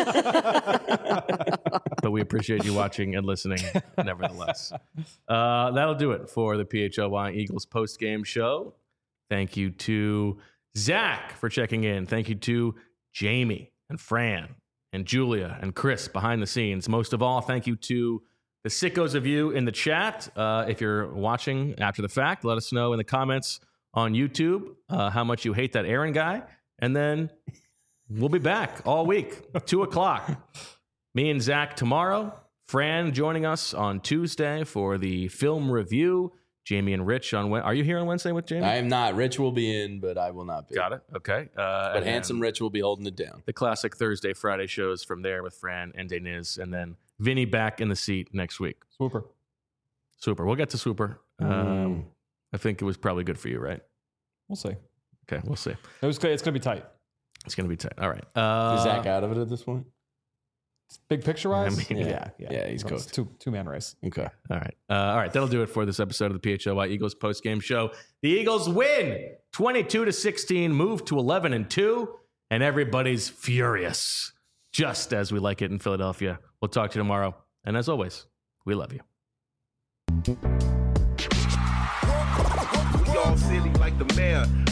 But we appreciate you watching and listening nevertheless. That'll do it for the PHLY Eagles post-game show. Thank you to Zach for checking in. Thank you to Jamie and Fran and Julia and Chris behind the scenes. Most of all, thank you to the sickos of you in the chat. If you're watching after the fact, let us know in the comments on YouTube how much you hate that Aaron guy. And then we'll be back all week, 2 o'clock. Me and Zach tomorrow. Fran joining us on Tuesday for the film review. Jamie and Rich on Wednesday. Are you here on Wednesday with Jamie? I am not. Rich will be in, but I will not be. Got it. Okay. But Handsome Rich will be holding it down. The classic Thursday, Friday shows from there with Fran and Deniz, and then Vinny back in the seat next week. Swooper. We'll get to Swooper. I think it was probably good for you, right? We'll see. Okay, we'll see. It's going to be tight. It's going to be tight. All right. Is Zach out of it at this point? Big picture wise? I mean, yeah. He's coached. Two-man race. Okay. All right. That'll do it for this episode of the PHLY Eagles post-game show. The Eagles win 22-16, move to 11-2, and everybody's furious, just as we like it in Philadelphia. We'll talk to you tomorrow. And as always, we love you. We all silly like the mayor.